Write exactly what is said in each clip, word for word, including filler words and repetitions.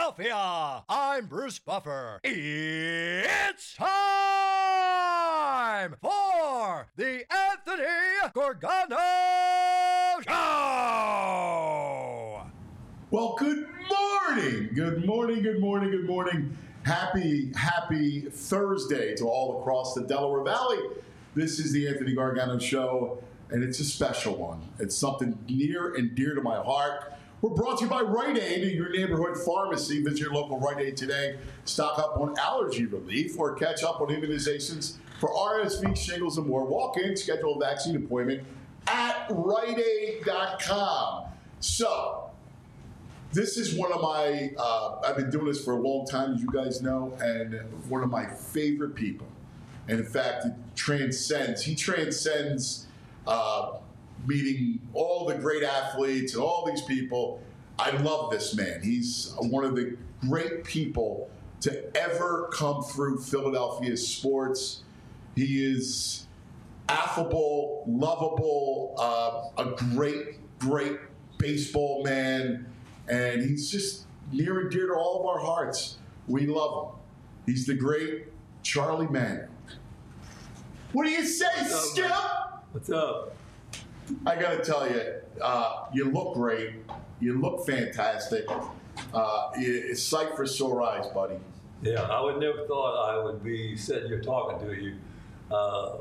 Philadelphia. I'm Bruce Buffer. It's time for the Anthony Gargano Show. Well, good morning. Good morning, good morning, good morning. Happy, happy Thursday to all across the Delaware Valley. This is the Anthony Gargano Show, and it's a special one. It's something near and dear to my heart. We're brought to you by Rite Aid, your neighborhood pharmacy. Visit your local Rite Aid today. Stock up on allergy relief or catch up on immunizations for R S V, shingles, and more. Walk in, schedule a vaccine appointment at rite aid dot com. So, this is one of my, uh, I've been doing this for a long time, as you guys know, and one of my favorite people. And in fact, it transcends, he transcends uh, meeting all the great athletes and all these people. I love this man. He's one of the great people to ever come through Philadelphia sports. He is affable, lovable, uh, a great, great baseball man. And he's just near and dear to all of our hearts. We love him. He's the great Charlie Manning. What do you say, What's up, Skip? man? What's up? I got to tell you, uh, you look great. You look fantastic. Uh, it's sight for sore eyes, buddy. Yeah, I would never thought I would be sitting here talking to you uh,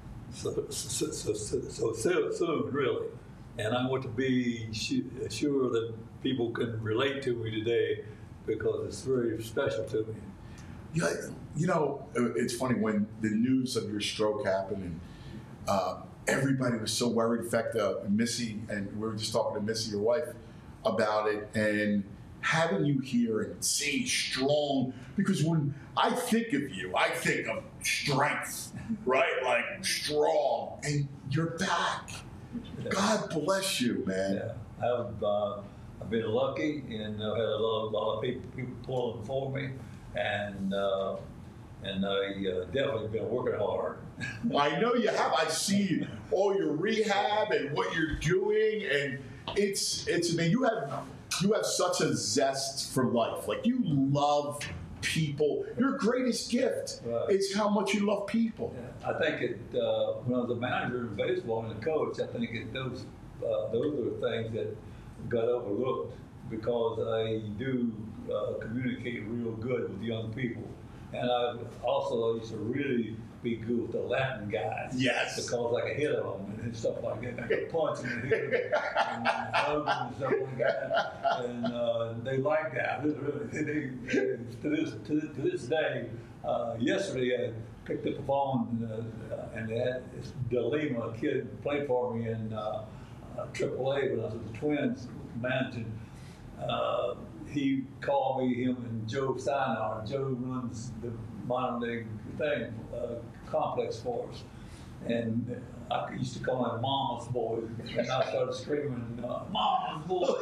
so, so, so, so, so soon, really. And I want to be sure that people can relate to me today because it's very special to me. Yeah, you know, it's funny when the news of your stroke happened and uh, everybody was so worried. In fact, uh, Missy, and we were just talking to Missy, your wife, about it, and having you here and see strong, because when I think of you, I think of strength, right? Like strong, and you're back. Yeah. God bless you, man. Yeah, I've, uh, I've been lucky and uh, had a lot, a lot of people, people pulling for me, and uh, and I uh, definitely been working hard. I know you have. I see all your rehab and what you're doing, and it's it's. I mean, you have you have such a zest for life. Like you love people. Your greatest gift Right. is how much you love people. Yeah, I think it, uh, when I was a manager in baseball and a coach, I think it, those uh, those are things that got overlooked because I do uh, communicate real good with young people. And I also used to really be good with the Latin guys. Yes. Because I could hit them and stuff like that. I could punch them and hit them and hug them and stuff like that. And uh, they like that. They, they, to, this, to, to this day, uh, yesterday I picked up the phone and, uh, and they had this DeLima, a kid played for me in uh, uh, triple A when I was with the Twins managing. Uh, he called me, him and Joe Steinar. Joe runs the modern day thing, uh, complex for us. And I used to call him Mama's Boy. And I started screaming, uh, Mama's Boy.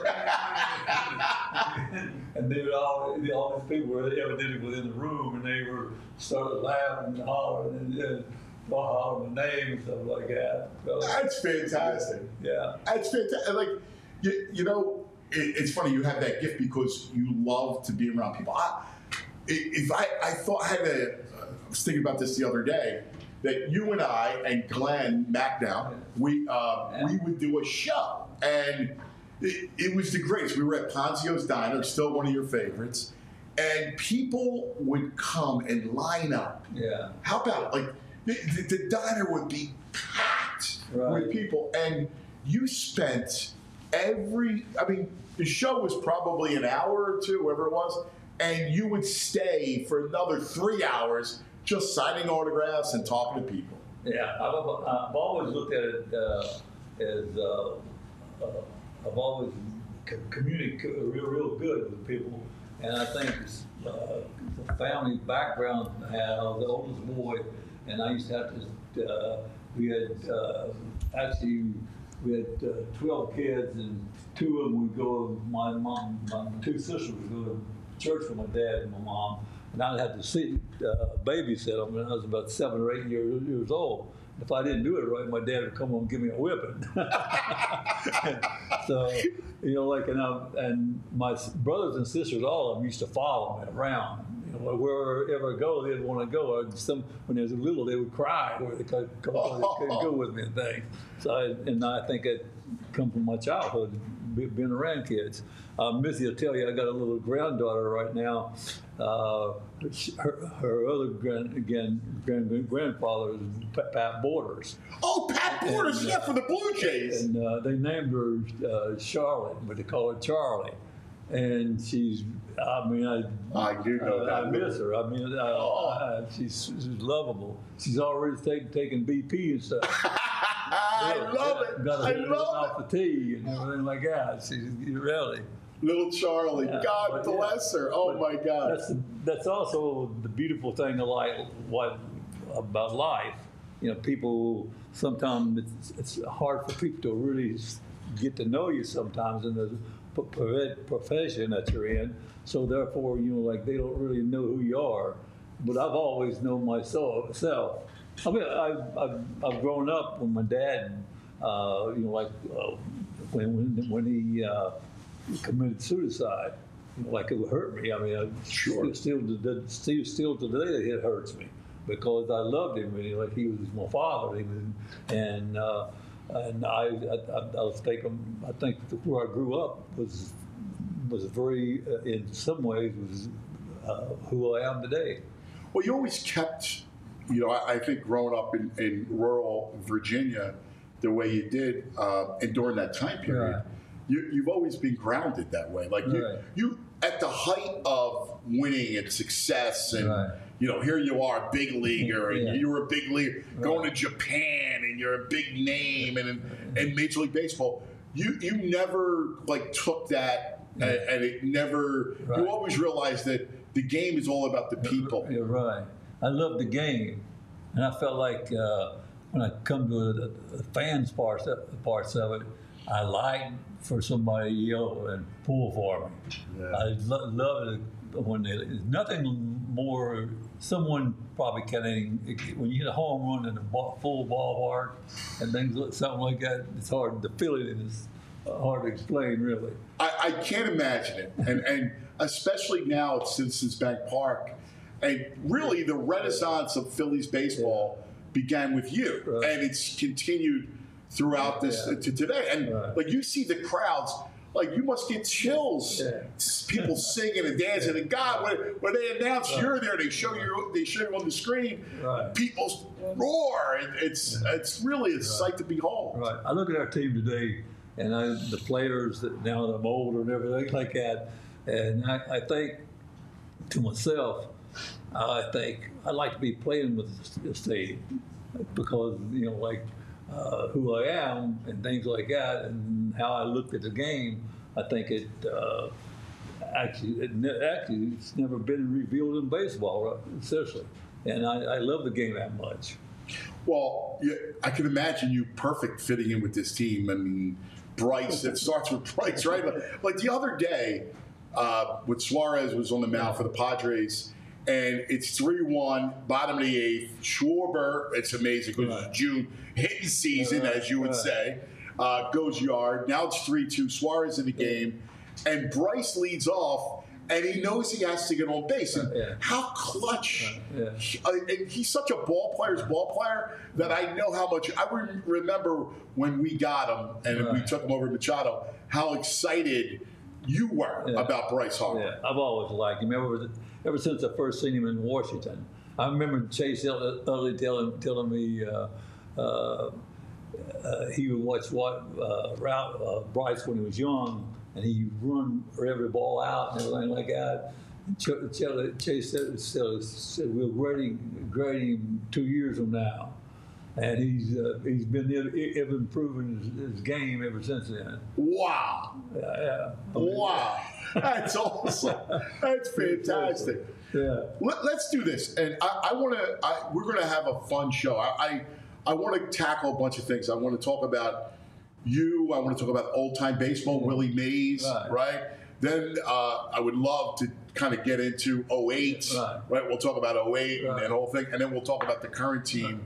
And they were all, all these people were evidently within the room and they were started laughing and hollering and, and hollering my name and stuff like that. So, That's fantastic. yeah. That's fantastic. Like you, you know. It's funny you have that gift because you love to be around people. I, if I, I thought I had a, I was thinking about this the other day that you and I and Glenn Macdown, we uh, Yeah. we would do a show, and it, it was the greatest. We were at Ponzio's Diner, still one of your favorites, and people would come and line up. Yeah. How about like the, the, the diner would be packed Right. with people, and you spent every. I mean. The show was probably an hour or two, whatever it was, and you would stay for another three hours just signing autographs and talking to people. Yeah, I've, I've always looked at it uh, as uh, uh, I've always communicated real, real good with people, and I think it's, uh, the family background I had. I was the oldest boy, and I used to have to. Uh, we had uh, actually we had uh, twelve kids, and two of them would go. My mom, my two sisters would go to church with my dad and my mom, and I'd have to see uh, babysit them when I was about seven or eight years, years old. If I didn't do it right, my dad would come home and give me a whipping. So, you know, like, and, I, and my brothers and sisters, all of them used to follow me around. You know, wherever I go, they'd want to go. Or some, when they was little, they would cry where they could, come, they couldn't go with me and things. So, I, and I think it come from my childhood, being around kids. Uh, Missy will tell you, I got a little granddaughter right now. Uh, her, her other grand, again, grand, grandfather is Pat Borders. Oh, Pat Borders, and, yeah, uh, for the Blue Jays. And uh, they named her uh, Charlotte, but they call her Charlie. And she's, I mean, I, I do know I, that. I miss her. I mean, I, oh. I, she's, she's lovable. She's already take, taking B P and stuff. I yeah, love yeah, it. Got I her love off the tee and everything like that. She's really. Little Charlie, Yeah, God but, bless yeah, her. Oh but my God. That's that's also the beautiful thing of like what about life. You know, people sometimes it's, it's hard for people to really get to know you sometimes in the profession that you're in. So therefore, you know, like they don't really know who you are. But I've always known myself. Self. I mean, I've, I've I've grown up with my dad. Uh, you know, like uh, when when when he. Uh, committed suicide, you know, like it would hurt me. I mean, I, sure. still, still, still, still today it hurts me because I loved him. And, like he was my father. He was, and uh, and I, I, I was thinking, I think where I grew up was was very, uh, in some ways, was uh, who I am today. Well, you always kept, you know, I, I think growing up in, in rural Virginia, the way you did, uh, and during that time period. Right. You, you've always been grounded that way. Like you, right. you, at the height of winning and success, and right. you know, here you are, a big leaguer, and yeah. you were a big leaguer right. going to Japan, and you're a big name, and in, in Major League Baseball, you you never like took that, yeah. and, and it never. Right. You always realized that the game is all about the people. You're right. I love the game, and I felt like uh, when I come to the, the fans parts parts of it, I like for somebody to yell and pull for me. Yeah. I lo- love it when they, nothing more, someone probably can't, even, when you hit a home run in a ball, full ballpark and things, something like that, it's hard, the feeling is hard to explain, really. I, I can't imagine it. And, and especially now at Citizens Bank Park, and really the renaissance of Phillies baseball yeah. began with you, right. and it's continued throughout this yeah. to today. And right. like you see the crowds, like you must get chills. Yeah. People singing and dancing. And God, when, when they announce right. you're there, they show you they show you on the screen. Right. People roar. And it's it's really a right. sight to behold. Right. I look at our team today, and I, the players that now that I'm older and everything like that, and I, I think to myself, I think I'd like to be playing with this team because you know like. Uh, who I am and things like that, and how I looked at the game, I think it uh, actually, it ne- actually, it's never been revealed in baseball, right? Seriously. And I, I love the game that much. Well, yeah, I can imagine you perfect fitting in with this team. I mean, Bryce, it starts with Bryce, right? But, like the other day, uh, when Suarez was on the mound for the Padres, and it's three one, bottom of the eighth. Schwarber, it's amazing because right. it's June, hitting season, right. as you would right. say, uh, goes yard. Now it's three two, Suarez in the game, and Bryce leads off, and he knows he has to get on base. And yeah. how clutch. Yeah. He, uh, and he's such a ball player's ball player that I know how much. I re- remember when we got him and right. we took him over to Machado, how excited you were yeah. about Bryce Harper. Yeah, I've always liked him. Ever, ever since I first seen him in Washington. I remember Chase Utley telling, telling me uh, uh, uh, he would watch what, uh, route, uh, Bryce when he was young, and he run every ball out and everything like that. Ch- Ch- Chase said, said we'll grade him, grade him two years from now. And he's uh, he's been ever improving his, his game ever since then. Wow! Yeah, yeah. I mean, wow! That's awesome. That's fantastic. Yeah. Let, let's do this, and I, I want to. We're going to have a fun show. I I, I want to tackle a bunch of things. I want to talk about you. I want to talk about old time baseball, yeah. Willie Mays, right? right? Then uh, I would love to kind of get into oh eight, right? right? We'll talk about oh eight right. and that whole thing, and then we'll talk about the current team. Right.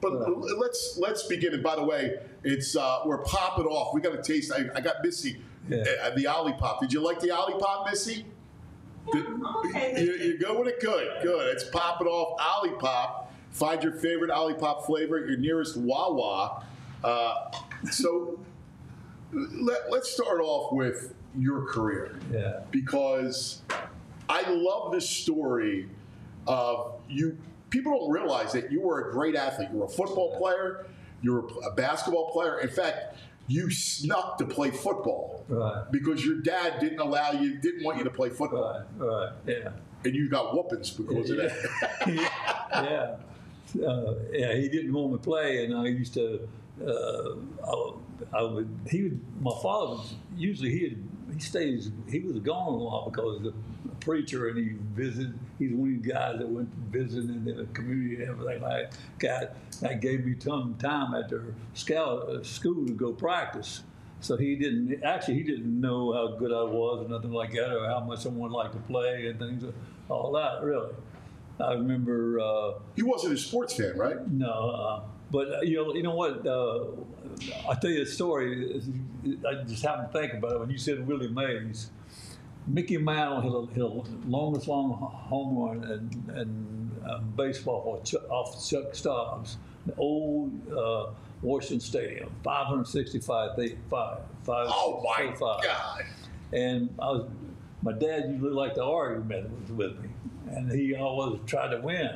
But Right. let's let's begin. And by the way, it's uh, we're popping off. We got to taste. I, I got Missy Yeah. uh, the Olipop. Did you like the Olipop, Missy? Did- okay. you, you go with it? Good, good. It's popping off. Olipop. Find your favorite Olipop flavor at your nearest Wawa. Uh, so let, let's start off with your career. Yeah. Because I love this story of you. People don't realize that you were a great athlete. You were a football player. You were a basketball player. In fact, you snuck to play football Right. because your dad didn't allow you, didn't want you to play football, Right. Right. Yeah. and you got whoopings because of that. yeah. Uh, yeah, he didn't want me to play, and I used to. Uh, I, would- I would. He would. My father was usually he he stays. He was gone a lot because he was a preacher, and he visited. He's one of the guys that went visiting in the community and everything like that. That gave me some time after scout uh, school to go practice. So he didn't actually. He didn't know how good I was or nothing like that, or how much someone liked to play and things. All that really. I remember. Uh, He wasn't a sports fan, right? no, uh, but uh, you know, you know what? Uh, I'll tell you a story. I just happened to think about it when you said Willie Mays. Mickey Mantle hit a, hit a longest long home run in, in um, baseball off Chuck, off Chuck Stobbs, the old uh, Washington Stadium, five hundred sixty-five feet, five, five, Oh my five, five. God! And I was, my dad usually liked to argue with, with me, and he always tried to win.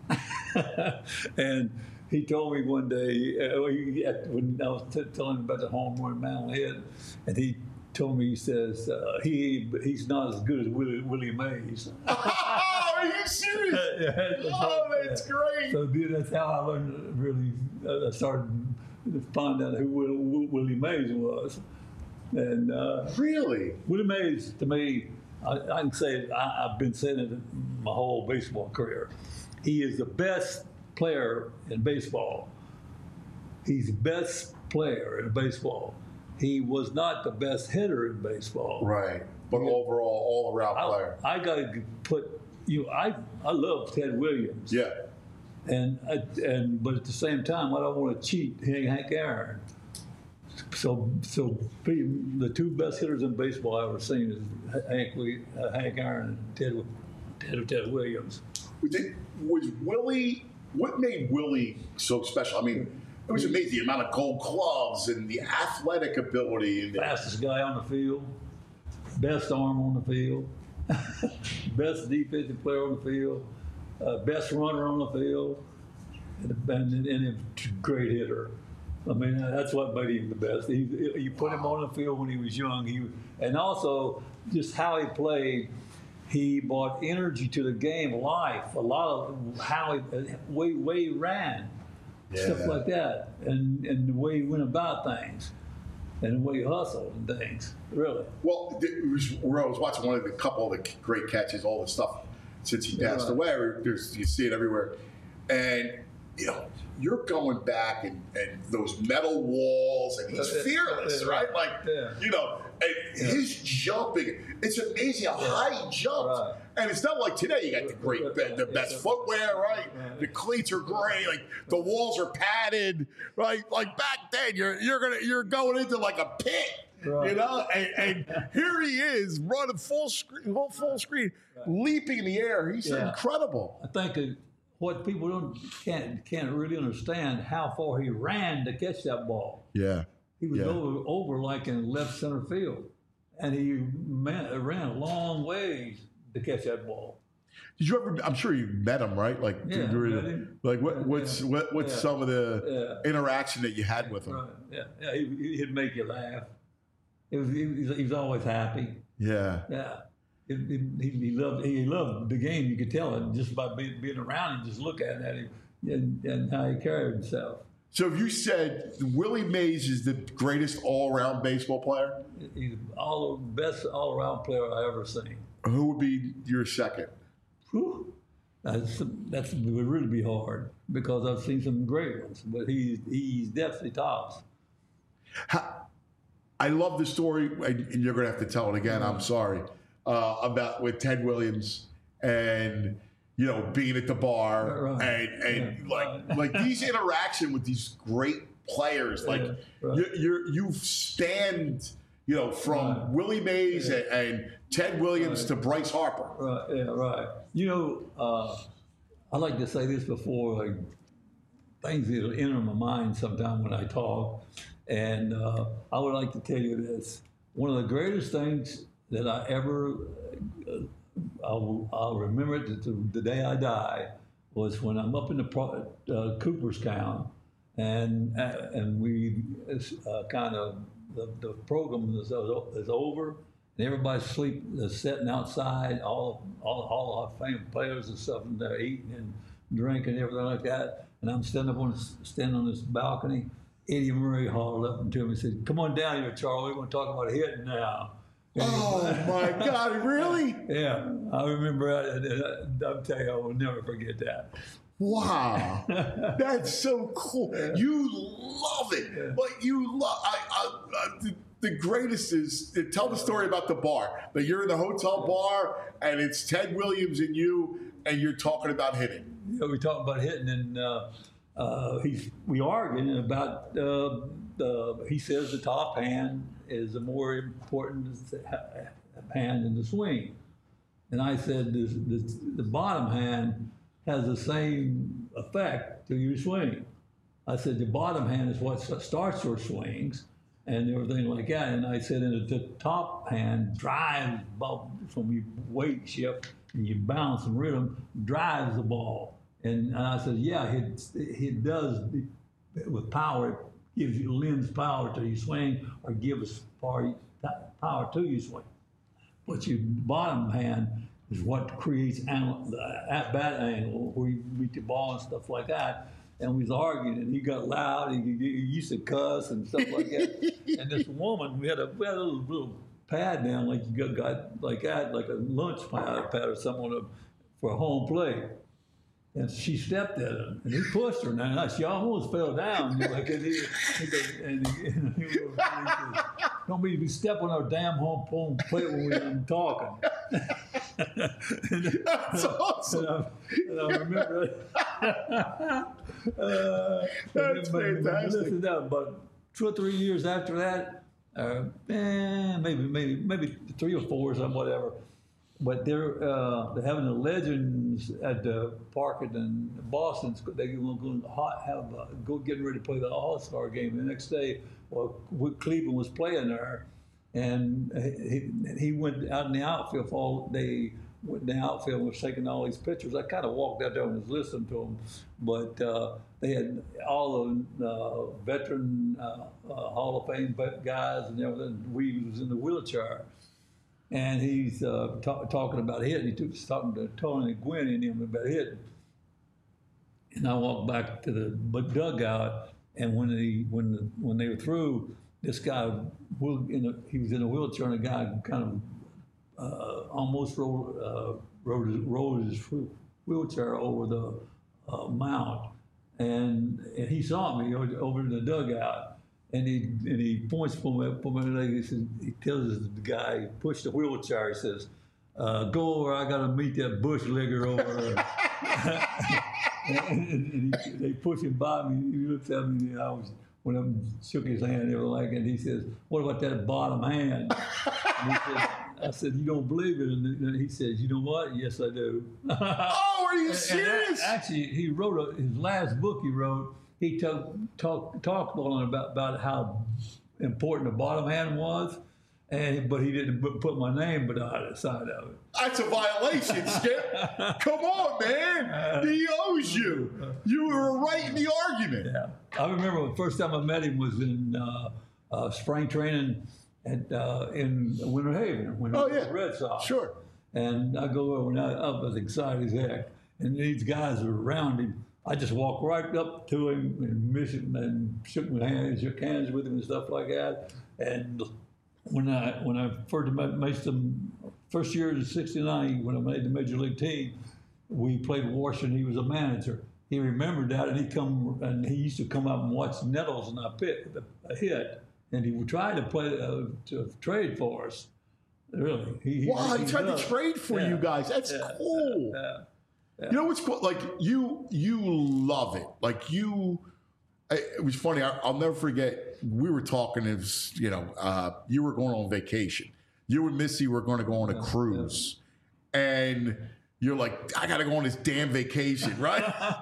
And he told me one day, uh, he, when I was t- telling him about the home run Mantle hit, and he told me, he says, uh, he he's not as good as Willie, Willie Mays. Oh, are you serious? Yeah, Oh, that's great. So then that's how I learned, really, uh, I started to find out who Willie, Willie Mays was. And uh, Really? Willie Mays, to me, I, I can say it, I, I've been saying it my whole baseball career. He is the best player in baseball. He's the best player in baseball. He was not the best hitter in baseball. Right. But overall, all-around I, player. I got to put you. I I love Ted Williams. Yeah. And I, and but at the same time, I don't want to cheat Hank Aaron. So so the two best hitters in baseball I've ever seen is Hank uh, Hank Aaron and Ted Ted, Ted Williams. Was, it, was Willie? What made Willie so special? I mean, it was amazing the amount of gold gloves and the athletic ability. And the, Fastest guy on the field, best arm on the field, best defensive player on the field, uh, best runner on the field, and, and, and a great hitter. I mean, that's what made him the best. He, you put him on the field when he was young, he, and also just how he played. He brought energy to the game, life, a lot of how he, way, way he ran, Yeah. stuff like that, and, and the way he went about things, and the way he hustled and things, really. well, it was, where I was watching one of the couple of the great catches, all the stuff since he passed Right. away. There's, you see it everywhere, and you know you're going back and, and those metal walls, and he's Yeah, fearless, yeah, right? Like yeah. you know, and Yeah. his jumping. It's amazing how high he jumped. Right. And it's not like today. You got the great, the best Yeah. footwear, right? Right. The cleats are great. Like the walls are padded, right? Like back then, you're you're gonna you're going into like a pit, Right. you know. And, and here he is running full screen, full, full screen, leaping in the air. He's Yeah. incredible. I think that what people don't can't can't really understand how far he ran to catch that ball. Yeah. He was Yeah. over over like in left center field, and he man, ran a long ways to catch that ball. Did you ever? I'm sure you met him, right? Like, Yeah, during- met him. like what, Yeah, what's yeah. what, what's Yeah. some of the Yeah. interaction that you had with him? Right. Yeah. Yeah. He, he'd make you laugh. It was, he, was, he was always happy. Yeah. Yeah. It, it, he, he loved he loved the game. You could tell it just by being, being around him, just looking at him and, and how he carried himself. So if you said Willie Mays is the greatest all-around baseball player, He's all the best all around player I ever seen. who would be your second? Whew. That's that's it would really be hard because I've seen some great ones, but he's he's definitely tops. How, I love the story, and and you're going to have to tell it again. I'm sorry uh, about with Ted Williams, and you know, being at the bar Right. and and Yeah. like Right. like these interaction with these great players, like Yeah. Right. you you're, you stand, you know, from Right. Willie Mays Yeah. and, and Ted Williams Right. to Bryce Harper. Right, yeah, right. You know, uh, I like to say this before, like, things that enter my mind sometime when I talk. And uh, I would like to tell you this. One of the greatest things that I ever, uh, I'll, I'll remember it to the day I die, was when I'm up in the pro- uh, Cooperstown, and uh, and we uh, kind of, the, the program is, is over, and everybody's sleep is sitting outside, all all, all our famous players and stuff, and they're eating and drinking and everything like that. And I'm standing up on this, standing on this balcony. Eddie Murray hauled up to me and said, "Come on down here, Charlie. We're going to talk about hitting now." Oh my God! Really? Yeah, I remember. I, I, I'll tell you, I will never forget that. Wow, that's so cool. You love it, but you love. I, I, I, the, the greatest is tell the story about the bar. That you're in the hotel bar and it's Ted Williams and you, and you're talking about hitting. Yeah, we talked about hitting, and uh, uh, he's we arguing about. Uh, the he says the top hand is a more important hand in the swing, and I said this, this, the bottom hand has the same effect to your swing. I said the bottom hand is what starts your swings and everything like that. And I said, and the top hand drives from your weight shift and your balance and rhythm, drives the ball. And I said, yeah, it, it does with power. It gives you, lends power to your swing or gives power, power to your swing. But your bottom hand is what creates angle, the at bat angle where you meet the ball and stuff like that. And we was arguing, and he got loud. He, he used to cuss and stuff like that. And this woman, we had a, we had a little, little pad down, like you got, got like that, like a lunch pad, pad or something on a, for a home plate. And she stepped at him, and he pushed her. Now she almost fell down. Like, and he, and he, and he, he said, "Don't be stepping on our damn home, home plate when we're talking." and, That's awesome. And I, and I remember. uh, That's but, fantastic. Listen to that, but two or three years after that, uh, eh, maybe maybe maybe three or four or something, whatever. But they're uh, they're having the legends at the park in Boston. They're going to have uh, go getting ready to play the All Star game the next day. Well, Cleveland was playing there, and he he went out in the outfield. For all, they went in the outfield and was taking all these pictures. I kind of walked out there and was listening to them, but uh, they had all the uh, veteran uh, uh, Hall of Fame guys and everything. We was in the wheelchair. And he's uh, ta- talking about hitting. He took talking to Tony Gwynn and him about hitting. And I walked back to the dugout, and when he when the, when they were through, this guy in a, he was in a wheelchair, and a guy kind of uh, almost rolled, uh, rolled, his, rolled his wheelchair over the uh, mound, and, and he saw me over in the dugout. And he and he points for my, for my leg. He says, he tells the guy, he pushed the wheelchair. He says, uh, "Go over. I got to meet that bush legger over there." and, and he, they push him by me. He looks at me. And I was when I shook his hand and everything like that. And he says, "What about that bottom hand?" And he said, I said, "You don't believe it?" And he says, "You know what? Yes, I do." Oh, are you serious? And actually, he wrote a, his last book. He wrote. He talked talk, talked on about, about how important the bottom hand was, and but he didn't put, put my name but on the side of it. That's a violation, Skip. Come on, man. He owes you. You were right in the argument. Yeah, I remember the first time I met him was in uh, uh, spring training at uh, in Winter Haven when he Oh, was yeah. with the Red Sox. Sure. And I go over and I, I was excited as heck, and these guys were around him. I just walked right up to him and miss him and shook my hand, shook hands with him and stuff like that. And when I when I first made some first year in sixty-nine, when I made the major league team, we played Washington. He was a manager. He remembered that, and he come and he used to come up and watch Nettles and I pit a hit, and he would try to play uh, to trade for us. Really, he, Wow, he, he tried does. to trade for Yeah. you guys. That's Yeah. cool. Yeah. You know what's cool? Like you, you love it. Like you, it was funny. I, I'll never forget. We were talking. It was, you know, uh, you were going on vacation. You and Missy were going to go on a cruise, and you're like, I got to go on this damn vacation, right?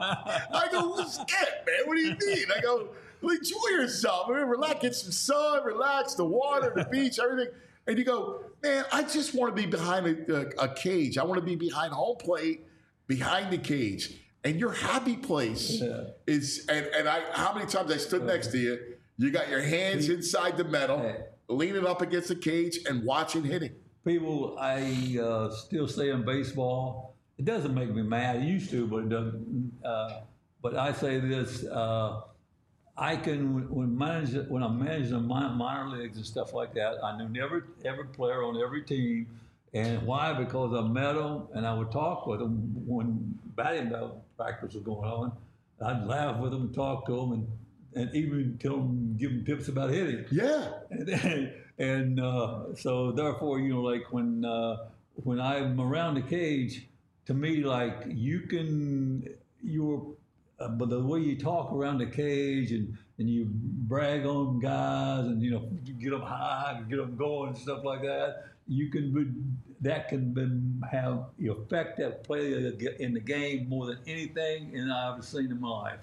I go, what's it, man? What do you mean? I go, well, enjoy yourself. I mean, relax, get some sun, relax, the water, the beach, everything. And you go, man, I just want to be behind a, a, a cage. I want to be behind home plate, behind the cage. And your happy place yeah. is, and, and I, how many times I stood next to you, you got your hands inside the metal, hey. leaning up against the cage and watching hitting. People, I uh, still stay in baseball. It doesn't make me mad. It used to, but it doesn't. Uh, but I say this, uh, I can, when, manage, when I'm managing minor leagues and stuff like that, I knew every, every player on every team. And why? Because I met them and I would talk with them when batting practice was going on. I'd laugh with them, talk to them, and, and even tell them, give them tips about hitting. Yeah. And, and uh, so therefore, you know, like when uh, when I'm around the cage, to me, like you can, you're, uh, but the way you talk around the cage and, and you brag on guys and, you know, get them high, get them going and stuff like that, you can, that can be, have the effect that play in the game more than anything and I've ever seen in my life.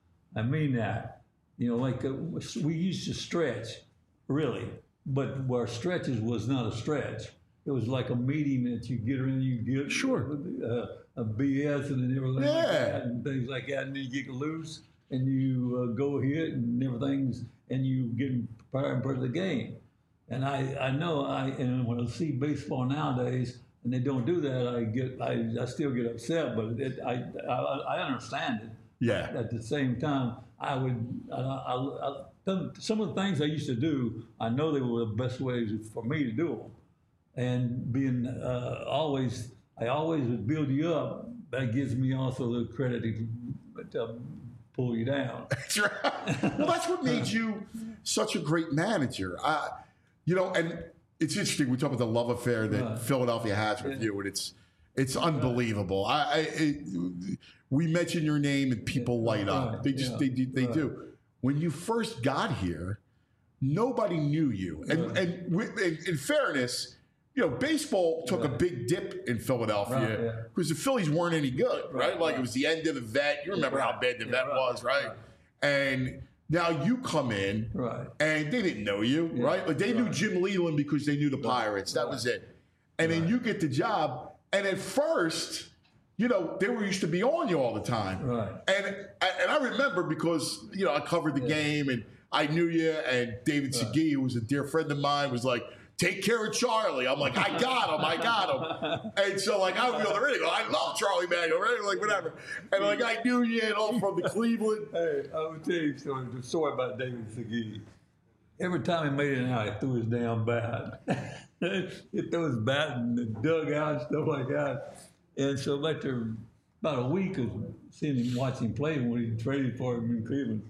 I mean that. You know, like uh, we used to stretch, really, but where stretches was not a stretch. It was like a meeting that you get in, you get sure uh, a B S and everything yeah. like that, and things like that, and then you get loose and you uh, go hit and everything's, and you get prepared for the game. And I, I know I, and when I see baseball nowadays, and they don't do that, I get, I, I still get upset, but it, I, I, I understand it. Yeah. At the same time, I would, I, I, I, some of the things I used to do, I know they were the best ways for me to do them. And being uh, always, I always would build you up. That gives me also the credit to, to pull you down. That's right. Well, that's what made you such a great manager. I, you know, and it's interesting. We talk about the love affair that right. Philadelphia has with yeah. you, and it's it's unbelievable. I, I it, we mention your name and people yeah. light up. Right. They just yeah. they they right. do. When you first got here, nobody knew you, and right. and in, in fairness, you know, baseball took right. a big dip in Philadelphia because right, yeah. the Phillies weren't any good, right? right? Like right. it was the end of the vet. You remember right. how bad the yeah, vet right. was, right? right? And now you come in, right. and they didn't know you, yeah. right? Like they right. knew Jim Leland because they knew the Pirates. That right. was it. And right. then you get the job, and at first, you know, they were used to be on you all the time. Right. And and I remember because, you know, I covered the yeah. game, and I knew you, and David right. Segui, who was a dear friend of mine, was like, take care of Charlie. I'm like, I got him, I got him. And so, like, I would be on the radio, I love Charlie Manuel, right? Like, whatever. And, like, I knew you and all from the Cleveland. Hey, I will tell you a story, the story about David Segui. Every time he made it out, he threw his damn bat. He threw his bat in the dugout and stuff like that. And so, after about a week of seeing him, watching him play when he traded for him in Cleveland,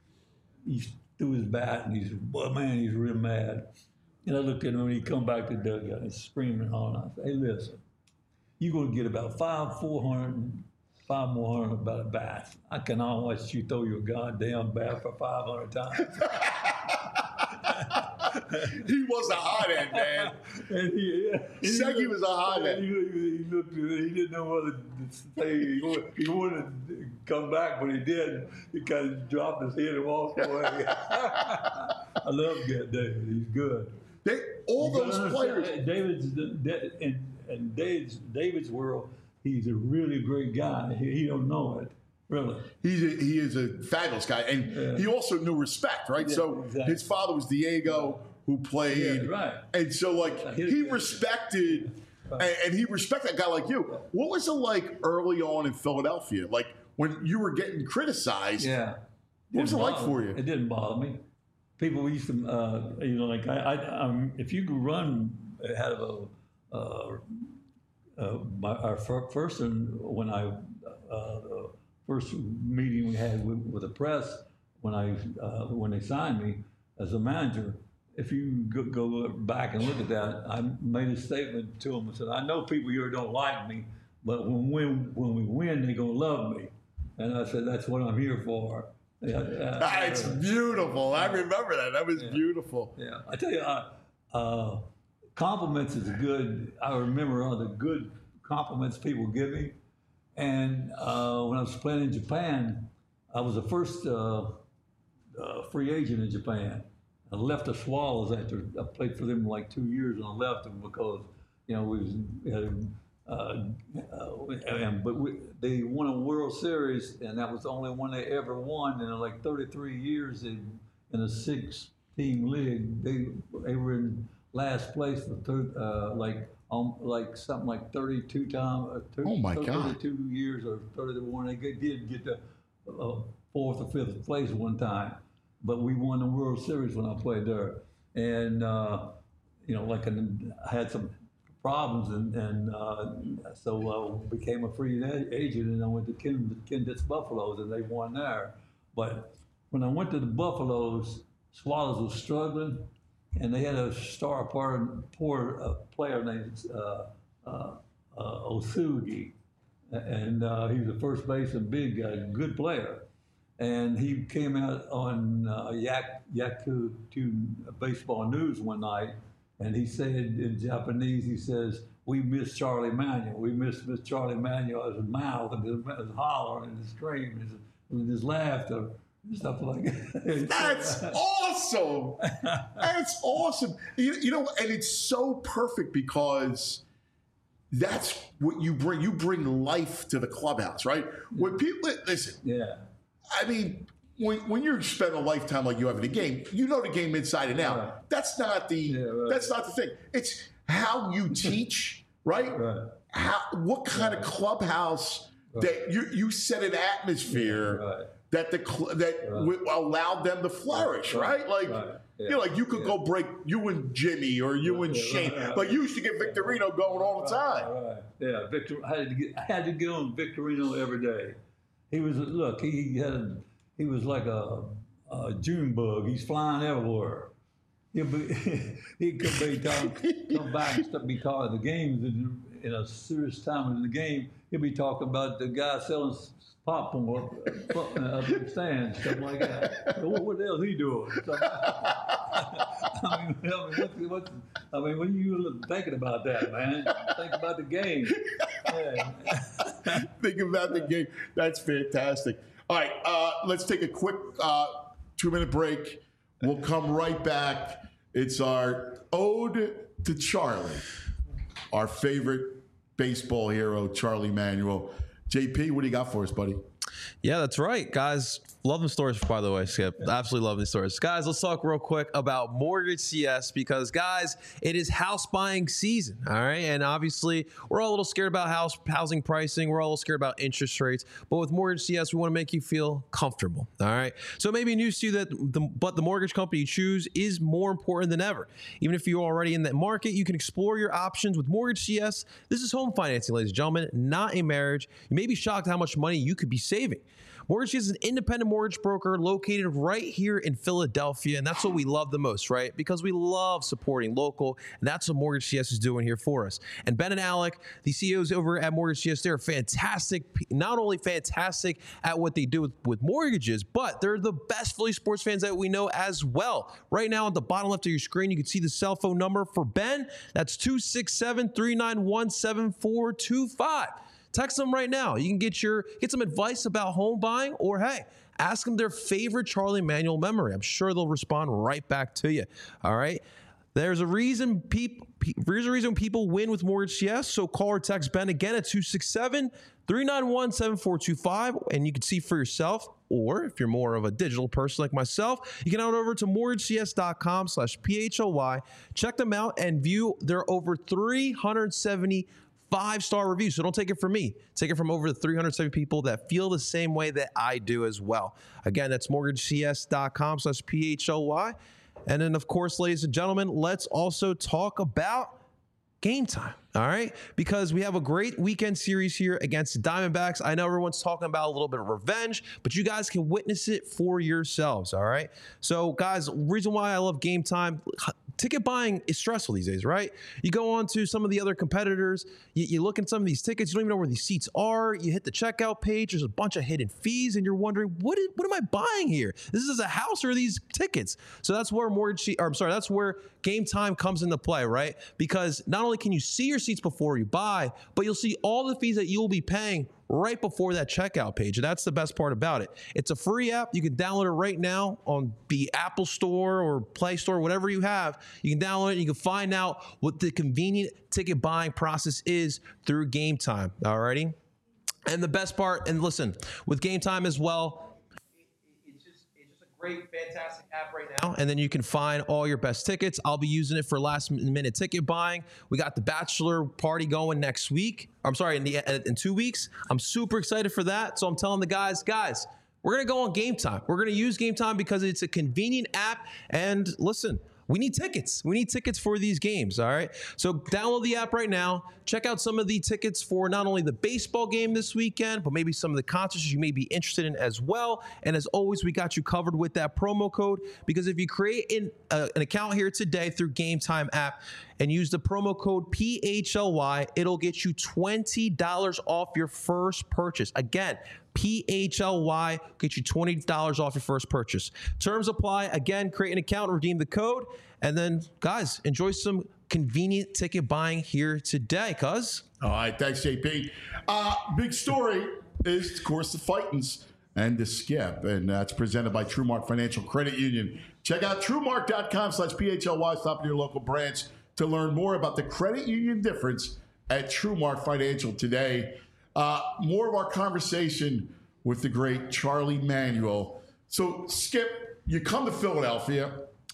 he threw his bat and he's, well, man, he's real mad. And I looked at him when he come back to the dugout and he's screaming and hollering. I said, hey, listen, you're going to get about five, four hundred, five more hundred about a bat. I cannot watch you throw your goddamn bat for five hundred times. He was a hothead, man. And he, yeah, he Segui was a hothead. He, he, looked, he didn't know whether to say he wanted, he wanted to come back, but he did. He kind of dropped his head and walked away. I love David. He's good. They, all those players. David's in, in David's, David's world, he's a really great guy. He, he don't know it, really. He's a, he is a fabulous guy, and yeah. he also knew respect, right? Yeah, so exactly. His father was Diego, who played, yeah, right? And so, like, he respected, right. and, and he respected a guy like you. What was it like early on in Philadelphia, like when you were getting criticized? Yeah, what was it like for you? It didn't bother me. People used to, uh, you know, like I, I um, if you could run out of a, uh, uh, my, our first, when I, uh, the first meeting we had with, with the press, when I, uh, when they signed me as a manager, if you go, go back and look at that, I made a statement to them and said, I know people here don't like me, but when when when we win, they're gonna love me. And I said, that's what I'm here for. Yeah, uh, That's beautiful. I remember that. That was yeah. beautiful. Yeah, I tell you, uh, uh, compliments is good. I remember all the good compliments people give me. And uh, when I was playing in Japan, I was the first uh, uh, free agent in Japan. I left the Swallows after I played for them like two years, and I left them because you know we was. Uh, Uh, uh, and, but we, they won a World Series, and that was the only one they ever won in like thirty-three years in, in a six-team league. They they were in last place for thir- uh, like um, like something like thirty-two times. Uh, oh my God! thirty-two years or thirty-one. They get, did get the uh, fourth or fifth place one time, but we won the World Series when I played there, and uh, you know, like an, I had some problems, and, and uh, so uh, became a free agent, and I went to Ken, Kendit's Buffaloes, and they won there. But when I went to the Buffaloes, Swallows was struggling, and they had a star poor, poor uh, player named uh, uh, uh, Osugi, and uh, he was a first baseman, big guy, good player. And he came out on uh, Yak Yaku Baseball News one night, and he said in Japanese, he says, "We miss Charlie Manuel. We miss miss Charlie Manuel as his mouth and his, his holler and his scream and his, and his laughter and stuff like that." That's awesome. That's awesome. You, you know, and it's so perfect because that's what you bring. You bring life to the clubhouse, right? When people listen, yeah. I mean, when when you spend a lifetime like you have in the game, you know the game inside and out. Right. That's not the Yeah, right. that's not the thing. It's how you teach, right? Right. How what kind of clubhouse that you you set an atmosphere Right. that the cl- that Right. w- allowed them to flourish, right? Right. Like Right. Yeah. you know, like you could Yeah. go break you and Jimmy or you and Yeah, Shane. right, right. Like you used to get Victorino going all the time. Right, right. Yeah, Victor. I had to get. I had to get on Victorino every day. He was look. He had. A, he was like a, a June bug. He's flying everywhere. He'll be. He could be talking, come back and stuff, be talking the games in, in a serious time in the game. He'll be talking about the guy selling popcorn up in the stands, stuff like that. What, what the hell is he doing? So, I mean, I mean, what's, what's, I mean, when you thinking about that, man, think about the game. Yeah. Think about the game. That's fantastic. All right, uh, let's take a quick uh, two-minute break. We'll come right back. It's our ode to Charlie, our favorite baseball hero, Charlie Manuel. J P, what do you got for us, buddy? Yeah, that's right, guys. Love them stories, by the way, Skip. Absolutely love these stories. Guys, let's talk real quick about Mortgage C S because, guys, it is house buying season, all right? And obviously, we're all a little scared about house housing pricing. We're all a little scared about interest rates. But with Mortgage C S, we want to make you feel comfortable, all right? So it may be news to you that, the, but the mortgage company you choose is more important than ever. Even if you're already in that market, you can explore your options with Mortgage C S. This is home financing, ladies and gentlemen, not a marriage. You may be shocked how much money you could be saving. Mortgage C S is an independent mortgage broker located right here in Philadelphia, and that's what we love the most, right? Because we love supporting local, and that's what Mortgage C S is doing here for us. And Ben and Alec, the C E Os over at Mortgage C S, they're fantastic, not only fantastic at what they do with, with mortgages, but they're the best Philly sports fans that we know as well. Right now, at the bottom left of your screen, you can see the cell phone number for Ben. That's two six seven, three nine one, seven four two five. Text them right now. You can get your get some advice about home buying, or hey, ask them their favorite Charlie Manuel memory. I'm sure they'll respond right back to you. All right. There's a reason people there's a reason people win with Mortgage C S. So call or text Ben again at two six seven, three nine one, seven four two five, and you can see for yourself. Or if you're more of a digital person like myself, you can head over to mortgagecs.com slash PHLY. Check them out and view their over three hundred seventy five-star reviews. So don't take it from me. Take it from over the three hundred seventy people that feel the same way that I do as well. Again, that's mortgagecs.com slash PHLY. And then, of course, ladies and gentlemen, let's also talk about Game Time, all right? Because we have a great weekend series here against the Diamondbacks. I know everyone's talking about a little bit of revenge, but you guys can witness it for yourselves, all right? So, guys, reason why I love Game Time, ticket buying is stressful these days, right? You go on to some of the other competitors, you, you look at some of these tickets, you don't even know where these seats are. You hit the checkout page, there's a bunch of hidden fees, and you're wondering, what is, what am I buying here? This is a house or are these tickets? So that's where mortgage, or I'm sorry, that's where Game Time comes into play, right? Because not only can you see your seats before you buy, but you'll see all the fees that you'll be paying right before that checkout page. And that's the best part about it. It's a free app. You can download it right now on the Apple Store or Play Store, whatever you have. You can download it and you can find out what the convenient ticket buying process is through Game Time. Alrighty. And the best part, and listen, with Game Time as well, it's just, it's just a great, fantastic app right now. And then you can find all your best tickets. I'll be using it for last minute ticket buying. We got the bachelor party going next week. I'm sorry, in, the, in two weeks. I'm super excited for that. So I'm telling the guys, guys, we're going to go on Game Time. We're going to use Game Time because it's a convenient app. And listen, we need tickets. We need tickets for these games, all right? So download the app right now. Check out some of the tickets for not only the baseball game this weekend, but maybe some of the concerts you may be interested in as well. And as always, we got you covered with that promo code, because if you create an, uh, an account here today through Game Time app and use the promo code P H L Y, it'll get you twenty dollars off your first purchase. Again, P H L Y, get you twenty dollars off your first purchase. Terms apply. Again, create an account, redeem the code, and then, guys, enjoy some convenient ticket buying here today, cuz. All right, thanks, J P. Uh, big story is, of course, the Fightins and the Skip, and that's presented by TrueMark Financial Credit Union. Check out TrueMark.com slash PHLY. Stop in your local branch to learn more about the credit union difference at TrueMark Financial today. Uh, more of our conversation with the great Charlie Manuel. So, Skip, you come to Philadelphia,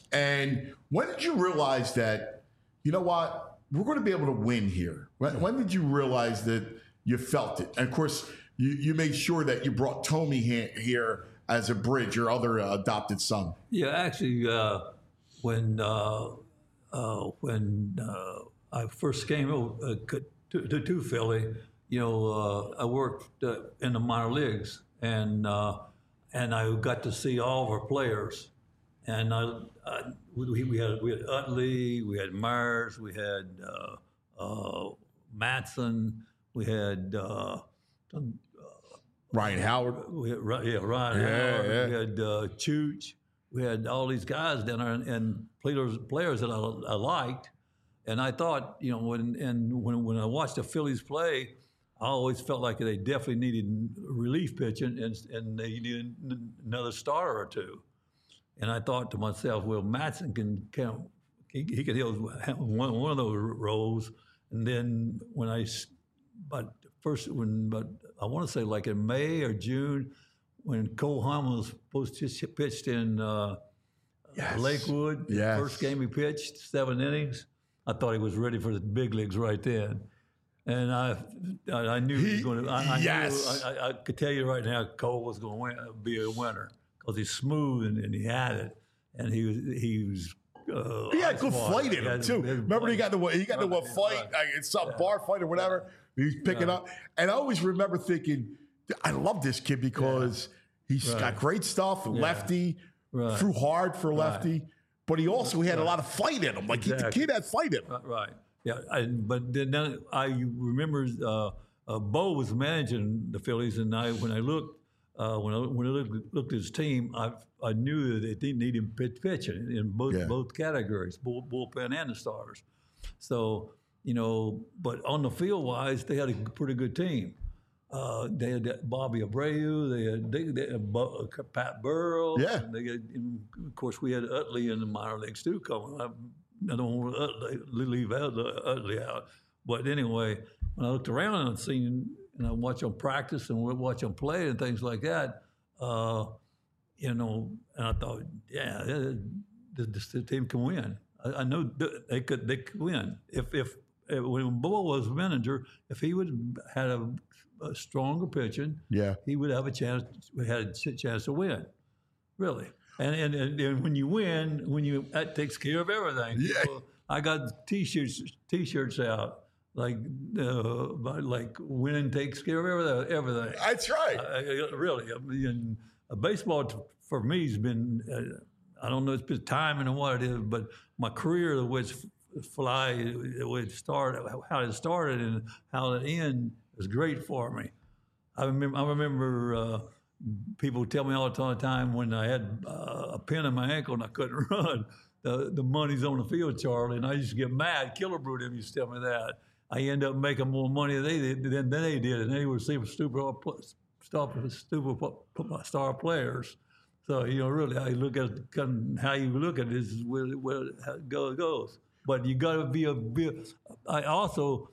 and when did you realize that, you know what, we're going to be able to win here? When, when did you realize that you felt it? And, of course, you, you made sure that you brought Tommy here as a bridge, your other uh, adopted son. Yeah, actually, uh, when uh, uh, when uh, I first came uh, to, to, to Philly, you know, uh, I worked uh, in the minor leagues, and uh, and I got to see all of our players. And I, I, we, we had we had Utley, we had Myers, we had uh, uh, Matson, we had uh, Ryan Howard. We had, yeah, Ryan yeah, Howard. Yeah. We had uh, Chooch. We had all these guys down there, and, and players players that I, I liked. And I thought, you know, when and when when I watched the Phillies play, I always felt like they definitely needed relief pitching, and and they needed another starter or two. And I thought to myself, well, Matson can count. He, he could have one one of those roles. And then when I, but first when, but I want to say like in May or June, when Cole Hamels was supposed to pitched in uh, yes. Lakewood, yes. first game he pitched seven innings. I thought he was ready for the big leagues right then. And I, I, I knew he was going to. I, I yes. knew. I, I could tell you right now, Cole was going to win, be a winner because he's smooth and, and he had it, and he was he was. Uh, he had good smart. flight in him too. Remember, flight. he got the he got right, the one fight, right. like, it's some yeah. bar fight or whatever. Yeah. He's picking yeah. up, and I always remember thinking, I love this kid because yeah. he's right. got great stuff. Yeah. Lefty, right. threw hard for lefty, right. but he also he had right. a lot of fight in him. Like exactly. he, the kid had fight in him. Right. right. Yeah, I, but then, then I remember uh, uh, Bo was managing the Phillies, and I when I looked uh, when I when I looked, looked at his team, I I knew that they needed pitch pitching in both yeah. both categories, bull, bullpen and the starters. So you know, but on the field wise, they had a pretty good team. Uh, they had Bobby Abreu, they had, they, they had Bo, uh, Pat Burrell. Yeah. They had, and of course, we had Utley in the minor leagues too coming. I, I don't want to leave Utley out. But anyway, when I looked around and seen, and I watched them practice and watch them play and things like that, uh, you know, and I thought, yeah, this, this team can win. I, I know they could they could win. If, if, if when Bo was manager, if he would had a, a stronger pitching, yeah, he would have a chance. We had a chance to win, really. And, and and and when you win, when you that takes care of everything. Yeah. People, I got t-shirts t-shirts out like uh, like winning takes care of everything. Everything. That's right. Uh, really, I mean, uh, baseball for me has been. Uh, I don't know if it's timing or what it is, but my career, the way it's fly, the way it started, how it started and how it ended was great for me. I remember, I remember uh, people tell me all the time when I had uh, a pin in my ankle and I couldn't run, the, the money's on the field, Charlie, and I used to get mad. Killerbrew them used to tell me that. I end up making more money than they did, than they did, and they would see stupid, stupid, stupid star players. So, you know, really, how you look at it, how you look at it is where, where it goes. But you got to be a bit. I also,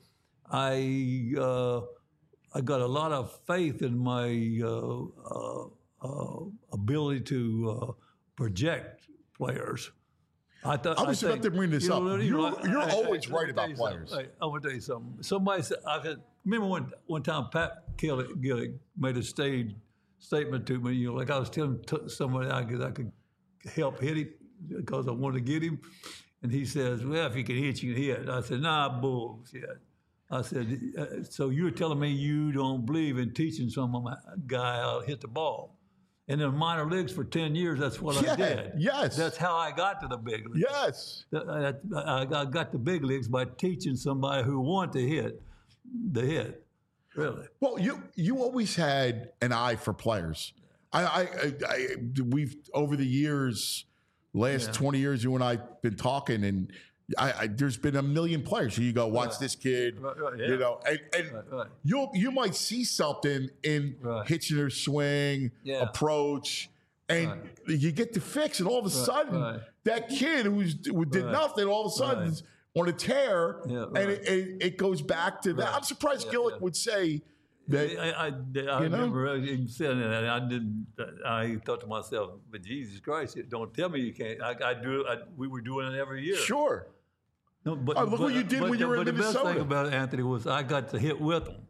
I, uh, I got a lot of faith in my uh, uh, uh, ability to uh, project players. I thought I was I about think, to bring this you up. know, you You're, know, you're I, always I, right I, about I players. I, I want to tell you something. Somebody said, I could, remember one, one time Pat Gillick, Gillick made a stage statement to me, you know, like I was telling t- somebody I could, I could help hit him because I wanted to get him. And he says, well, if you can hit, you can hit. I said, nah, bullshit. I said, uh, so you're telling me you don't believe in teaching some guy how to hit the ball? And in the minor leagues for ten years, that's what Yeah, I did. yes. That's how I got to the big leagues. Yes. I, I, I got the big leagues by teaching somebody who wanted to hit the hit, really. Well, you you always had an eye for players. I, I, I, I we've over the years, last Yeah. twenty years, you and I've been talking, and I, I there's been a million players. So you go, watch Right. this kid, Right, right, yeah. you know, and, and Right, right. you'll you might see something in Right. Hitchener's swing, Yeah. approach, and Right. you get the fix, and all of a sudden, right. that kid who's who did Right. nothing, all of a sudden. Right. is on a tear, Yeah, and right. it, it, it goes back to that. Right. I'm surprised Yeah, Gillick yeah. would say that. I, I, I you know? remember him saying that. And I didn't. I thought to myself, "But Jesus Christ, don't tell me you can't." I, I do. I, we were doing it every year. Sure. No, but, Oh, look but, what you did but when you the, were in but the best Minnesota. thing about it, Anthony, was I got to hit with them.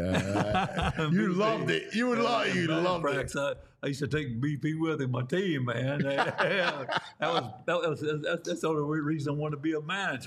Yeah. you loved it. You would love. You loved it. Practice, I, I used to take B P with in my team, man. that was that was that's, that's the only reason I wanted to be a manager.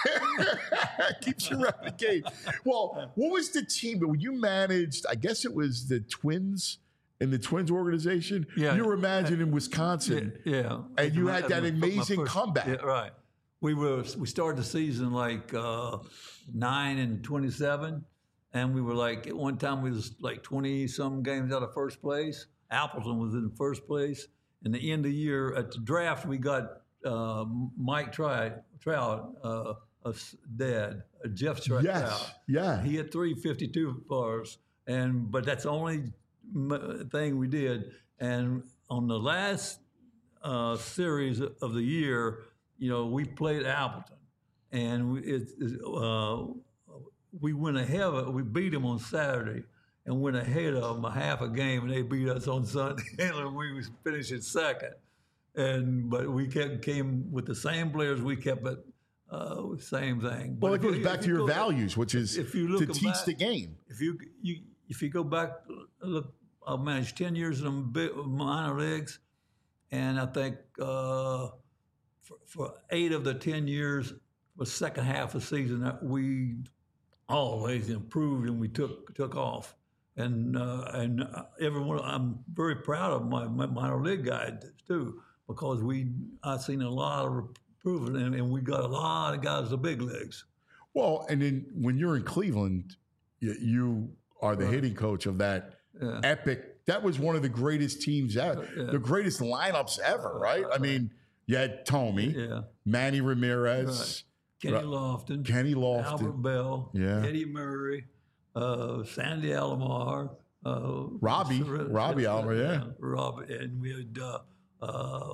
Keeps you around the game. Well, what was the team that when you managed? I guess it was the Twins in the Twins organization. Yeah. You were managing in Wisconsin. Yeah, And you My- had that my- my amazing first- comeback. Yeah, right. We were we started the season like uh, nine and twenty-seven, and we were like at one time we was like twenty some games out of first place. Appleton was in first place. And the end of the year at the draft, we got uh, Mike Trout, Trout, uh, a dad, uh, Jeff Trout. Yes. Yeah. He had three fifty-two for us, and but that's the only m- thing we did. And on the last uh, series of the year, you know, we played Appleton, and we, it, it, uh, we went ahead of it. We beat them on Saturday and went ahead of them a half a game, and they beat us on Sunday, and we was finishing second. And but we kept came with the same players. We kept it uh, same thing. Well, But it if you- goes if back you to your go back- values, which is if you to look teach back- the game. If you you if you go back, look, I managed ten years in the big minor leagues, and I think uh, for, for eight of the ten years, the second half of the season, that we always improved and we took took off. And uh, and everyone, I'm very proud of my, my minor league guys too, because we I've seen a lot of improvement, and, and we got a lot of guys in the big leagues. Well, and then when you're in Cleveland, you, you are the hitting coach of that Yeah. epic. That was one of the greatest teams ever, Yeah. the greatest lineups ever, right? I mean, you had Tommy, Yeah. Manny Ramirez, Kenny Right. Lofton, Kenny Lofton. Albert Bell, Yeah. Eddie Murray, uh, Sandy Alomar, uh, Robbie, Sir- Robbie Alomar, yeah. Robbie, and we had uh, uh,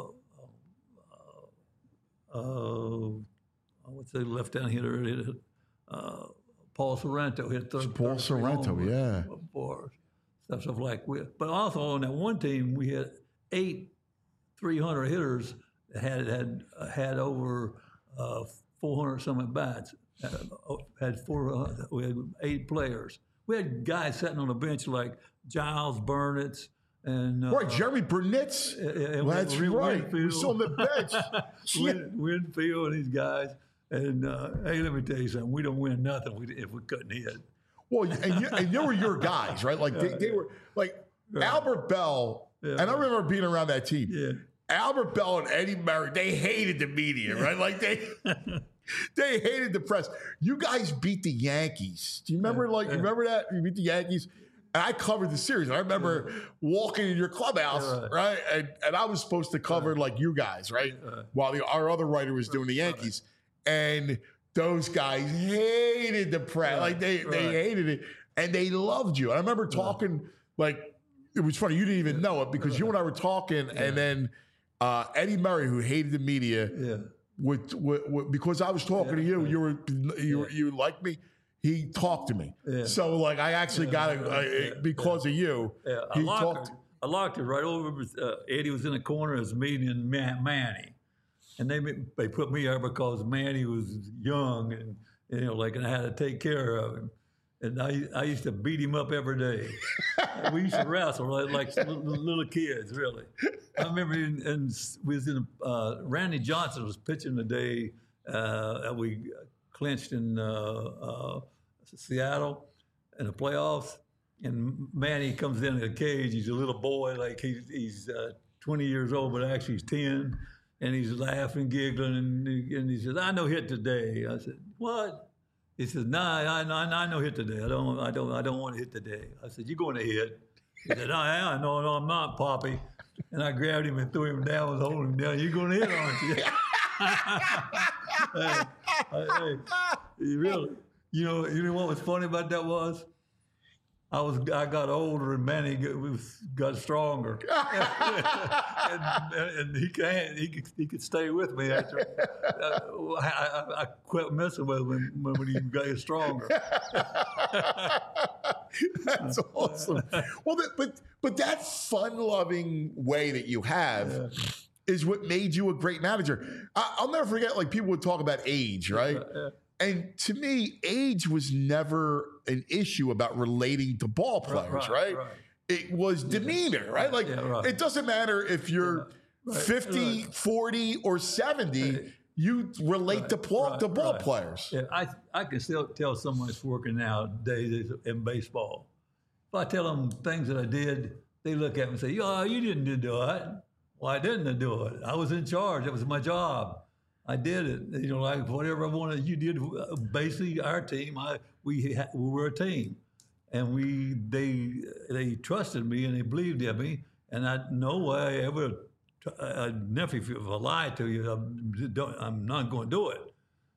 uh, uh, what's the left down hitter? Uh, Paul Sorrento hit third. Paul third Sorrento, home run yeah. for us. Stuff, stuff like we. But also on that one team, we had eight three hundred hitters that had had had over uh, four hundred some at bats. Uh, had four. Uh, we had eight players. We had guys sitting on the bench like Giles Burnitz and uh, Right, Jeremy Burnett's. and That's Win- right. Winfield. We're still on the bench. Yeah. Win, Winfield and these guys. And uh, hey, let me tell you something. We don't win nothing if we couldn't hit. Well, and, you, and they were your guys, right? Like they, they were like Albert Bell, Yeah. and I remember being around that team. Yeah. Albert Bell and Eddie Murray, they hated the media, right? Like they they hated the press. You guys beat the Yankees. Do you remember? Yeah, like yeah. you remember that you beat the Yankees. And I covered the series. I remember yeah. walking in your clubhouse, yeah, right? right? And, and I was supposed to cover right. like you guys, right? right. While the, our other writer was doing the Yankees, right. and those guys hated the press. Right. Like they right. they hated it, and they loved you. I remember talking right. like it was funny. You didn't even know it because right. you and I were talking, yeah. and then uh, Eddie Murray, who hated the media, yeah. with, with, with because I was talking yeah. to you, you were you yeah. you liked me. He talked to me. Yeah. So, like, I actually yeah, got it uh, yeah, because yeah. of you. Yeah. He I locked talked. It. I locked it right over. With, uh, Eddie was in the corner of his meeting and Man- Manny. And they they put me there because Manny was young and, you know, like, and I had to take care of him. And I I used to beat him up every day. We used to wrestle like, like little, little kids, really. I remember in, in, we was in, uh, Randy Johnson was pitching the day uh, that we clinched in uh, uh, Seattle in the playoffs, and Manny comes into the cage. He's a little boy, like he's, he's uh, twenty years old, but actually he's ten, and he's laughing, giggling, and, and he says, "I know hit today." I said, "What?" He says, "Nah, I, I, I know hit today. I don't, I don't, I don't want to hit today." I said, "You're going to hit." He said, "I am. No, no, I'm not, Poppy." And I grabbed him and threw him down, was holding him down. "You're going to hit, aren't you?" hey, hey, really? You know, you know what was funny about that was, I was I got older and Manny got, was, got stronger, and, and he can't he could he could stay with me after uh, I, I, I quit messing with him when, when he got stronger. That's awesome. Well, but but that fun-loving way that you have. Yeah. Is what made you a great manager. I, I'll never forget, like, people would talk about age, right? Yeah, yeah. And to me, age was never an issue about relating to ball players, right? right, right. It was demeanor, yeah. right? Like, yeah, right. It doesn't matter if you're yeah. right. fifty, right. forty, or seventy, right. you relate right. to, pl- right. to ball right. players. Yeah, I I can still tell someone that's working nowadays in baseball. If I tell them things that I did, they look at me and say, "Oh, you didn't do that." Well, I didn't do it. I was in charge. It was my job. I did it. You know, like whatever I wanted, you did. Basically, our team, I we ha- we were a team, and we they they trusted me and they believed in me. And I no way I ever, I never if I lie to you, I'm, don't, I'm not going to do it.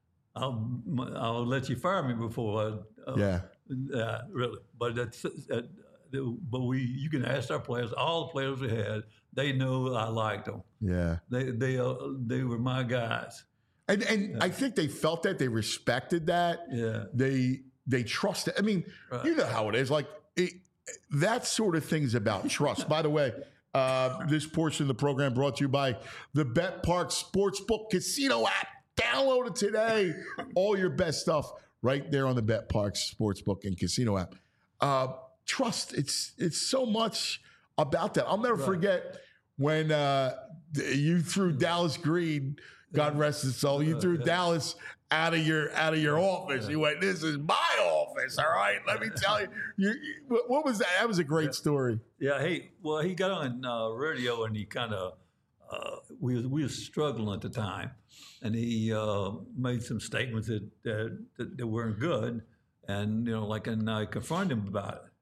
I'll I'll let you fire me before. I, uh, yeah. Uh, really, but that's. Uh, But we, you can ask our players. All the players we had, they know I liked them. Yeah, they they uh, they were my guys. And and yeah. I think they felt that, they respected that. Yeah, they they trusted. I mean, right. you know how it is. Like it, that sort of thing's about trust. By the way, uh, this portion of the program brought to you by the Bet Park Sportsbook Casino app. Download it today. All your best stuff right there on the Bet Park Sportsbook and Casino app. Uh, Trust. It's it's so much about that. I'll never right. forget when uh, you threw Dallas Green, God rest his soul. You threw uh, yeah. Dallas out of your out of your office. You went, "This is my office, all right." Let me tell you. you, you what was that? That was a great yeah. story. Yeah. Hey, well, he got on uh, radio and he kind of uh, we was, we were struggling at the time, and he uh, made some statements that, that that that weren't good, and you know, like, and I confronted him about it.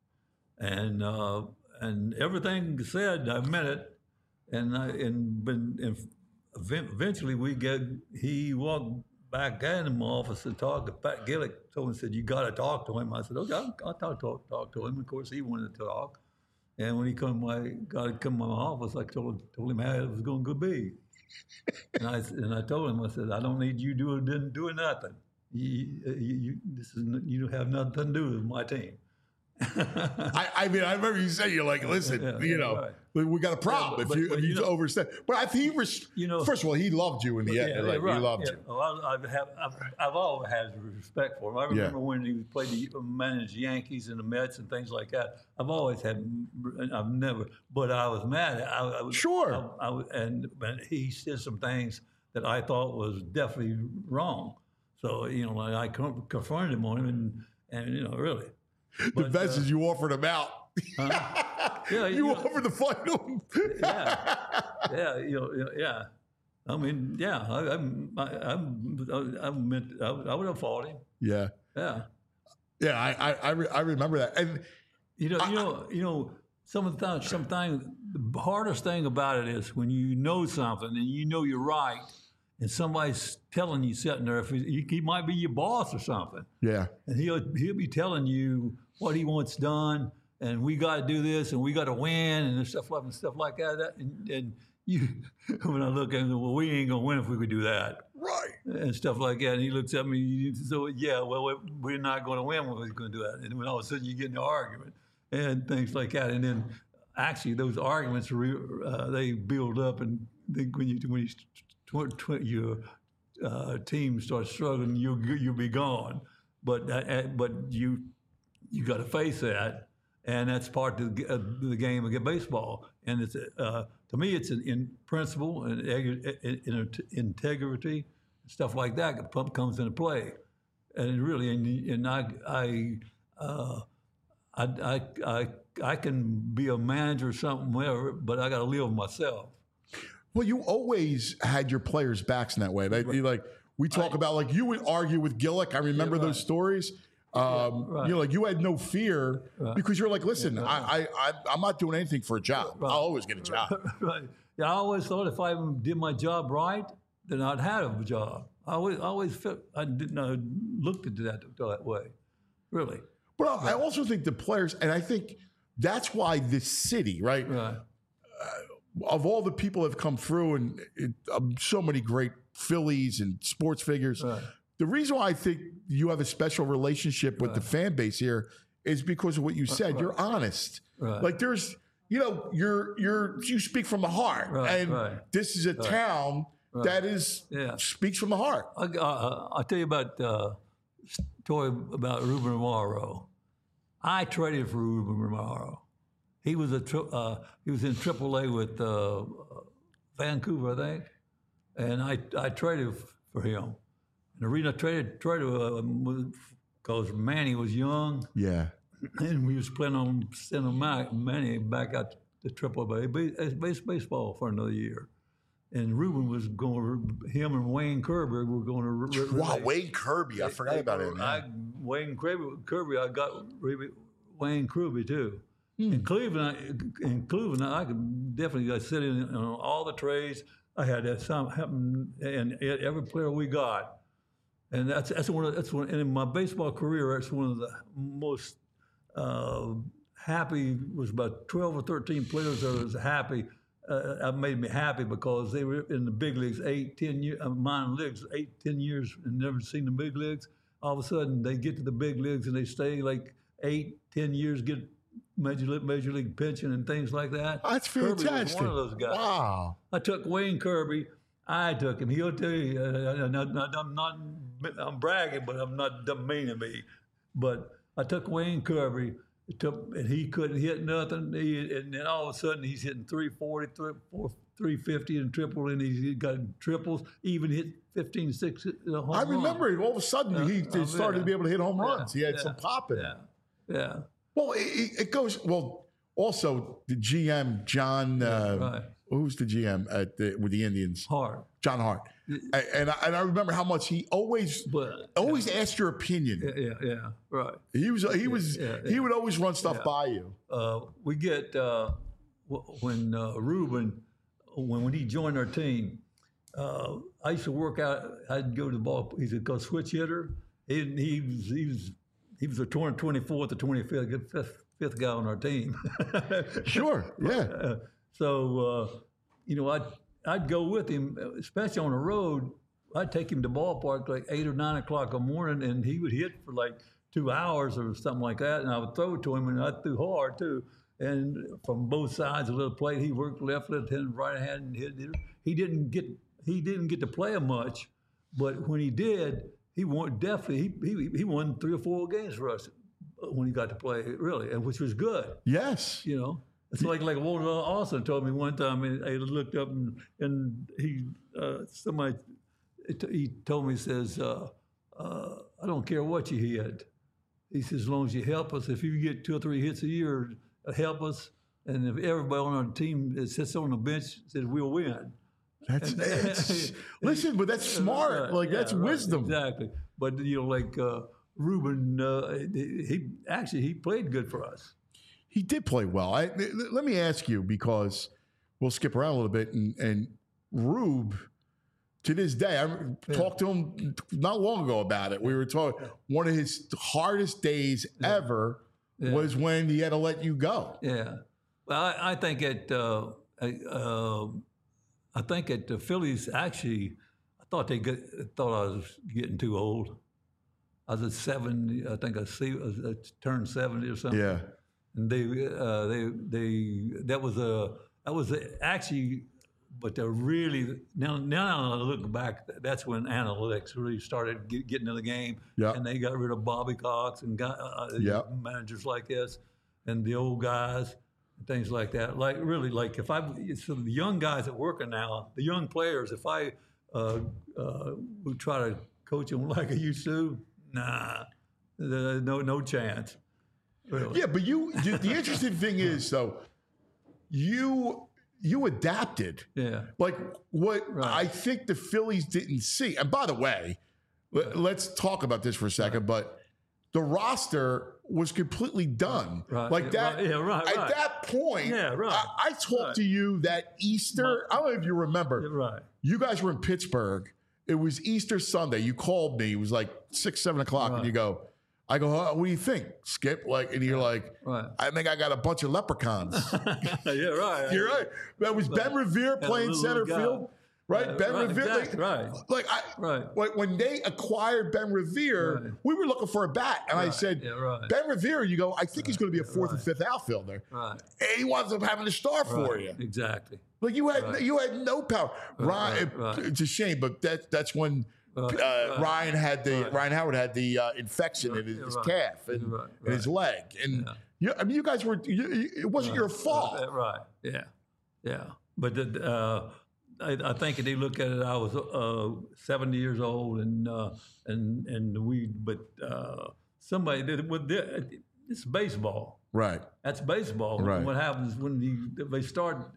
And uh, and everything said, I meant it, and I, and, and, and eventually we get he walked back in my office and talked to Pat Gillick. Told him, said, "You got to talk to him." I said, "Okay, I'll, I'll talk, talk talk to him." Of course, he wanted to talk, and when he come my got to come to my office, I told told him how it was going to be, and I and I told him, I said, "I don't need you doing didn't doing nothing. You, you, you this is you have nothing to do with my team." I, I mean, I remember you saying, "You're like, listen, yeah, you know, right. we, we got a problem yeah, but, if you, but, if you, you know, overstep." But I think he was, you know, first of all, he loved you in the end. Yeah, like, right. He loved yeah. you. Well, I, I've, have, I've, I've always had respect for him. I remember yeah. when he played the managed Yankees and the Mets and things like that. I've always had, I've never, but I was mad. I, I was, sure. I, I, and, and he said some things that I thought was definitely wrong. So, you know, like I confronted him on him, and, and you know, really. The but, best uh, is you offered him out. Huh? Yeah, you, you know, offered to fight him. yeah, yeah, you know, yeah. I mean, yeah, I, I'm, I, I'm, I meant, I, I would have fought him. Yeah, Yeah, yeah. I I I, re- I remember that. And you know, I, you know, you know. Some of the time, sometimes the hardest thing about it is when you know something and you know you're right, and somebody's telling you sitting there. If he, he might be your boss or something. yeah, And he'll he'll be telling you what he wants done, and we got to do this, and we got to win, and stuff like and stuff like that. And, and you, when I look at him, well, we ain't gonna win if we could do that, right. and stuff like that. And he looks at me, so yeah, well, we're not going to win when we're going to do that. And when all of a sudden you get in the argument and things like that, and then actually those arguments uh, they build up, and they, when you when you tw- tw- your uh, team starts struggling, you'll you'll be gone. But uh, but you you got to face that, and that's part of the, uh, the game of baseball. And it's uh, to me, it's in, in principle and in, in integrity, stuff like that comes into play. And really, and, and I I, uh, I I I I can be a manager or something, whatever, but I got to live with myself. Well, you always had your players' backs in that way. Like, you like we talk I, about, like you would argue with Gillick. I remember yeah, right. those stories. Um, yeah, right. You know, like you had no fear right. because you're like, listen, yeah, right. I, I, I'm not doing anything for a job. Right. I'll always get a job. Right. Yeah, I always thought if I did my job right, then I'd have a job. I always, I always felt I didn't I looked at that that way, really. But I also think the players, and I think that's why this city, right? Right. Uh, of all the people that have come through, and it, um, so many great Phillies and sports figures. Right. The reason why I think you have a special relationship with right. the fan base here is because of what you said. Right. You're honest. Right. Like there's, you know, you're you're you speak from the heart, right. and right. this is a right. town right. that is yeah. speaks from the heart. I, uh, I'll tell you about uh, story about Ruben Amaro. I traded for Ruben Amaro. He was a tri- uh, he was in triple A with uh, Vancouver, I think, and I I traded for him. And the reason I traded traded because uh, Manny was young, yeah, and we was planning on sending Manny back out to triple A base, baseball for another year. And Ruben was going to, him and Wayne Kirby were going to. Re- wow, Wayne Kirby, I forgot they, about him. I, Wayne Kirby, Kirby, I got Wayne Kirby too. Hmm. In Cleveland, I, in Cleveland, I could definitely I sit in on all the trades. I had that some happen, and every player we got, and that's that's one of that's one. And in my baseball career, that's one of the most uh, happy. Was about twelve or thirteen players that was happy. Uh, made me happy because they were in the big leagues eight, ten years, uh, minor leagues eight, ten years, and never seen the big leagues. All of a sudden, they get to the big leagues and they stay like eight, ten years, get major league, major league pension and things like that. That's fantastic. Kirby was one of those guys. Wow. I took Wayne Kirby. I took him. He'll tell you, uh, I'm not, I'm bragging, but I'm not meaning me. But I took Wayne Kirby. It took, and he couldn't hit nothing. He, and then all of a sudden, he's hitting three forty, three fifty in triple, and he's got triples, even hit fifteen, six home I remember it. All of a sudden, uh, he uh, started yeah. to be able to hit home runs. Yeah, he had yeah, some pop in yeah, it. Yeah. Well, it, it goes, well, also the G M, John, uh, right. who's the G M at the, with the Indians? Hart. John Hart. And, and, I, and I remember how much he always but, always yeah. asked your opinion. Yeah, yeah, yeah, right. He was he was yeah, yeah, he yeah. would always run stuff yeah. by you. Uh, we get uh, when uh, Ruben when when he joined our team. Uh, I used to work out. I'd go to the ball. He's a go switch hitter. He, he was he was he was the twenty-fourth or twenty-fifth fifth, fifth guy on our team. Sure. Yeah. Uh, so uh, you know I. I'd go with him, especially on the road. I'd take him to ballpark like eight or nine o'clock in the morning, and he would hit for like two hours or something like that. And I would throw it to him, and I threw hard too. And from both sides of the plate, he worked left, left hand, right hand, and hit. He didn't get he didn't get to play much, but when he did, he won definitely. He he he won three or four games for us when he got to play, really, and which was good. Yes, you know. It's like like Walter Austin told me one time. And I looked up and, and he uh, somebody he told me, he says uh, uh, I don't care what you hit. He says as long as you help us. If you get two or three hits a year, help us. And if everybody on our team that sits on the bench says we'll win. That's, that's listen, but that's smart. Right, Like yeah, that's right, wisdom. Exactly. But you know, like uh, Ruben, uh, he actually he played good for us. He did play well. I, let me ask you, because we'll skip around a little bit. And, and Rube, to this day, I yeah. talked to him not long ago about it. We were talking, one of his hardest days yeah. ever yeah. was when he had to let you go. Yeah. Well, I, I think at, uh, uh, I think at the Phillies, actually, I thought they get, thought I was getting too old. I was at seventy, I think I, see, I turned seventy or something. Yeah. And they, uh, they, they, that was a, that was a, actually, but they're really, now, now I look back, that's when analytics really started get, getting in the game. Yep. And they got rid of Bobby Cox and got uh, yep. managers like this and the old guys and things like that. Like, really, like if I, so the young guys that working now, the young players, if I uh, uh, would try to coach them like I used to, nah, no, no chance. Really. Yeah, but you. The, the interesting thing is, though, you you adapted. Yeah. Like what right. I think the Phillies didn't see. And by the way, right. let, let's talk about this for a second. Right. But the roster was completely done. Right. Like that. Right. Yeah. Right. At right. that point, yeah. Right. I, I talked right. to you that Easter. I don't know if you remember. Yeah, right. You guys were in Pittsburgh. It was Easter Sunday. You called me. It was like six, seven o'clock, right. and you go. I go, oh, what do you think, Skip? Like, and you're like, right. I think I got a bunch of leprechauns. yeah, right. You're right. That was Ben Revere playing center guy. field, right? Yeah, Ben right, Revere, exactly, like, right? Like, I, right. When, when they acquired Ben Revere, right. we were looking for a bat, and right. I said, yeah, right. Ben Revere, you go, I think right. he's going to be a fourth right. and fifth outfielder, right? And he winds up having to start right. for you, exactly. Like you had, right. you had no power. Right. Ryan, right. it's a shame, but that that's when. Right, uh, right, Ryan had the right. Ryan Howard had the uh, infection right, in his, his right, calf and, right, and his leg, and yeah. you, I mean, you guys were. You, it wasn't right, your fault, right, right? Yeah, yeah. But the, uh, I, I think if they look at it, I was uh, seventy years old, and uh, and and we. But uh, somebody did with it's baseball, right? That's baseball. Right. And what happens when you, they start?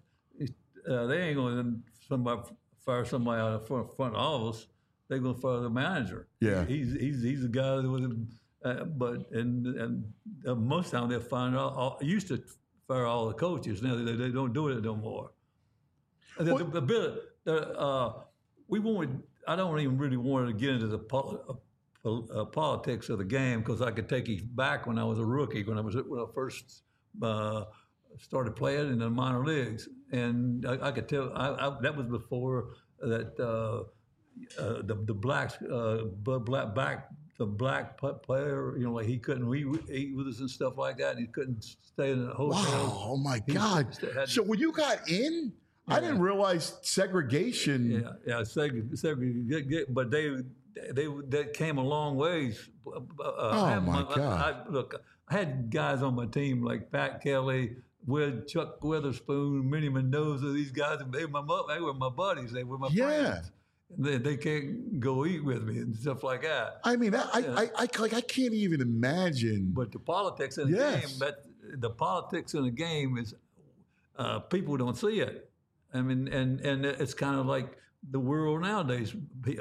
Uh, they ain't going to somebody fire somebody out of front, front office. They're going to fire the manager. Yeah, he's he's he's the guy that was, uh, but and and uh, most of the time they'll find out. All, used to fire all the coaches. Now they, they don't do it no more. The, the, the bit, the, uh, we wanted. I don't even really want to get into the pol- uh, uh, politics of the game because I could take you back when I was a rookie, when I was when I first uh, started playing in the minor leagues, and I, I could tell I, I, that was before that. Uh, Uh, the the blacks, uh, black back the black player, you know, like he couldn't re- eat with us and stuff like that. And he couldn't stay in a hotel. Wow! Oh my he God! Had, so when you got in, yeah. I didn't realize segregation. Yeah, yeah, seg- segregation. But they they they came a long ways. Uh, oh my, my God! I, I, look, I had guys on my team like Pat Kelly. With Chuck Witherspoon, Minnie Mendoza, these guys, they were my they were my buddies. They were my yeah. friends. They, they can't go eat with me and stuff like that. I mean, I, yeah. I, I, like, I can't even imagine. But the politics in the yes. game, but the politics in the game is uh, people don't see it. I mean, and and it's kind of like the world nowadays.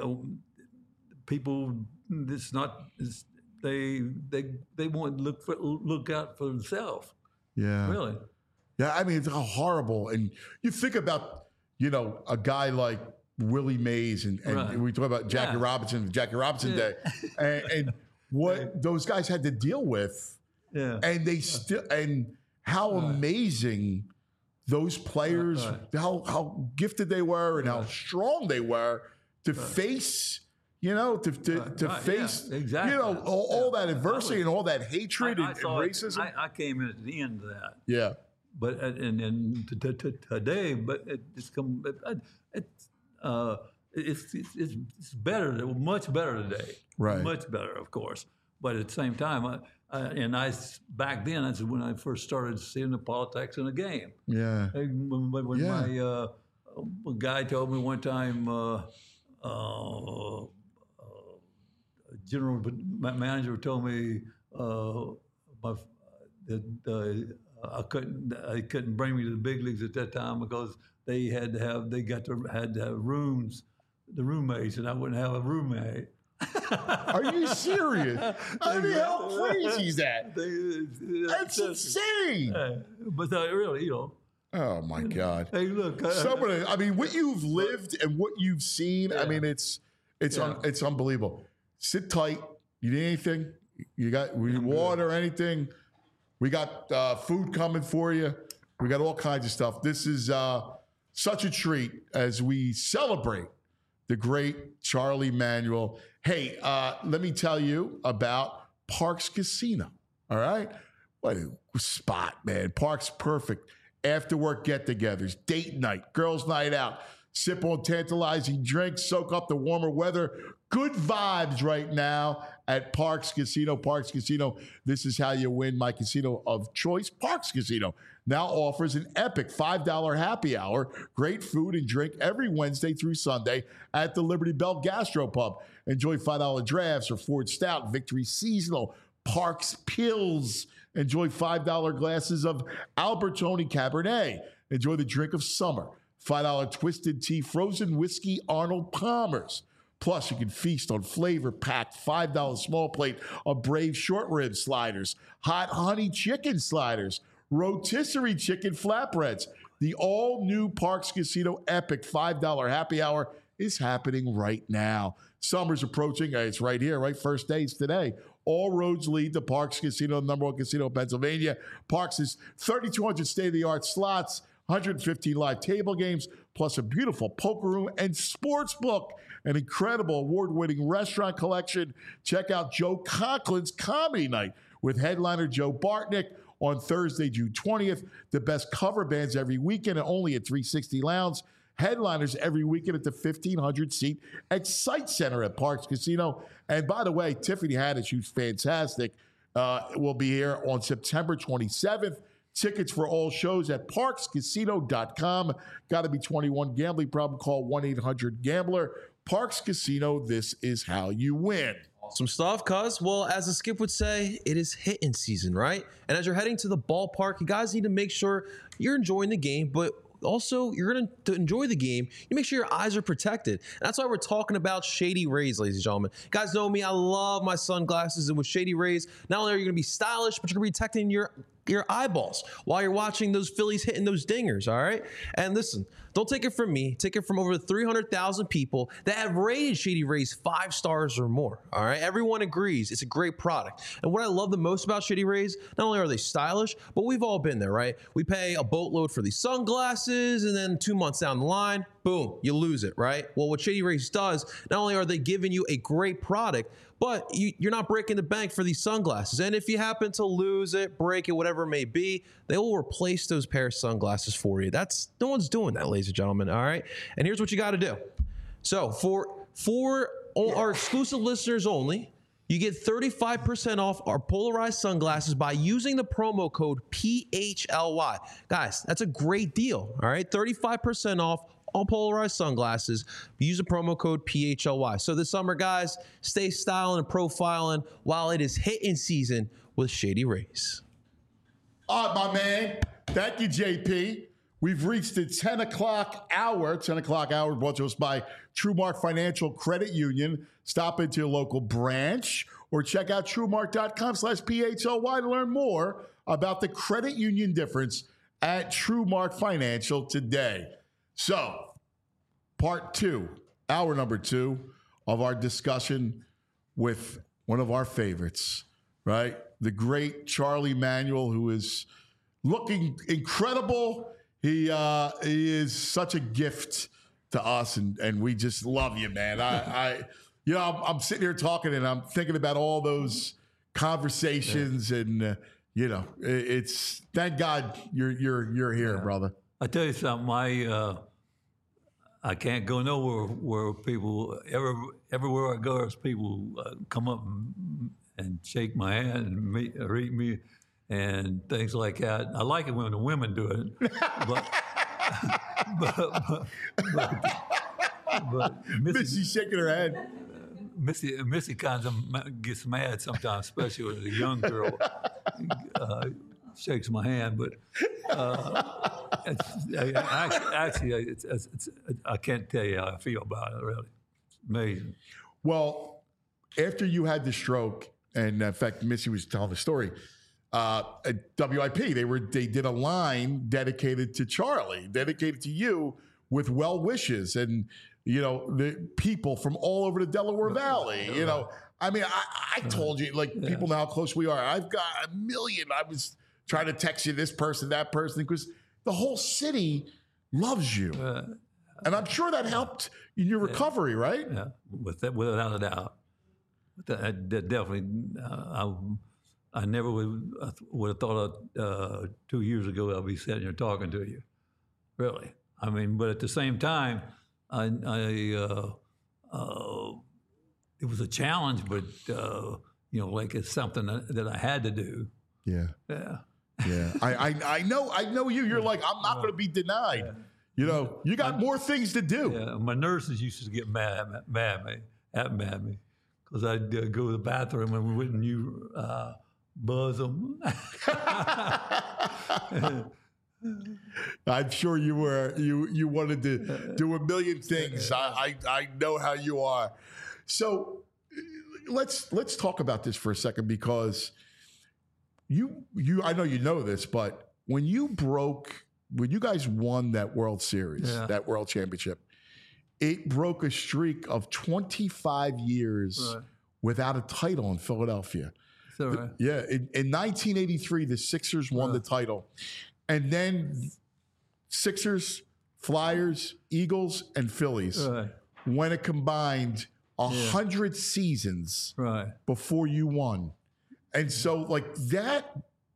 People, it's not. It's, they they they want to look for, look out for themselves. Yeah. Really. Yeah. I mean, it's horrible. And you think about, you know, a guy like Willie Mays and, and right. we talk about Jackie yeah. Robinson, the Jackie Robinson yeah. day, and, and what those guys had to deal with, yeah, and they still and how right. amazing those players, right. how how gifted they were, and right. how strong they were to right. face, you know, to to, right. to right. face, yeah. exactly. you know, all, yeah. all that adversity was, and all that hatred I, I and, and racism. It, I, I came in at the end of that. Yeah. But and and t- t- t- today, but it, it's come. It, it's uh, it's, it's it's better, much better today. Right. Much better, of course. But at the same time, I, I, and I back then that's when I first started seeing the politics in the game. Yeah. When, when yeah. my uh, a guy told me one time, uh, uh, uh, general manager told me uh, my. that uh, I couldn't I couldn't bring me to the big leagues at that time because they had to have they got to had to have rooms, the roommates, and I wouldn't have a roommate. Are you serious? I mean, how crazy is that? They, That's insane. Uh, but uh, really, you know. Oh my God! Hey, look. Uh, Some of the, I mean, what you've lived and what you've seen. Yeah. I mean, it's it's Yeah. un, it's unbelievable. Sit tight. You need anything? You got we need water, anything? We got uh, food coming for you. We got all kinds of stuff. This is uh, such a treat as we celebrate the great Charlie Manuel. Hey, uh, let me tell you about Parx Casino. All right, what a spot, man. Parx perfect. After work get-togethers, date night, girls' night out, sip on tantalizing drinks, soak up the warmer weather. Good vibes right now at Parx Casino. Parx Casino, this is how you win. My casino of choice, Parx Casino, now offers an epic five dollar happy hour. Great food and drink every Wednesday through Sunday at the Liberty Bell Gastropub. Enjoy five dollar drafts or Ford Stout, Victory Seasonal, Parx Pills. Enjoy five dollar glasses of Albertoni Cabernet. Enjoy the drink of summer. five dollar Twisted Tea Frozen Whiskey Arnold Palmers. Plus, you can feast on flavor-packed five dollar small plate of Brave short rib sliders, hot honey chicken sliders, rotisserie chicken flatbreads. The all-new Parx Casino Epic five dollar happy hour is happening right now. Summer's approaching. It's right here, right? First days today. All roads lead to Parx Casino, the number one casino in Pennsylvania. Parx is thirty-two hundred state-of-the-art slots, one hundred fifteen live table games, plus a beautiful poker room and sports book. An incredible award-winning restaurant collection. Check out Joe Conklin's Comedy Night with headliner Joe Bartnick on Thursday, June twentieth. The best cover bands every weekend and only at three sixty Lounge. Headliners every weekend at the fifteen hundred seat Excite Center at Parx Casino. And by the way, Tiffany Haddish, who's fantastic, uh, will be here on September twenty-seventh. Tickets for all shows at parx casino dot com. Got to be twenty-one. Gambling problem, call one eight hundred gambler. Parx Casino, this is how you win. Some stuff, cuz, well, as the Skip would say, it is hitting season, right? And as you're heading to the ballpark, you guys need to make sure you're enjoying the game, but also you're going to enjoy the game. You make sure your eyes are protected. And that's why we're talking about Shady Rays, ladies and gentlemen. You guys know me. I love my sunglasses. And with Shady Rays, not only are you going to be stylish, but you're going to be protecting your your eyeballs while you're watching those Phillies hitting those dingers, all right? And listen, don't take it from me. Take it from over three hundred thousand people that have rated Shady Rays five stars or more, all right? Everyone agrees it's a great product. And what I love the most about Shady Rays, not only are they stylish, but we've all been there, right? We pay a boatload for these sunglasses, and then two months down the line, boom, you lose it, right? Well, what Shady Rays does, not only are they giving you a great product, but you, you're not breaking the bank for these sunglasses. And if you happen to lose it, break it, whatever it may be, they will replace those pair of sunglasses for you. That's no one's doing that, ladies and gentlemen. All right. And here's what you got to do. So for for all our exclusive listeners only, you get thirty-five percent off our polarized sunglasses by using the promo code P H L Y. Guys, that's a great deal. All right. thirty-five percent off all polarized sunglasses. Use the promo code P H L Y. So this summer, guys, stay styling and profiling while it is hitting season with Shady Rays. All right, my man. Thank you, J P. We've reached the ten o'clock hour. ten o'clock hour brought to us by TrueMark Financial Credit Union. Stop into your local branch or check out TrueMark.com slash P-H-L-Y to learn more about the credit union difference at TrueMark Financial today. So, part two, hour number two of our discussion with one of our favorites, right? The great Charlie Manuel, who is looking incredible. He uh, he is such a gift to us, and, and we just love you, man. I, I you know, I'm, I'm sitting here talking, and I'm thinking about all those conversations, yeah. and uh, you know, it, it's thank God you're you're you're here, yeah. brother. I tell you something, I uh, I can't go nowhere where people every, everywhere I go, there's people uh, come up and, and shake my hand and meet, greet me. And things like that. I like it when the women do it, but but, but, but, but Missy, Missy shaking her head. Missy Missy kind of gets mad sometimes, especially with a young girl. Uh, shakes my hand, but uh, it's, actually, actually it's, it's, it's, I can't tell you how I feel about it. Really, it's amazing. Well, after you had the stroke, and in fact, Missy was telling the story. Uh, at W I P, they were they did a line dedicated to Charlie, dedicated to you, with well wishes, and you know the people from all over the Delaware Valley. You know, I mean, I, I told you, like yeah. people know how close we are. I've got a million. I was trying to text you this person, that person, because the whole city loves you, uh, and I'm sure that helped in your recovery, yeah. right? Yeah, with that, without a doubt. That, that definitely. Uh, I, I never would, would have thought uh, two years ago I'd be sitting here talking to you, really. I mean, but at the same time, I, I uh, uh, it was a challenge, but uh, you know, like it's something that, that I had to do. Yeah, yeah, yeah. I, I, I know, I know you. You're like, I'm not going to be denied. Yeah. You know, you got more things to do. Yeah, my nurses used to get mad, mad at me, at me, at me, because I'd uh, go to the bathroom and we wouldn't you. Uh, Buzz them. I'm sure you were you you wanted to do a million things. I, I I know how you are. So let's let's talk about this for a second, because you you I know you know this, but when you broke when you guys won that World Series, yeah. that World Championship, it broke a streak of twenty-five years right. without a title in Philadelphia. Right. Yeah, in, in nineteen eighty-three, the Sixers won right. the title. And then Sixers, Flyers, Eagles, and Phillies right. when it combined one hundred yeah. seasons right. before you won. And so, like, that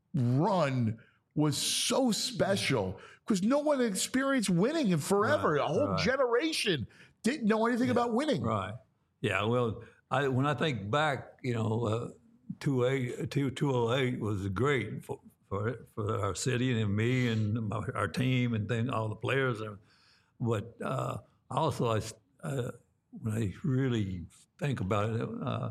run was so special because no one had experienced winning in forever. Right. A whole right. generation didn't know anything yeah. about winning. Right. Yeah, well, I, when I think back, you know, uh, two oh eight was great for, for for our city and me and my, our team and then all the players. But uh, also, I, uh, when I really think about it, uh,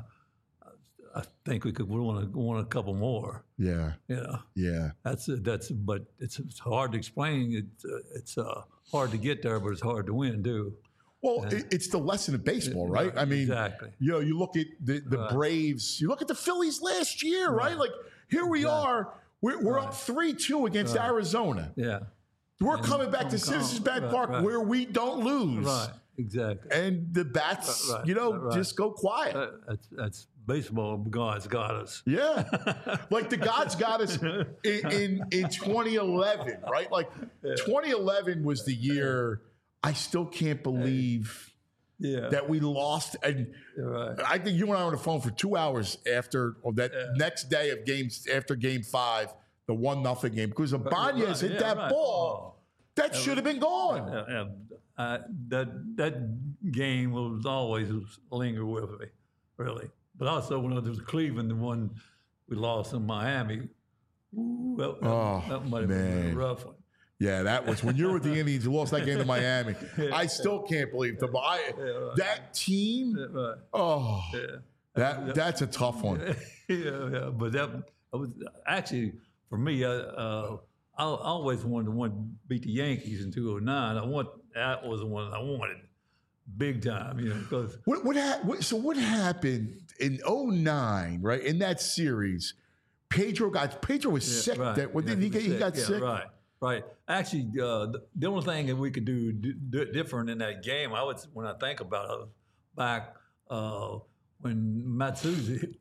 I think we could want to want a couple more. Yeah. Yeah. Yeah. That's that's. But it's it's hard to explain. It's uh, it's uh, hard to get there, but it's hard to win too. Well, yeah. it's the lesson of baseball, right? right? I mean, exactly. you know, you look at the, the right. Braves, you look at the Phillies last year, right? right? Like, here we exactly. are, we're, we're right. up three two against right. Arizona. Yeah. We're and coming back to Citizens Bank right, Park right. where we don't lose. Right, exactly. And the bats, right, you know, right. just go quiet. Uh, that's, that's baseball. God's got us. Yeah. Like the God's got us in, in, in twenty eleven, right? Like yeah. twenty eleven was the year I still can't believe... Yeah. that we lost. And right. I think you and I were on the phone for two hours after or that yeah. next day of games, after game five, the one nothing game, because Ibanez right. hit yeah, that right. ball. Oh. That should have been gone. Yeah, yeah. Uh, that that game will always linger with me, really. But also when it was Cleveland, the one we lost in Miami, ooh, that, oh, that might have man. been a rough one. Yeah, that was when you were with the Indians. You lost that game to Miami. yeah, I still can't believe the I, yeah, right. that team. Yeah, right. Oh, yeah. that that's a tough one. yeah, yeah, but that I was actually for me. I, uh, I always wanted to want to beat the Yankees in two oh nine. I want that was the one I wanted, big time. You know, because what what, ha- what so what happened in oh nine, right? In that series, Pedro got Pedro was yeah, sick. Right. That well, yeah, didn't he get? He got yeah, sick. Right. Right. Actually, uh, the, the only thing that we could do d- d- different in that game, I would, when I think about it, back uh, when Matsuzi,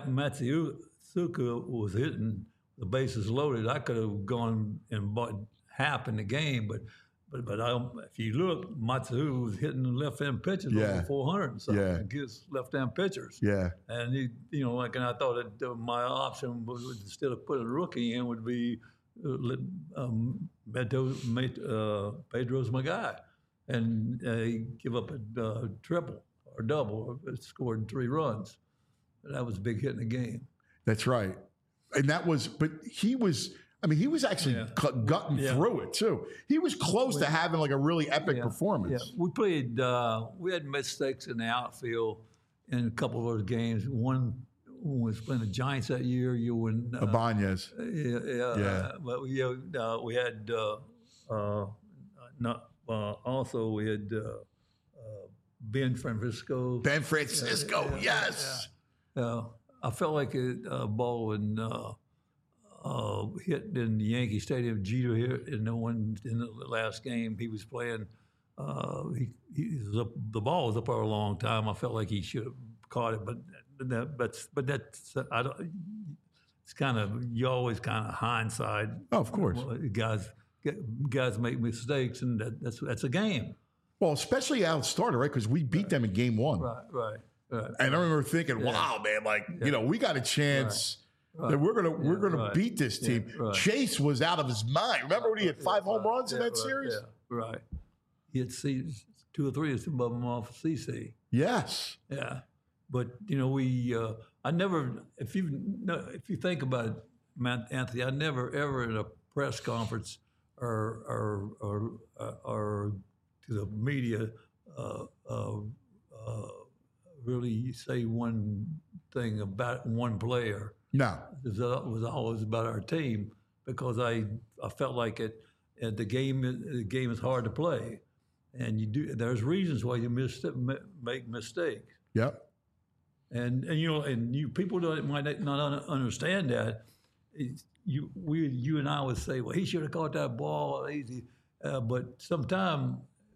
Matsuka was hitting the bases loaded, I could have gone and bought half in the game, but but but I, if you look, Matsu was hitting left-hand pitchers yeah. over four hundred and something yeah. against left-hand pitchers. Yeah. And he, you know, like, and I thought that uh, my option was, instead of putting a rookie in, would be. Um, Pedro, uh, Pedro's my guy, and uh, he give up a uh, triple or double, or scored three runs. That was a big hit in the game. That's right, and that was. But he was. I mean, he was actually yeah. cut, gutting yeah. through it too. He was close we, to having like a really epic yeah, performance. Yeah. We played. Uh, we had mistakes in the outfield in a couple of those games. One when we was playing the Giants that year. You when uh, Ibanez. yeah, yeah, Yeah. uh, but we uh, uh, we had uh, uh, not uh, also we had uh, uh, Ben Francisco. Ben Francisco, Yeah, yeah, yes. Uh, I felt like a uh, ball when uh, uh, hit in the Yankee Stadium. Jeter hit in the one in the last game he was playing. Uh, he, he was up, the ball was up there a long time. I felt like he should have caught it, but that, but but that's I don't. It's kind of you always kind of hindsight. Oh, of course. Guys guys make mistakes, and that, that's that's a game. Well, especially out starter, right? Because we beat them in game one. Right, right, right. And I remember thinking, wow, man, like, you know, we got a chance Right. that we're gonna we're Yeah, gonna right. beat this team. Yeah, right. Chase was out of his mind. Remember when he had five home Right. runs in Yeah, that right. series? Yeah, right. He had C, two or three of them off C C. Yes. Yeah, but you know we. Uh, I never. If you no, if you think about it, Matt, Anthony, I never ever in a press conference or or or, uh, or to the media uh, uh, uh, really say one thing about one player. No. It was always about our team because I I felt like it. Uh, the game the game is hard to play, and you do. There's reasons why you mis- make mistakes. Yep. And, and you know, and you people don't, might not un- understand that. It's, you we you and I would say, well, he should have caught that ball easy, uh, but sometimes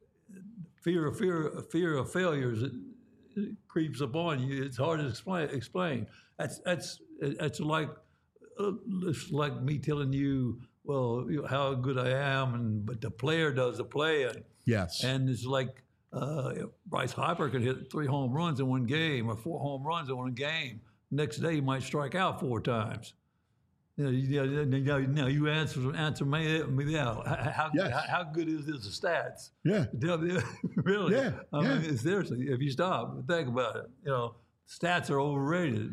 fear of fear fear of failures it, it creeps upon you. It's hard to explain. Explain. That's that's that's like uh, it's like me telling you, well, you know, how good I am, and but the player does the playing. Yes. And it's like uh, Bryce Harper could hit three home runs in one game or four home runs in one game. Next day, he might strike out four times. You know, you, now, now you answer answer me, me now. How, Yes. how, how good is this stats? Yeah. Really? Yeah, I yeah. mean, seriously, if you stop and think about it, you know, stats are overrated.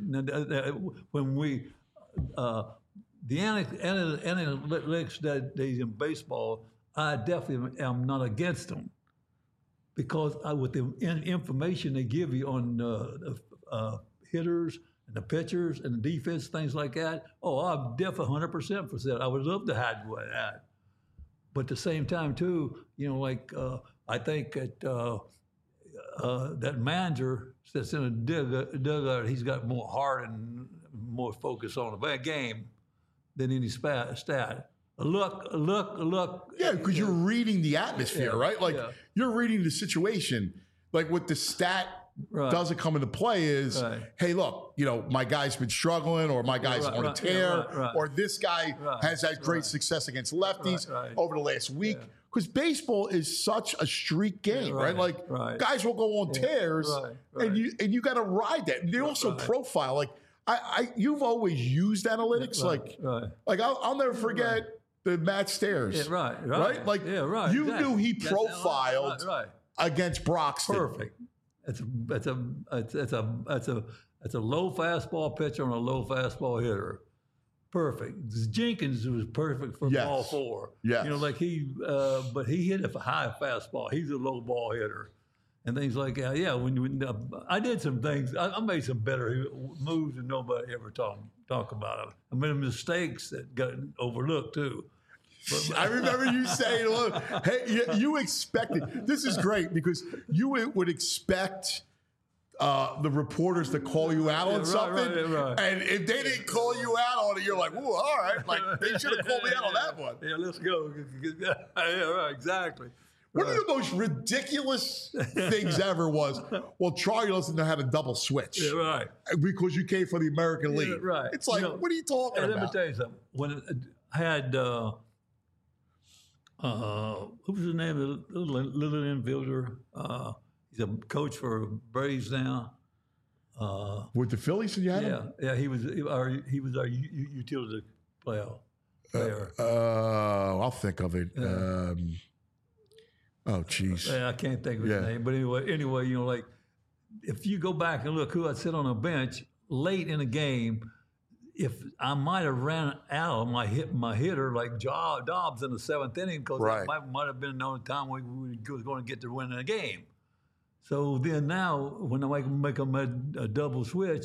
When we, uh, the analytics that days in baseball, I definitely am not against them because I, with the in, information they give you on uh, the uh, hitters and the pitchers and the defense, things like that, oh, I'm definitely one hundred percent for that. I would love to have that. But at the same time, too, you know, like uh, I think that uh, uh, that manager that's in a dugout, dugout, he's got more heart and more focus on the game than any spat, stat. Look, look, look. Yeah, because you're reading the atmosphere, Yeah, right? Like yeah. you're reading the situation. Like what the stat Right. doesn't come into play is, Right. hey, look, you know, my guy's been struggling, or my guy's Right, on right, a tear, yeah, right, right. or this guy Right, has had great right. success against lefties Right, right. over the last week. Yeah. Because baseball is such a streak game, right? right, Like right. guys will go on Yeah, tears, right, right. and you and you got to ride that. And they also Right. profile. Like I, I, you've always used analytics. Right, like, right. like I'll, I'll never forget the Matt Stairs. Yeah, right, right. Right? Like yeah, right. you exactly. knew he That's- profiled right, right. against Broxton. Perfect. It's a it's a it's, it's a it's a it's a low fastball pitcher and a low fastball hitter. Perfect. Jenkins was perfect for Yes. ball four. Yes. You know, like he, uh, but he hit a high fastball. He's a low ball hitter, and things like that. Yeah. When, when uh, I did some things, I, I made some better moves than nobody ever talk talk about them. I made mistakes that got overlooked too. But, I remember you saying, "Look, hey, you, you expected." This is great because you would would expect uh, the reporters to call you out on right, something, right, right. and if they didn't call you out on it, you're like, "Ooh, all right." Like they should have called me out on that one. Yeah, let's go. Yeah, right, exactly. One of the most ridiculous things ever was, well, Charlie doesn't know how to double switch Yeah, right. because you came for the American Yeah, League. right. It's like, You know, what are you talking Let me about? tell you something. When it, I had, uh, uh, what was the name of the little, little infielder? Uh, he's a coach for Braves now. Uh, With the Phillies, and you had yeah, him? yeah. He was he, our he was our u- u- utility player. player. Uh, I'll think of it. Um, oh, jeez. Yeah, I can't think of his Yeah. name, but anyway, anyway, you know, like if you go back and look who I'd sit on a bench late in a game, if I might have ran out of my hit my hitter like Jo- Dobbs in the seventh inning because Right. that might, might have been the only time we, we was going to get to win the game. So then now when I make, make them a, a double switch,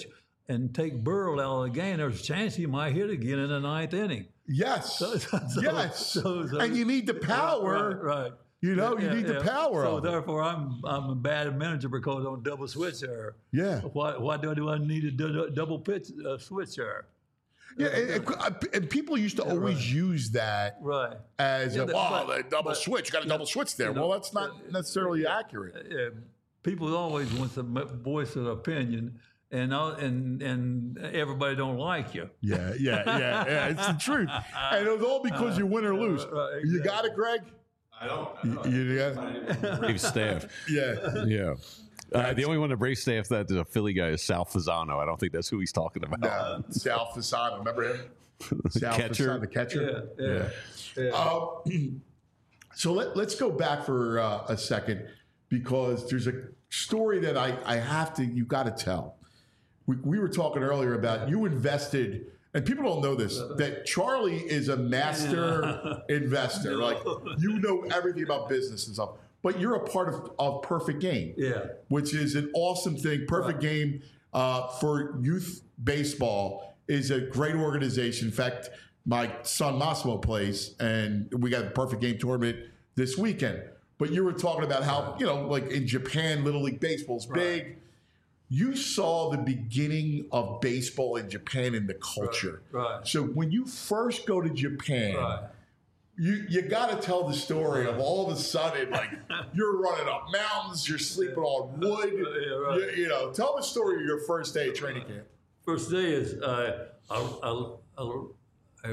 and take Burrell out of the game, there's a chance he might hit again in the ninth inning. Yes. So, so, yes. So, so, and you need the power. Right. right. You know, yeah, you need yeah. the power. So of it. therefore, I'm I'm a bad manager because I'm double switch there. Yeah. Why why do I, do I need a d- double pitch uh, switch there? Yeah, and, and, and people used to Yeah, always right. use that Right. as Yeah, a, the- oh, but- the double but- switch. You got a double switch there. you know, well, that's not necessarily accurate. Yeah, people always want to voice an opinion, and I'll- and and everybody don't like you. Yeah, yeah, yeah, yeah. It's the truth, and it was all because you win or lose. Right, You got it, Greg. I don't. I You, don't you got it? Brave staff. Yeah. Yeah. Uh, the only one that Brave staff that is a Philly guy is Sal Fasano. I don't think that's who he's talking about. Uh, Sal Fasano, remember him? Sal Catcher. Fasano, the catcher. Yeah, yeah. yeah. Um, so let, let's go back for uh, a second because there's a story that I, I have to, you got to tell. We, we were talking earlier about you invested, and people don't know this, that Charlie is a master investor. Like, you know everything about business and stuff, but you're a part of, of Perfect Game, Yeah. which is an awesome thing. Perfect Right. Game uh, for youth baseball is a great organization. In fact, my son Massimo plays, and we got a Perfect Game tournament this weekend. But you were talking about how, you know, like in Japan, Little League Baseball is big. You saw the beginning of baseball in Japan and the culture. Right, right. So when you first go to Japan, Right. you you got to tell the story of all of a sudden, like, you're running up mountains, you're sleeping on wood. Yeah, right. you, you know, tell the story of your first day of training camp. First day is uh, I, I, I, I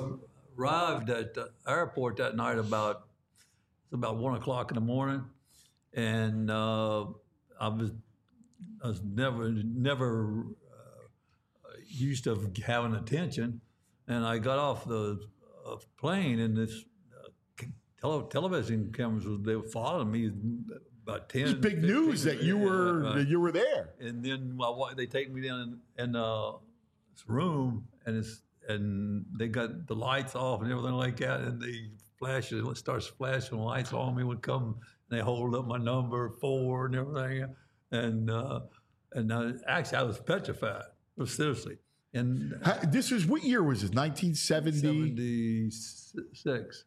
arrived at the airport that night about it's about one o'clock in the morning, and uh, I was I was never never uh, used to having attention, and I got off the uh, plane, and this uh, tele- television cameras was they were following me about ten. It's big news that you yeah, were right. that you were there. And then my wife, they take me down in, in uh, this room, and it's and they got the lights off and everything like that, and they flash it starts flashing lights on me would come, and they hold up my number four and everything, and uh, and uh, actually I was petrified, seriously. And How, this was what year was this? nineteen seventy. seventy-six,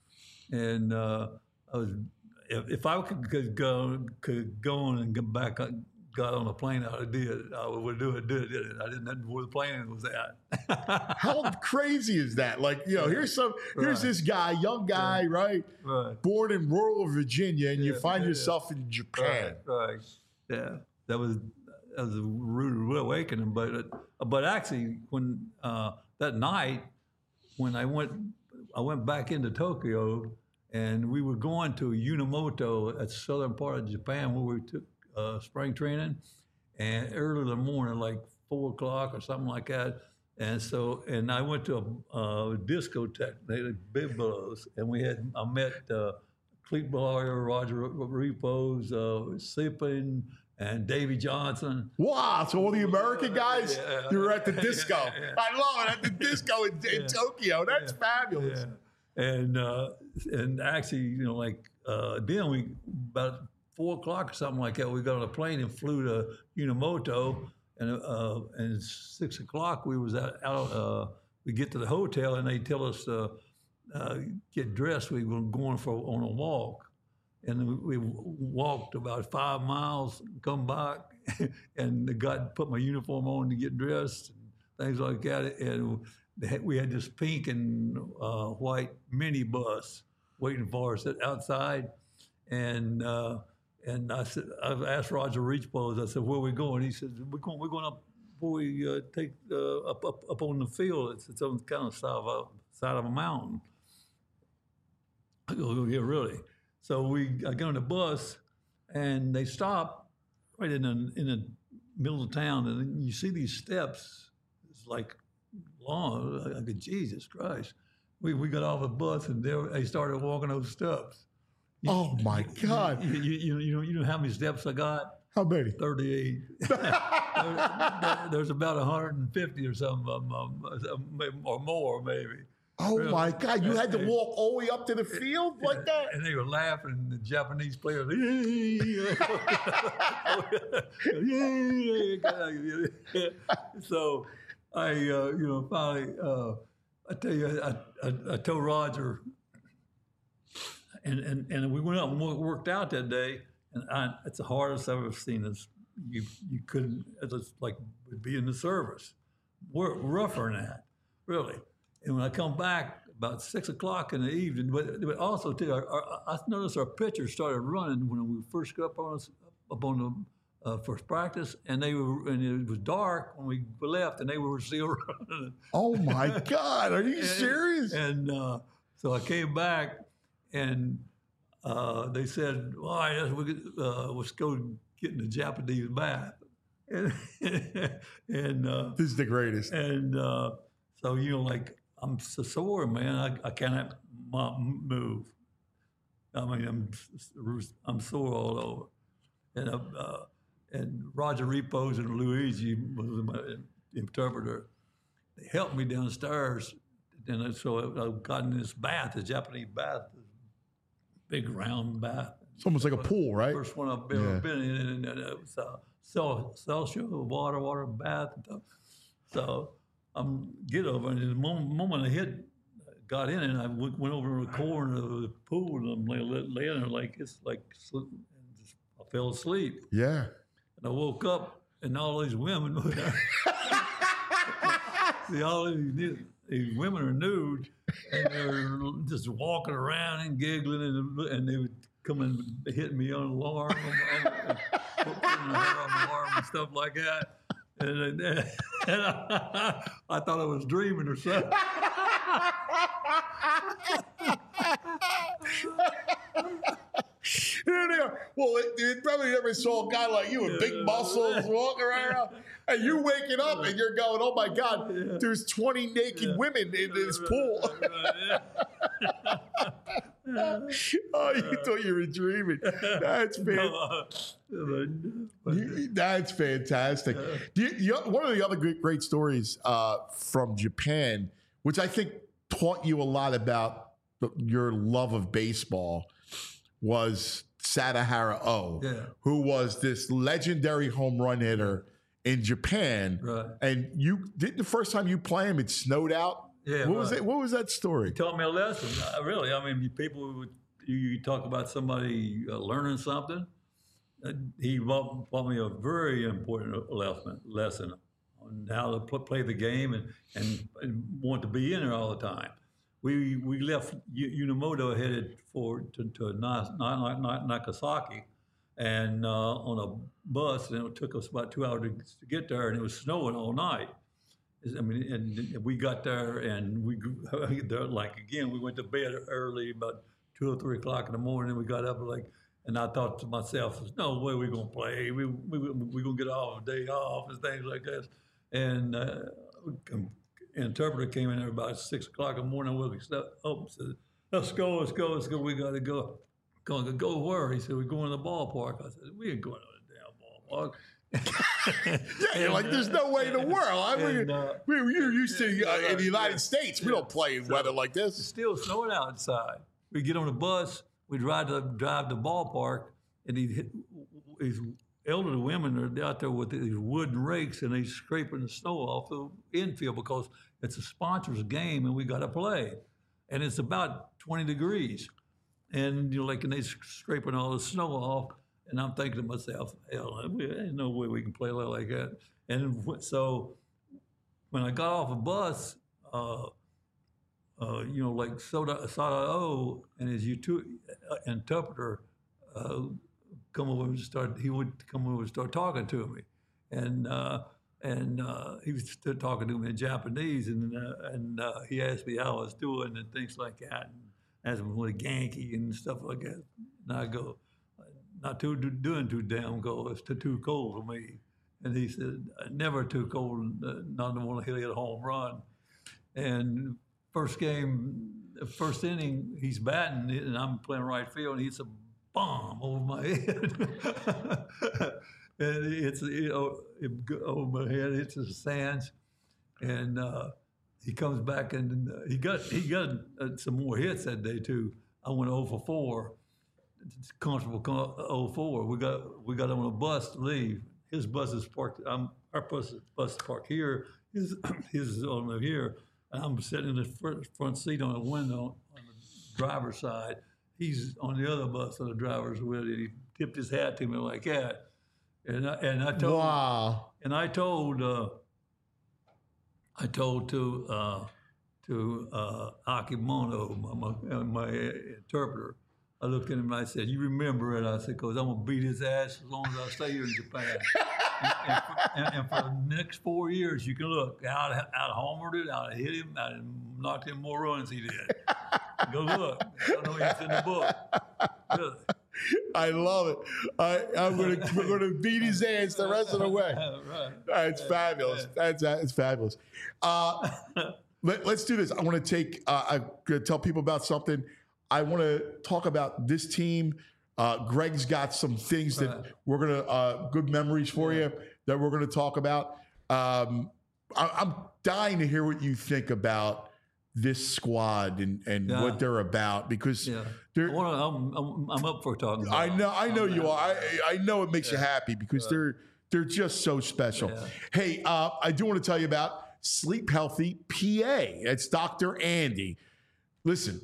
and uh, I was if, if I could, could go could go on and get back, got on a plane, I would do it. I would do it. Did it. I didn't know where the plane was at. How crazy is that? Like, you know, here's some here's Right. this guy, young guy, right? Right. Born in rural Virginia, and you Yeah, find yeah, yourself in Japan. Right, right. Yeah, that was that was a rude awakening. But it, but actually, when uh, that night when I went I went back into Tokyo, and we were going to Yunamoto, at the southern part of Japan, where we took uh, spring training, and early in the morning, like four o'clock or something like that. And so, and I went to a, a discotheque, they had Biblos, and we had, I met uh, Clete Boyer, Roger Repos, uh, Sippin, and Davy Johnson. Wow! So all the American guys, Yeah. you were at the disco. Yeah, yeah. I love it, at the disco in, in Yeah. Tokyo. That's fabulous. Yeah. And uh, and actually, you know, like uh, then we about four o'clock or something like that, we got on a plane and flew to Yunamoto, and uh, and six o'clock we was out. out uh, we get to the hotel and they tell us to uh, get dressed. We were going for on a walk, and we walked about five miles, come back, and got put my uniform on to get dressed, and things like that, and. We had this pink and uh, white minibus waiting for us outside, and uh, and I said, I asked Roger Reachpose, I said, "Where are we going?" He said, "We're going, we're going up before we uh, take uh, up, up up on the field. It's, it's on kind of side of a side of a mountain." I go, "Yeah, really?" So we I get on the bus, and they stop right in the in the middle of town, and then you see these steps. It's like long. I go, Jesus Christ. We we got off the bus and there they started walking those steps. You, Oh my God! You, you, you, you know you know how many steps I got? How many? thirty-eight. there, there's about one hundred fifty or something, um, um, or more maybe. Oh Really. my God! You had to walk all the way up to the field like that. And they were laughing. The Japanese players, so I, uh, you know, finally, uh, I tell you, I, I, I told Roger, and, and and we went up and worked out that day, and I, it's the hardest I've ever seen. This you you couldn't. It's like be in the service. We're rougher than that, really. And when I come back about six o'clock in the evening, but, but also too, our, our, I noticed our pitchers started running when we first got up on us, up on the uh, first practice, and they were, and it was dark when we left, and they were still running. Oh my God! Are you and, serious? And uh, so I came back, and uh, they said, "All right, let's, uh, let's go get in the Japanese bath." And, and uh, This is the greatest. and uh, so you know, like I'm so sore, man. I, I cannot move. I mean, I'm I'm sore all over. And uh, uh, and Roger Repos and Luigi was my interpreter. They helped me downstairs, and so I, I got in this bath, the Japanese bath, big round bath. It's almost like a pool, right? First one I've ever Yeah. been in, and, and it was uh, so Celsius water, water bath. And stuff. So I'm get over, and the moment, moment I hit, got in, and I went, went over to the corner of the pool, and I'm laying, laying there like it's like and just, I fell asleep, Yeah. and I woke up, and all these women were there. See, all these, these women are nude, and they're just walking around and giggling, and, and they would come and hit me on the arm, and, and putting their hair on the arm and stuff like that. And, and, and I, I thought I was dreaming or something. Here they are. Well, it, it probably never saw a guy like you with big muscles walking around, and you waking up and you're going, "Oh my God, there's twenty naked Yeah. women in this pool." Oh, you thought you were dreaming. That's fantastic. That's fantastic. Do you, you, one of the other great, great stories uh, from Japan, which I think taught you a lot about the, your love of baseball, was Sadahara O, Yeah. who was this legendary home run hitter in Japan. Right. And you did the first time you play him, it snowed out. Yeah, What was right. it? What was that story? Taught me a lesson. Uh, really, I mean, people would you, you talk about somebody uh, learning something. Uh, he taught taught me a very important lesson lesson on how to pl- play the game and, and and want to be in there all the time. We we left U- Unamoto headed for to, to Na- Na- Na- Nagasaki, and uh, on a bus, and it took us about two hours to, to get there, and it was snowing all night. I mean, and we got there, and we like again. We went to bed early, about two or three o'clock in the morning. And we got up like, and I thought to myself, "There's no way we're gonna play. We we we gonna get off a day off and things like this." And uh, an interpreter came in there about six o'clock in the morning. We up, oh, said, "Let's go, let's go, let's go. We gotta go." Going to go where? He said, "We're going to the ballpark." I said, "We ain't going to the damn ballpark." Yeah, you're like, there's no way in the world. I mean, And, uh, we, you're used to uh, in the United yeah. States, we Yeah. don't play in So- weather like It's this. still snowing outside. We get on the bus, we drive to drive to the ballpark, and these, these elderly women are out there with these wooden rakes, and they scraping the snow off the infield because it's a sponsor's game, and we got to play, and it's about twenty degrees, and you know, like, and they scraping all the snow off, and I'm thinking to myself, hell, there's no way we can play like that, and so when I got off a bus. Uh, Uh, you know, like Soda Sada O and his utu- uh, interpreter uh, come over and start. He would come over and start talking to me, and uh, and uh, he was still talking to me in Japanese, and uh, and uh, he asked me how I was doing and things like that, and asked me what a Yankee and stuff like that. And I go, not too doing too damn cold. It's too, too cold for me. And he said, never too cold. Uh, not to want to hit a home run. And first game, first inning, he's batting, and I'm playing right field, and he hits a bomb over my head. And it's you know, it, over my head, it's the sands, and uh, he comes back and uh, he got he got uh, some more hits that day too. I went oh for four, comfortable oh for four. We got we got on a bus to leave. His bus is parked. I'm, our bus is bus is parked here. His his is on here. And I'm sitting in the front, front seat on the window on the driver's side. He's on the other bus on the driver's with it. He tipped his hat to me like that, and I, and I told Wow. and I told uh, I told to uh, to uh, Akimono, my, my, my interpreter. I looked at him and I said, "You remember it?" I said, "Because I'm gonna beat his ass as long as I stay here in Japan." and, and, for, and, and for the next four years, you can look out, out homered it, out hit him, out knocked him more runs he did. Go look. I know it's in the book. Really. I love it. I, I'm gonna we're gonna beat his ass the rest of the way. Right. That's fabulous. That's that's fabulous. Uh, let, let's do this. I want to take. Uh, I'm gonna tell people about something. I want to talk about this team. Uh, Greg's got some things that Right. we're gonna uh, good memories for Yeah. you that we're gonna talk about. Um, I, I'm dying to hear what you think about this squad and, and Yeah. what they're about because Yeah. they're. I wanna, I'm, I'm, I'm up for talking about I know, I know I'm- you are. I, I know it makes you happy because they're they're just so special. Yeah. Hey, uh, I do want to tell you about Sleep Healthy P A. It's Doctor Andy. Listen,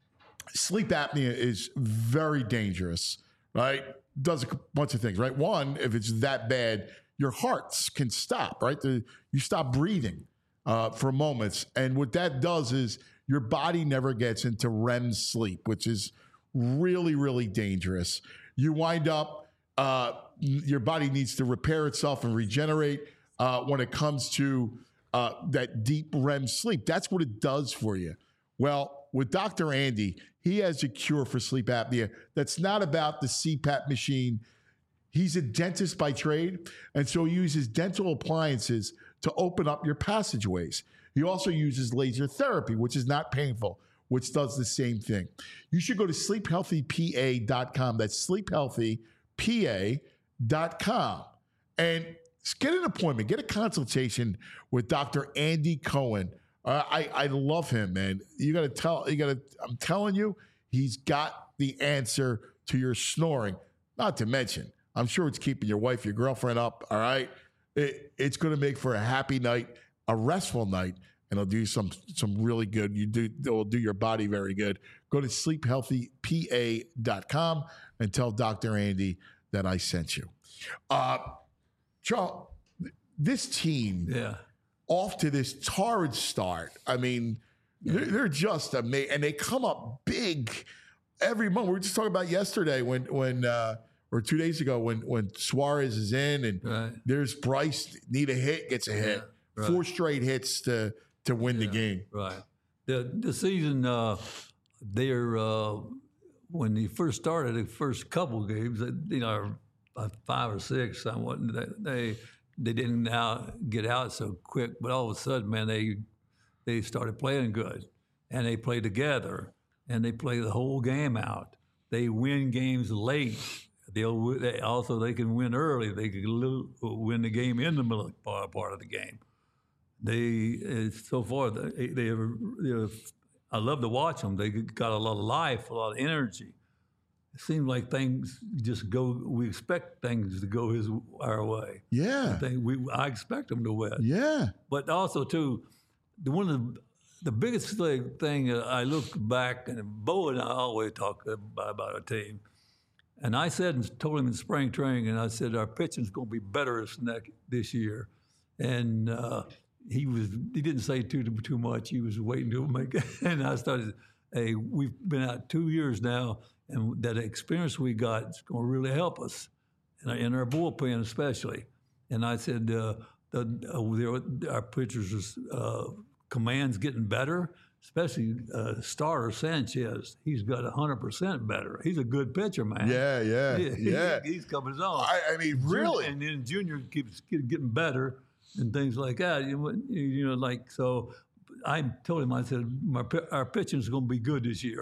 sleep apnea is very dangerous, right? Does a bunch of things, right? One, if it's that bad, your hearts can stop, right? The, you stop breathing uh, for moments. And what that does is your body never gets into R E M sleep, which is really, really dangerous. You wind up, uh, your body needs to repair itself and regenerate uh, when it comes to uh, that deep R E M sleep. That's what it does for you. Well, with Doctor Andy, he has a cure for sleep apnea that's not about the C PAP machine. He's a dentist by trade, and so he uses dental appliances to open up your passageways. He also uses laser therapy, which is not painful, which does the same thing. You should go to sleep healthy P A dot com. That's sleep healthy P A dot com. And get an appointment, get a consultation with Doctor Andy Cohen. Uh, I, I love him, man. You got to tell, you got to, I'm telling you, he's got the answer to your snoring. Not to mention, I'm sure it's keeping your wife, your girlfriend up, all right? It, it's going to make for a happy night, a restful night, and it'll do some some really good. You do, it'll do your body very good. Go to sleep healthy P A dot com and tell Doctor Andy that I sent you. Uh, Charles, this team, Yeah. off to this torrid start. I mean, they're, they're just amazing, and they come up big every month. We were just talking about yesterday when, when uh, or two days ago when when Suarez is in, and Right. there's Bryce need a hit, gets a hit, Yeah, right. four straight hits to to win the game. Right. The the season, uh, they're uh, when they first started, the first couple games, you know, uh, five or six, somewhat, they they didn't now get out so quick, but all of a sudden, man, they they started playing good, and they play together, and they play the whole game out. They win games late. They'll they also they can win early. They can lo- win the game in the middle part, part of the game. They uh, so far they they, have, they have, I love to watch them. They got a lot of life, a lot of energy. It seems like things just go. We expect things to go his our way. Yeah, They, we I expect them to win. yeah, But also too, the one of the the biggest thing, thing uh, I look back, and Bo and I always talk about, about our team. And I said and told him in spring training, and I said our pitching's going to be better this next this year. And uh, he was he didn't say too too much. He was waiting to make it. And I started. Hey, we've been out two years now, and that experience we got is going to really help us, in our, in our bullpen especially. And I said uh, the, uh, our pitchers' uh, command's getting better. Especially uh, starter Sanchez, he's got one hundred percent better. He's a good pitcher, man. yeah, yeah, He- he- yeah. he's coming on. I, I mean, really, And then Junior keeps get- getting better and things like that. You, you know, like, so I told him, I said, my, pi- our pitching is going to be good this year.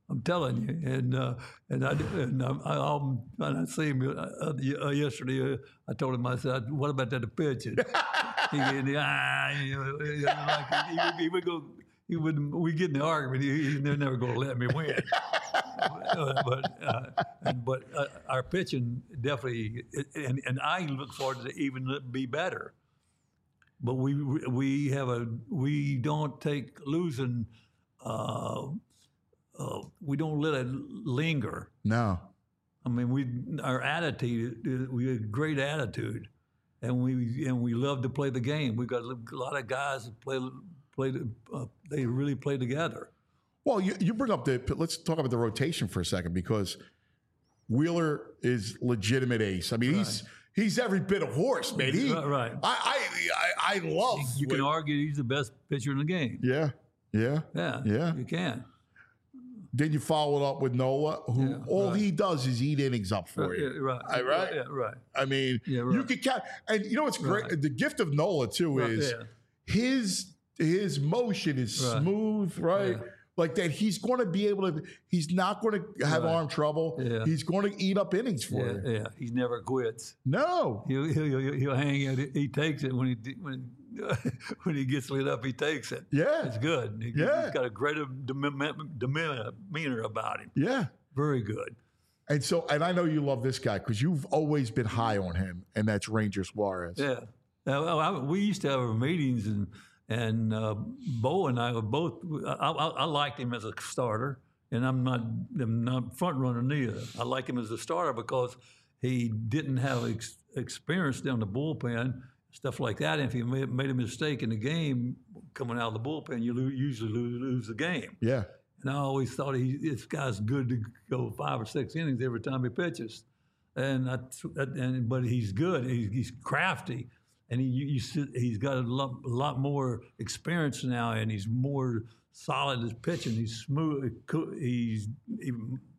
I'm telling you. And uh, and I and I, I, I'll, and I see him uh, uh, yesterday. Uh, I told him, I said, "What about that pitching?" he, he, ah, you know, like, he, he, he would go. He would. We get in the argument. He, he's never going to let me win. uh, but uh, and, but uh, our pitching definitely, and and I look forward to even be better. But we we have a we don't take losing. Uh, uh, we don't let it linger. No. I mean, we our attitude. We have great attitude, and we and we love to play the game. We've got a lot of guys that play play. Uh, they really play together. Well, you, you bring up the. Let's talk about the rotation for a second, because Wheeler is legitimate ace. I mean, right. he's he's every bit of horse, man. He, right, right. I, I I love. You can argue he's the best pitcher in the game. Yeah, yeah, yeah, yeah. You can. Then you follow it up with Nola, who yeah, all right. he does is eat innings up for right, you. Yeah, right, I, right, yeah, right. I mean, yeah, right. you can count, and you know what's great? Right. The gift of Nola too right, is yeah. his his motion is right. smooth, right? Yeah. Like that, he's going to be able to. He's not going to have right. arm trouble. Yeah. He's going to eat up innings for yeah, you. Yeah, he never quits. No, he'll he'll, he'll, he'll hang it. He takes it when he when when he gets lit up. He takes it. Yeah, it's good. He, yeah, he's got a great demeanor about him. Yeah, very good. And so, and I know you love this guy because you've always been high on him, and that's Ranger Suarez. Yeah, now, I, we used to have our meetings and. And uh, Bo and I were both. I, I, I liked him as a starter, and I'm not. I'm not front runner neither. I like him as a starter because he didn't have ex, experience down the bullpen, stuff like that. And if he made, made a mistake in the game coming out of the bullpen, you lo- usually lose, lose the game. Yeah. And I always thought he, this guy's good to go five or six innings every time he pitches, and I, and but he's good. He's, he's crafty. And he, you, you, he's got a lot, a lot more experience now, and he's more solid as pitching. He's smooth. He's he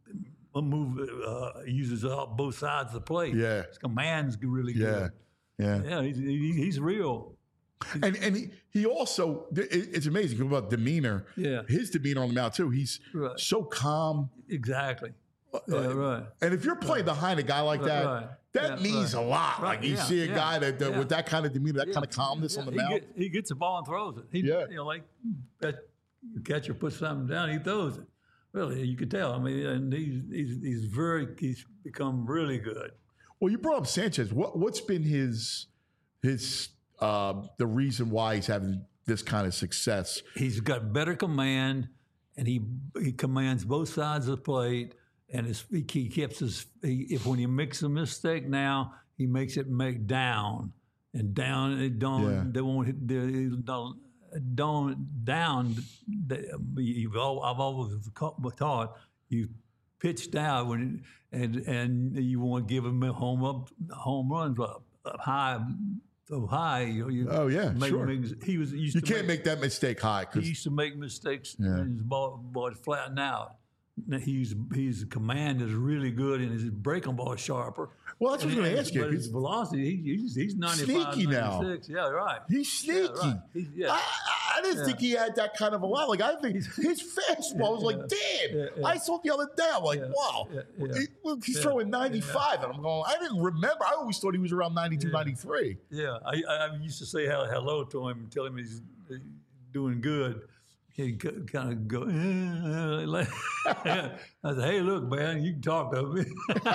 move uh, uses all, both sides of the plate. Yeah, his command's really yeah. good. Yeah, yeah. He's, he, he's real. And and he, he also it's amazing about demeanor. Yeah, his demeanor on the mound too. He's right. so calm. Exactly. Yeah, right. And if you're playing right. behind a guy like that, right. that yeah, means right. a lot. Right. Like you yeah, see a yeah, guy that, that yeah. with that kind of demeanor, that yeah. kind of calmness yeah. on the he mound. Get, he gets the ball and throws it. He, yeah. You know, like that catcher puts something down, he throws it. Really, you could tell. I mean, and he's he's, he's very he's become really good. Well, you brought up Sanchez. What what's been his his uh, the reason why he's having this kind of success? He's got better command, and he he commands both sides of the plate. And his, he keeps his. He, if when he makes a mistake now, he makes it make down and down. And don't Yeah. they won't hit- they don't don't down. They, you've all, I've always taught you pitch down when and and you want to give him a home up home runs up, up high. So high, you know, you Oh yeah, make, sure. make, he was used You to can't make, that mistake high He because used to make mistakes, Yeah. and his ball, ball would flatten out. Now, He's his command is really good, and his breaking ball is sharper. well, that's what I was And- going to ask you. But his 'cause velocity, he, he's he's ninety-five, Sneaky now. ninety-six. Yeah, right. He's sneaky. Yeah, right. He's, yeah. I, I didn't Yeah. think he had that kind of a lot. Like I think his fastball was like, damn. Yeah, yeah. I saw it the other day. I'm like, Yeah, wow. yeah, yeah. He- look, he's Yeah, throwing ninety-five, and I'm going. I didn't remember. I always thought he was around ninety-two, Yeah. ninety-three. Yeah, I, I used to say hello to him and tell him he's doing good. He'd kind of go, eh, like, I said, hey, look, man, you can talk to me.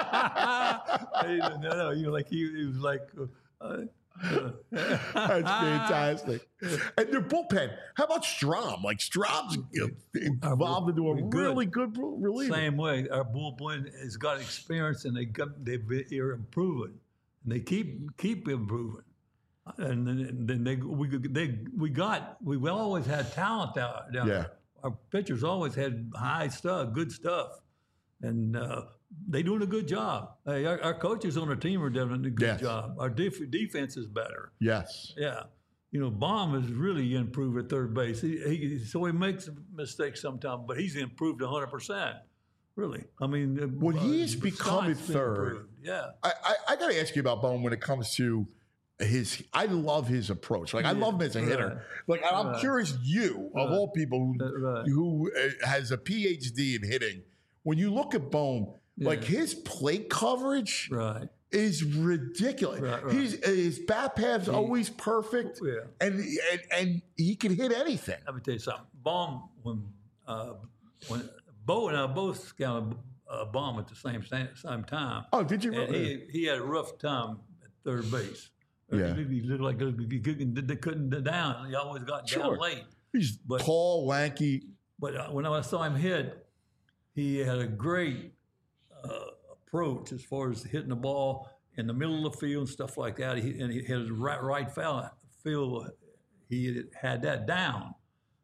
Hey, no, no, you know, like he, he was like, uh, uh, That's fantastic. And their bullpen. How about Strom? Like Strom's evolved into a we're good. really good reliever. same way. Our bullpen has got experience, and they got they've been, they're improving, and they keep keep improving. And then, and then they we they we got we always had talent down, down Yeah. there. Our pitchers always had high stuff, good stuff, and uh, they doing a good job. Hey, our, our coaches on our team are doing a good Yes. job. Our def- defense is better. Yes. Yeah, you know, Baum has really improved at third base. He, he so he makes mistakes sometimes, but he's improved one hundred percent. Really, I mean, Well, uh, he's become at Scott's been third. improved. Yeah, I, I, I got to ask you about Bone when it comes to his. I love his approach. Like I love him as a hitter. Right. Like and I'm Right. curious, you of Right. all people who, Right. who uh, has a P H D in hitting, when you look at Bohm, like Yeah. his plate coverage Right. is ridiculous. Right, right. He's his bat path's always perfect, Yeah. and, and and he can hit anything. Let me tell you something. Baum, when uh, when Bo and I both scouted uh, Baum at the same same time. Oh, did you? And he he had a rough time at third base. Yeah. He looked like he couldn't, they couldn't get down. He always got Sure. down late. He's but- tall, lanky. But uh, when I saw him hit, he had a great uh, approach as far as hitting the ball in the middle of the field and stuff like that. He, and he had his right, right foul, field, he had that down.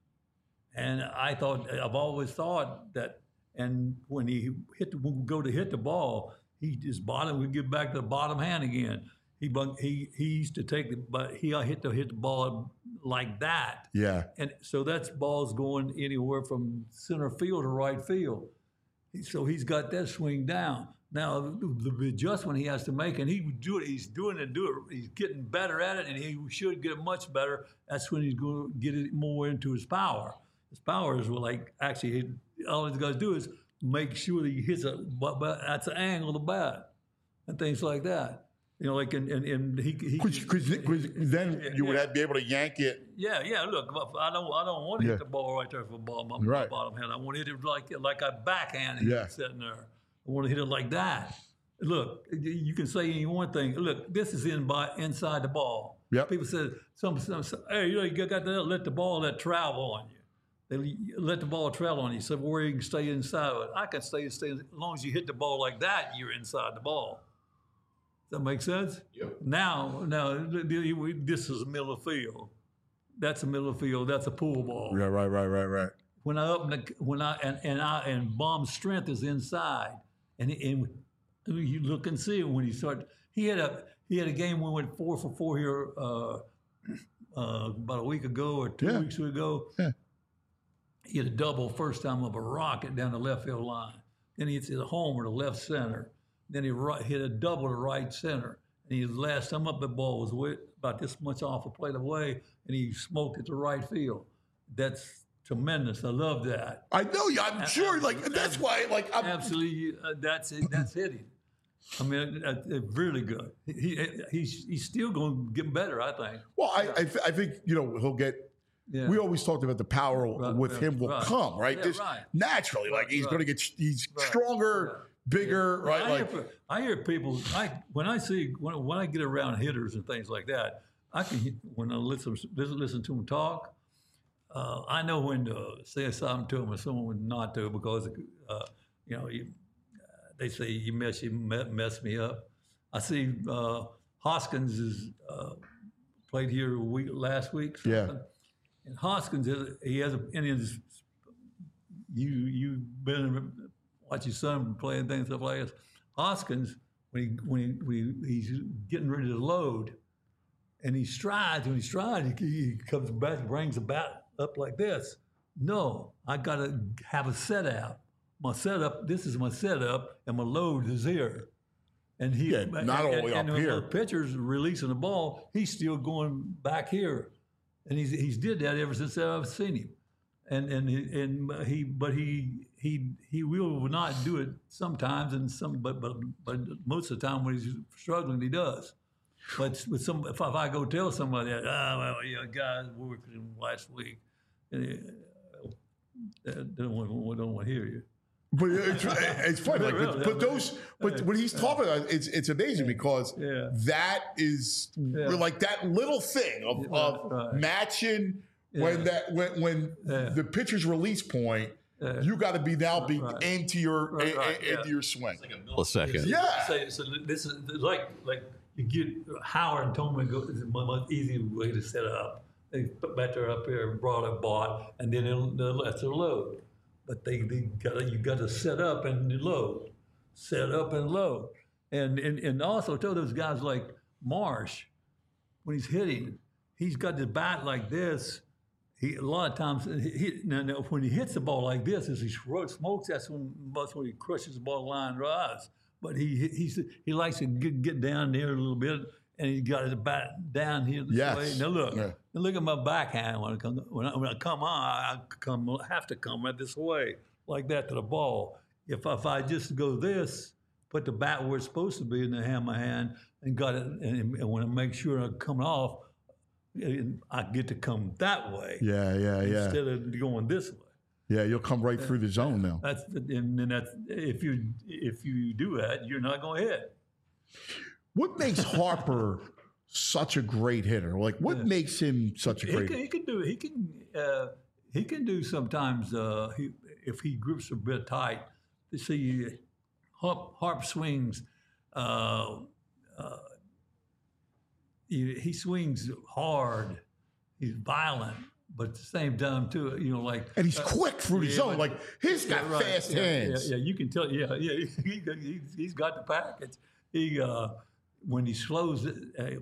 And I thought, I've always thought that, and when he hit, the, would go to hit the ball, he his bottom would get back to the bottom hand again. He bung- he he used to take the, but he hit to hit the ball like that. Yeah. And so that's balls going anywhere from center field to right field. So he's got that swing down. Now the, the adjustment he has to make, and he would do it. He's doing it. Do it. He's getting better at it, and he should get much better. That's when he's going to get it more into his power. His power is like actually he, all he's got to do is make sure that he hits a. But, but that's the angle of the bat and things like that. You know, like and and, and he Because then you would yeah. have, be able to yank it. Yeah, yeah. Look, I don't, I don't want to Yeah. hit the ball right there for the ball, my, Right. my bottom hand. I want to hit it like, like a backhand Yeah. sitting there. I want to hit it like that. Look, you can say any one thing. Look, this is in by inside the ball. Yep. People say, some, some, some, hey, you know, you got to let the ball let travel on you. They let the ball travel on you. So where you can stay inside of it. I can stay, stay as long as you hit the ball like that, you're inside the ball. Does that make sense? Yep. Now, now this is the middle of the field. That's the middle of the field. That's a pool ball. Yeah, right, right, right, right. When I open the, when I and and I and Baum's strength is inside, and and you look and see when he started. He had a he had a game when we went four for four here uh, uh, about a week ago or two Yeah. weeks ago. Yeah. He had a double first time of a rocket down the left field line. Then he hits a homer to left center. Then he right, hit a double to right center. And he last time up, the ball was way, about this much off the plate away, and he smoked it to right field. That's tremendous. I love that. I know you. I'm sure. Like that's why. Like I'm, Absolutely, uh, that's it. That's hitting. I mean, uh, uh, really good. He, he he's he's still going to get better, I think. Well, I, I, th- I think you know he'll get. Yeah. We always talked about the power Right, with right, him will right. come, right? Yeah, Just right. naturally, like Right, he's right. going to get. He's Right, stronger, right. bigger, right? I, Like hear, I hear people. I when I see when, when I get around hitters and things like that, I can hit- when I listen listen, listen to them talk. Uh, I know when to say something to them and someone not to because uh, you know you, they say you mess you me- mess me up. I see uh, Hoskins is uh, played here a week last week. Yeah. something. And Hoskins is he has a in his you you've been watch your son play and things stuff like this. Hoskins when he when he, when he, he's getting ready to load, and he strides when he strides he, he comes back brings the bat up like this. No, I got to have a setup. My setup. This is my setup, and my load is here. And he Yeah, not all the way and, up and here. when the pitcher's releasing the ball, he's still going back here, and he's he's did that ever since I've seen him, and and he, and he but he he he will not do it sometimes, and some but but but most of the time when he's struggling, he does. But with some, if, I- if I go tell somebody that, ah, well, yeah, guys, we were with him last week, and they, they don't want, don't want to hear you. But it's, it's funny, like, but, but those, but when he's talking about it, it's it's amazing because Yeah. that is Yeah. like that little thing of, Yeah, of right. matching when Yeah. that when when Yeah. the pitcher's release point, Yeah. you got to be now be Right. into your Right, in- right, in- into yeah. your swing. Millisecond. Yeah. So, so this is like like you get Howard and Tolman go is a much easier way to set up. They put batter up here, brought a bot, and then it'll, they'll let their load. But they, they got you got to set up and load, set up and load, and and and also tell those guys like Marsh, when he's hitting, he's got the bat like this. He a lot of times he, he, now, now when he hits the ball like this, as he smokes, that's when that's when he crushes the ball line rise. But he he's, he likes to get, get down there a little bit and he got his bat down here this Yes. way. Now look, Yeah. now look at my backhand when I come when I, when I come on, I come have to come right this way like that to the ball. If if I just go this, put the bat where it's supposed to be, and then have my hand and got it, and, and when I make sure I'm coming off, I get to come that way Yeah, yeah, yeah. instead of going this way. Yeah, you'll come right through the zone now. That's and then that's if you if you do that, you're not going to hit. What makes Harper such a great hitter? Like, what Yeah. makes him such a He great can, he can do he can uh, he can do sometimes uh, he, if he grips a bit tight. You see, Harp, Harp swings. Uh, uh, he, he swings hard. He's violent, but at the same time too, you know, like And he's uh, quick through the yeah, zone. but- Like, he's got yeah, right. fast yeah, hands. Yeah, yeah, you can tell. Yeah, yeah, he, he, he's got the package. He uh, when he slows it. Uh,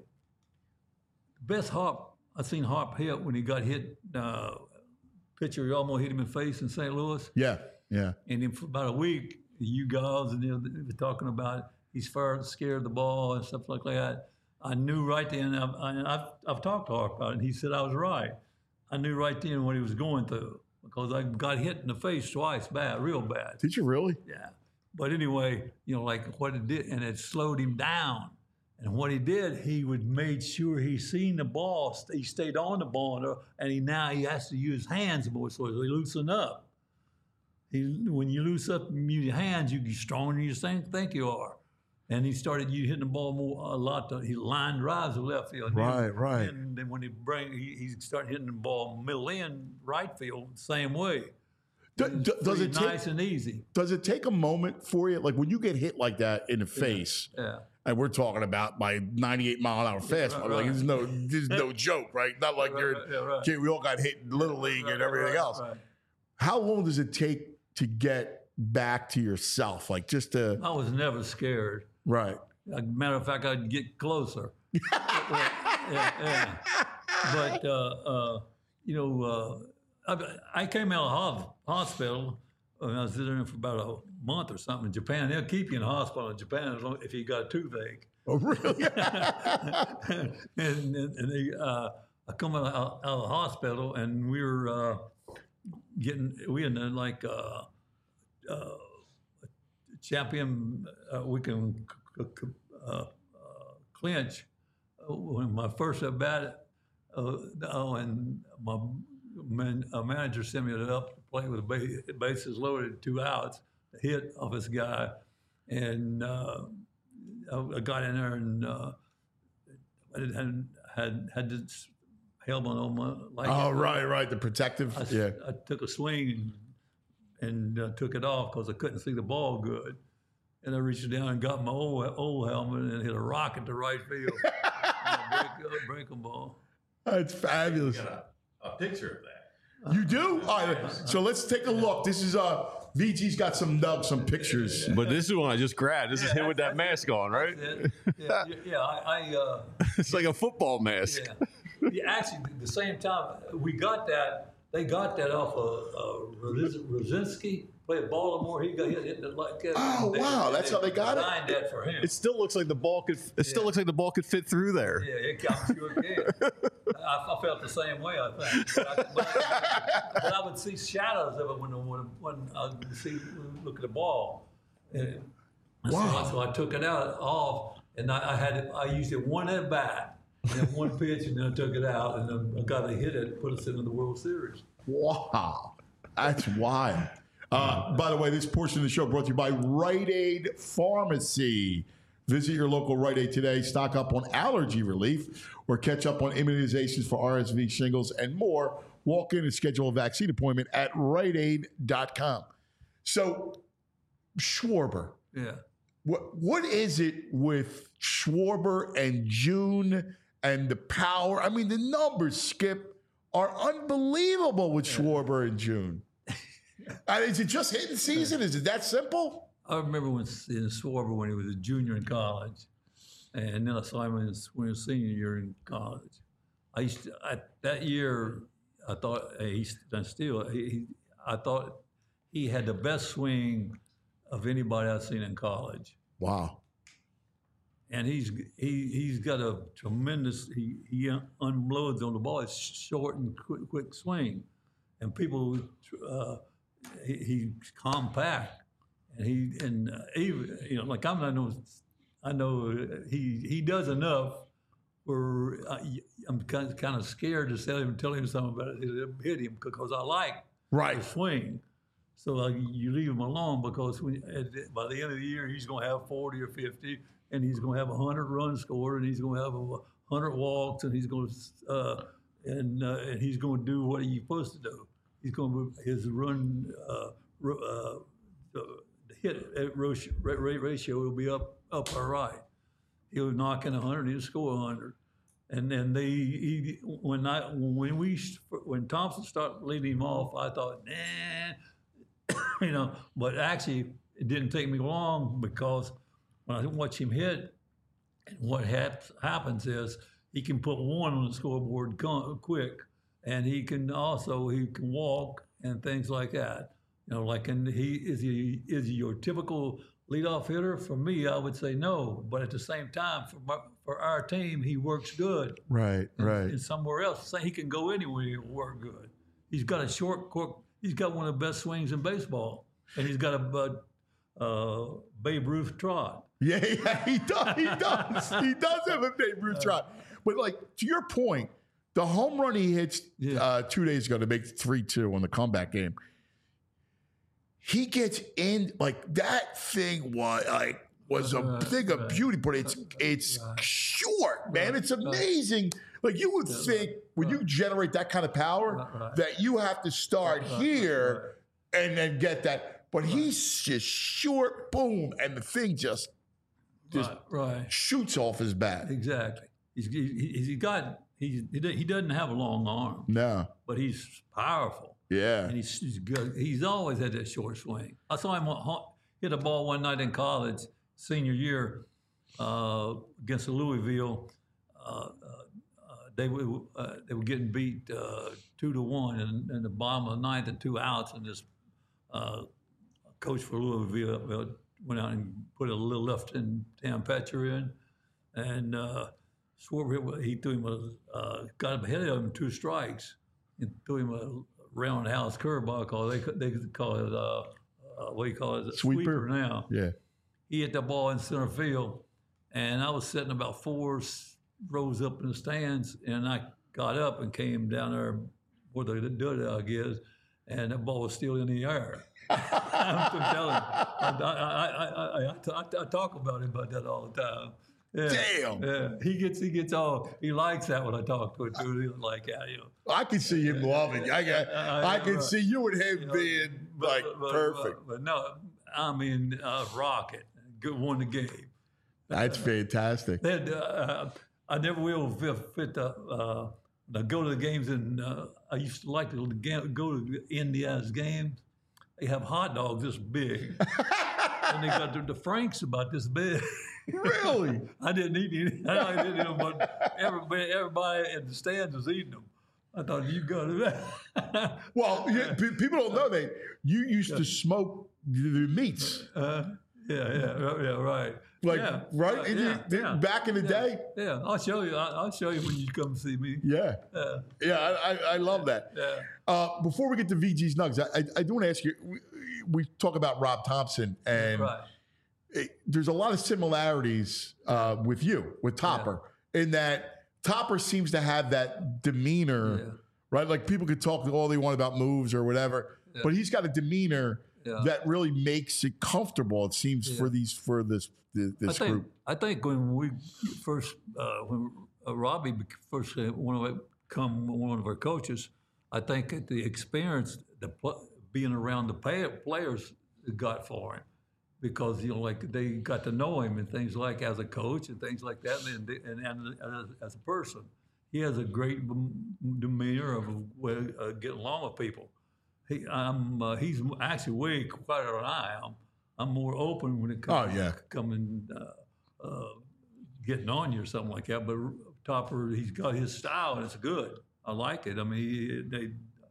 best Harp I seen Harp hit when he got hit. Uh, pitcher almost hit him in the face in Saint Louis, Yeah, yeah. and then for about a week, you guys and they were talking about he's far scared of the ball and stuff like that. I knew right then. I've, I've I've talked to Harp about it, and he said I was right. I knew right then what he was going through because I got hit in the face twice, bad, real bad. Did you really? Yeah. But anyway, you know, like what it did, and it slowed him down. And what he did, he would made sure he seen the ball. He stayed on the ball, and he now he has to use hands more, so he loosen up. He when you loose up and use your hands, you get stronger than you think think you are. And he started you hitting the ball more a lot. To, he line drives to left field. Right, right. And then when he bring, he, he started hitting the ball middle in right field, same way. Do- do- does it Pretty take nice and easy? does it take a moment for you? Like when you get hit like that in the face, Yeah. and we're talking about my ninety-eight mile an hour fastball. right, Like right. there's no there's no joke, right? Not like Right, you're right, yeah, right. kid, we all got hit in little league and everything Right, else. right. How long does it take to get back to yourself? Like just to I was never scared. right. As a matter of fact, I'd get closer. yeah, yeah. But, uh, uh, you know, uh, I, I came out of hos- hospital and I was there for about a month or something in Japan. They'll keep you in the hospital in Japan as long, if you got a toothache. Oh really? and and, and they, uh, I come out, out of the hospital and we were uh, getting, we in the, like uh, uh, champion, uh, we can c- c- uh, uh, clinch. Uh, when my first at bat, uh, oh, and my man, uh, manager sent me up to play with the bases loaded, two outs, a hit off this guy, and uh, I got in there and uh, I had had had this helmet on my like. Oh right, right. The protective. I, s- yeah. I took a swing and, and uh, took it off because I couldn't see the ball good. And I reached down and got my old old helmet and hit a rocket to right field. And a break, a breaking ball. That's fabulous. got a, a picture of that. You do? All right. So let's take a look. This is uh V G's got some uh, some pictures. But this is one I just grabbed. This is him with that mask on, right? Yeah, yeah, yeah, yeah, I, I uh, It's like a football mask. yeah. yeah. Actually, at the same time, we got that. They got that off of uh, Rosinski. Played Baltimore. He got hit, hit it like that. Oh, wow. That's how they got it? Designed that for him. It still looks like the ball could. It still looks like the ball could fit through there. Yeah, it got you again. I, I felt the same way, I think. But I, but, but I would see shadows of it when, when, when I would see, look at the ball. And Wow. So, so I took it out off, and I, I had it, I used it one at bat, and then one pitch, and then I took it out, and then a guy that hit it put us into the World Series. Wow. That's wild. Uh, by the way, this portion of the show brought to you by Rite Aid Pharmacy. Visit your local Rite Aid today. Stock up on allergy relief or catch up on immunizations for R S V, shingles, and more. Walk in and schedule a vaccine appointment at rite aid dot com. So, Schwarber, Yeah. what what is it with Schwarber and June and the power? I mean, the numbers, Skip, are unbelievable with Schwarber and June. Uh, is it just hitting season? Is it that simple? I remember when in Schwarber when he was a junior in college, and then I saw him in his, when he was senior year in college. I used to, I, that year I thought he's still he, he I thought he had the best swing of anybody I've seen in college. Wow. and he's he he's got a tremendous. He he unloads on the ball. It's short and quick, quick swing, and people. Uh, he, he's compact, and he and uh, even you know like I'm I know I know he he does enough. Where I, I'm kind of, kind of scared to tell him tell him something about it. Hit him because I like Right. the swing. So uh, you leave him alone because when, at, the- by the end of the year he's going to have forty or fifty, and he's going to have a hundred runs scored, and he's going to have a hundred walks, and he's going to uh, and uh, and he's going to do what he's supposed to do. He's going to his run uh, ru- uh, the hit ratio, ratio will be up up or right. He'll knock in a hundred, he'll score a hundred. And then they, he, when I, when we, when Thompson started leading him off, I thought, nah, you know. But actually, it didn't take me long because when I watch him hit, what hap- happens is he can put one on the scoreboard co- quick, and he can also he can walk and things like that. You know, like and he is he is he your typical leadoff hitter? For me, I would say no. But at the same time, for my, for our team, he works good. Right, And, right. and somewhere else, say he can go anywhere and work good. He's got a short, quick, he's got one of the best swings in baseball, and he's got a uh, uh, Babe Ruth trot. Yeah, yeah, he does. He does. He does have a Babe Ruth trot. But like to your point, the home run he hits Yeah. uh, two days ago to make three two on the comeback game. He gets in like that thing was like was a Right, thing of right. beauty, but it's it's Right. short, man. Right, It's right. amazing. Like you would Yeah, think when you right. generate that kind of power Right, right. that you have to start Right, right, here and then get that. But he's just short, boom, and the thing just just Right, right. shoots off his bat. Exactly. He's he, he's he got he's, he do- he doesn't have a long arm, No, but he's powerful, yeah, and he's, he's good. He's always had that short swing. I saw him hu- hit a ball one night in college, senior year, uh, against Louisville. Uh, uh, uh, they were uh, they were getting beat uh, two to one in, in the bottom of the ninth and two outs, and this uh, coach for Louisville went out and put a little left-hand hand pitcher in, and uh, Schwarber, he threw him a, uh, got him ahead of him two strikes, and threw him a roundhouse curveball. Call they they call it uh, uh, what do you call it? A Sweeper. now. yeah. He hit the ball in center field, and I was sitting about four s- rows up in the stands, and I got up and came down there where the dug is, and the ball was still in the air. I'm telling you, I, I, I, I, I, I, I talk about him about that all the time. Yeah, Damn. Yeah, he gets he gets all he likes that when I talk to him too. He like that, you know. I can see him loving. I got, I- I can right. see you and him You know, being but- like but- perfect. But, but no, I mean uh, rocket, good won the game. That's fantastic. They had, uh, I never will fit, fit the, uh, to go to the games, and uh, I used to like to ga- go to Indiana's games. They have hot dogs this big, and they got the, the Franks about this big. Really? I didn't eat any. I didn't eat them, but everybody, everybody in the stands was eating them. I thought you got it. Well, yeah, pe- people don't know that you used to smoke the the meats, uh, yeah, yeah, yeah, right. like yeah, right? right, And you- yeah, th- yeah, back in the yeah, day. Yeah, I'll show you. I, I'll show you when you come see me. Yeah, Uh, yeah. I, I, I love that. yeah. Uh, before we get to V G's Nugs, I, I, I do want to ask you. We, we talk about Rob Thompson, and Right. it- there's a lot of similarities uh, with you, with Topper, in that Topper seems to have that demeanor, Yeah. right? Like people could talk all they want about moves or whatever, Yeah. but he's got a demeanor Yeah. that really makes it comfortable. It seems Yeah. for these for this this, I this think group. I think when we first uh, when uh, Robbie bec- first uh, one of our, come one of our coaches, I think that the experience, the pl- being around the pay- players, got for him, because you know like they got to know him and things like as a coach and things like that, and and, and as, as a person, he has a great m- demeanor of way, uh, getting along with people. He, I'm, uh, he's actually way quieter than I am. I'm more open when it comes Oh, yeah. to coming, uh, uh, getting on you or something like that. But Topper, he's got his style and it's good. I like it. I mean, he, they,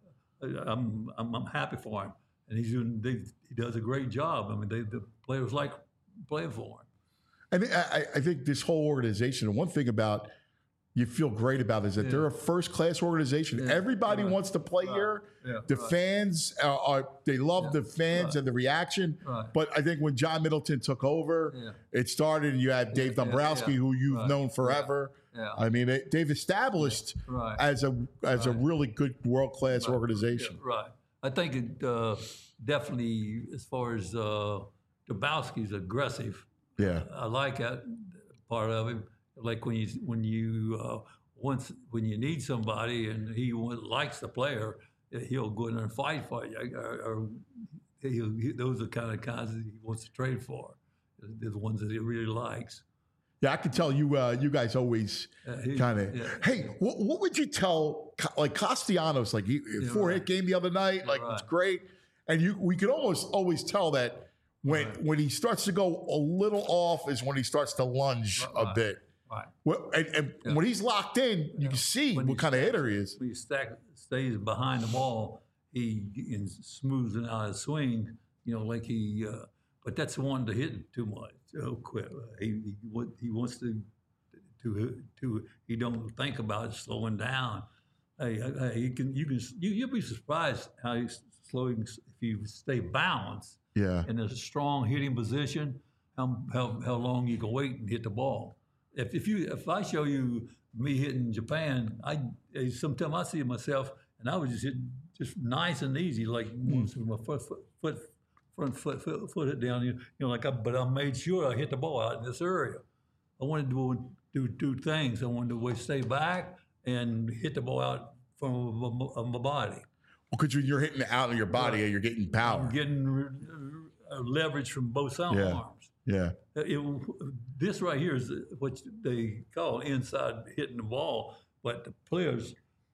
I'm, I'm, I'm happy for him, and he's doing. They, he does a great job. I mean, they, the players like playing for him. And I, I think this whole organization, and one thing about you feel great about is that Yeah. they're a first-class organization. Yeah. Everybody Right. wants to play Right. here. Yeah. The Right. fans are, are they love Yeah. the fans Right. and the reaction. Right. But I think when John Middleton took over, Yeah. it started. And you had Dave yeah, Dombrowski, yeah. who you've Right. known forever. Yeah. I mean, it, they've established Right. as a as Right. a really good world-class organization. Yeah, right. I think it uh, definitely, as far as uh, Dombrowski's aggressive. Yeah. I like that part of him. Like when you when you uh, once when you need somebody and he wa- likes the player, he'll go in there and fight for you. Or, or he'll, he, those are the kind of guys that he wants to trade for. They're the ones that he really likes. Yeah, I can tell you. Uh, you guys always Uh, he- kind of. yeah. Hey, what, what would you tell Co- like Castellanos? Like he Yeah, four right. hit game the other night. Like Right. it's great, and you we could almost always tell that when Right. when he starts to go a little off is when he starts to lunge a Right. bit. Right. Well, and, and Yeah. when he's locked in, you can see When what he kind of stacks- hitter he is. When he stack, stays behind the ball, he and smooths it out his swing. You know, like he. Uh, but that's the one to hit too much. So quick. He he, wa- he wants to to to. He don't think about slowing down. Hey, hey, you can you can you you'll be surprised how he's slowing if you stay balanced Yeah, in a strong hitting position. How how how long you can wait and hit the ball. If if you if I show you me hitting Japan, I sometimes I see myself and I was just hitting just nice and easy, like once with my foot foot, foot front foot, foot foot it down. You, you know, like I, but I made sure I hit the ball out in this area. I wanted to do two things. I wanted to stay back and hit the ball out from my, of my body. well, because you're hitting it out of your body and you're getting power. I'm getting uh, leverage from both sides Yeah. arms. Yeah, It, this right here is what they call inside hitting the ball, but the players,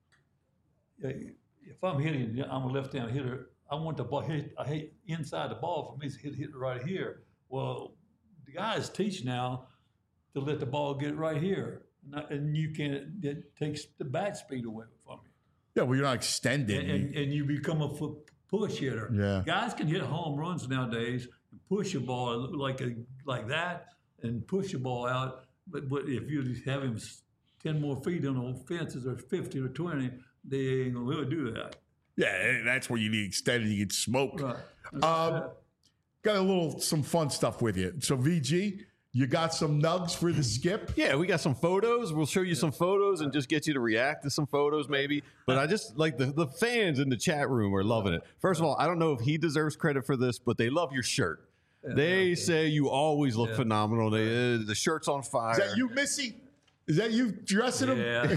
if I'm hitting, I'm a left-hand hitter, I want the ball hit, I hit inside the ball for me to hit, hit it right here. Well, the guys teach now to let the ball get right here, and, I, and you can't, it takes the bat speed away from you. yeah. Well, you're not extending. And, and, and you become a fu- push hitter. Yeah. Guys can hit home runs nowadays and push a ball like a like that and push the ball out. But, but if you just have him s- ten more feet on the fences or fifty or twenty, they ain't gonna really do that. yeah, that's where you need extended. You get smoked. Right. Um, got a little some fun stuff with you. So V G, you got some nugs for the skip? Yeah, we got some photos. We'll show you some photos and just get you to react to some photos, maybe. But I just like the, the fans in the chat room are loving it. First of all, I don't know if he deserves credit for this, but they love your shirt. They say you always look phenomenal. They, uh, the shirt's on fire. Is that you, Missy? Is that you dressing him? Yeah,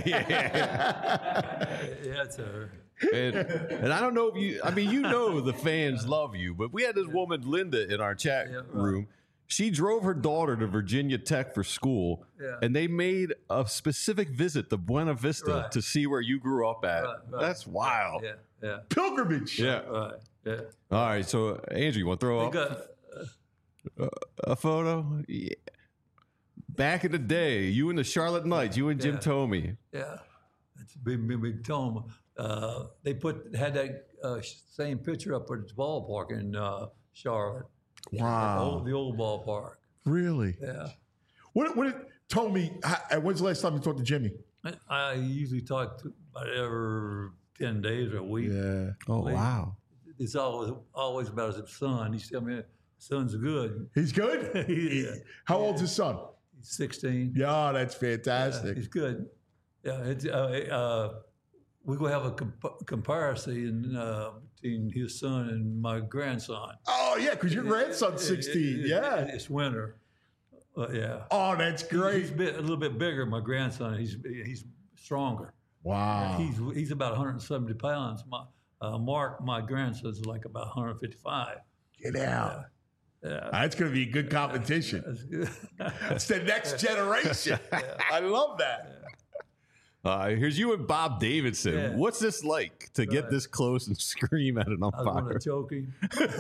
yeah. yeah, it's her. And, and I don't know if you, I mean, you know, the fans love you, but we had this woman, Linda, in our chat Yeah, right. room. She drove her daughter to Virginia Tech for school, Yeah. and they made a specific visit to Buena Vista Right. to see where you grew up at. Right, right. That's wild. Yeah, yeah, Pilgrimage. Yeah. right, yeah. All right. So, Andrew, you want to throw They up got, a photo? Yeah. Back in the day, you and the Charlotte Knights, you and Jim Yeah. Tomey. Yeah, that's a big, big, big tone. Uh, they put had that uh, same picture up at the ballpark in uh, Charlotte. The Wow. old, the old ballpark. Really? Yeah. What? What? Told me. how- When's the last time you talked to Jimmy? I, I usually talk to about every ten days or a week. Yeah. Oh, Like- wow. It's always always about his son. He's telling me, son's good. He's good. Yeah. How old's his son? He's sixteen. Yeah, that's Yeah, fantastic. he's good. Yeah, it's, uh, uh, we're going to have a comp- comparison uh, between his son and my grandson. Oh yeah, because your grandson's sixteen. It- it- Yeah. It's winter. Uh, yeah. Oh, that's He's great. bit, a little bit bigger, my grandson. He's he's stronger. Wow. He's he's about one hundred seventy pounds. My uh, Mark, my grandson's like about one hundred fifty-five. Get out. Yeah. That's going to be a good competition. That's good. It's the next generation. I love that. Uh, here's you and Bob Davidson. Yeah. What's this like to get Right. this close and scream at an I was umpire? going to choke him.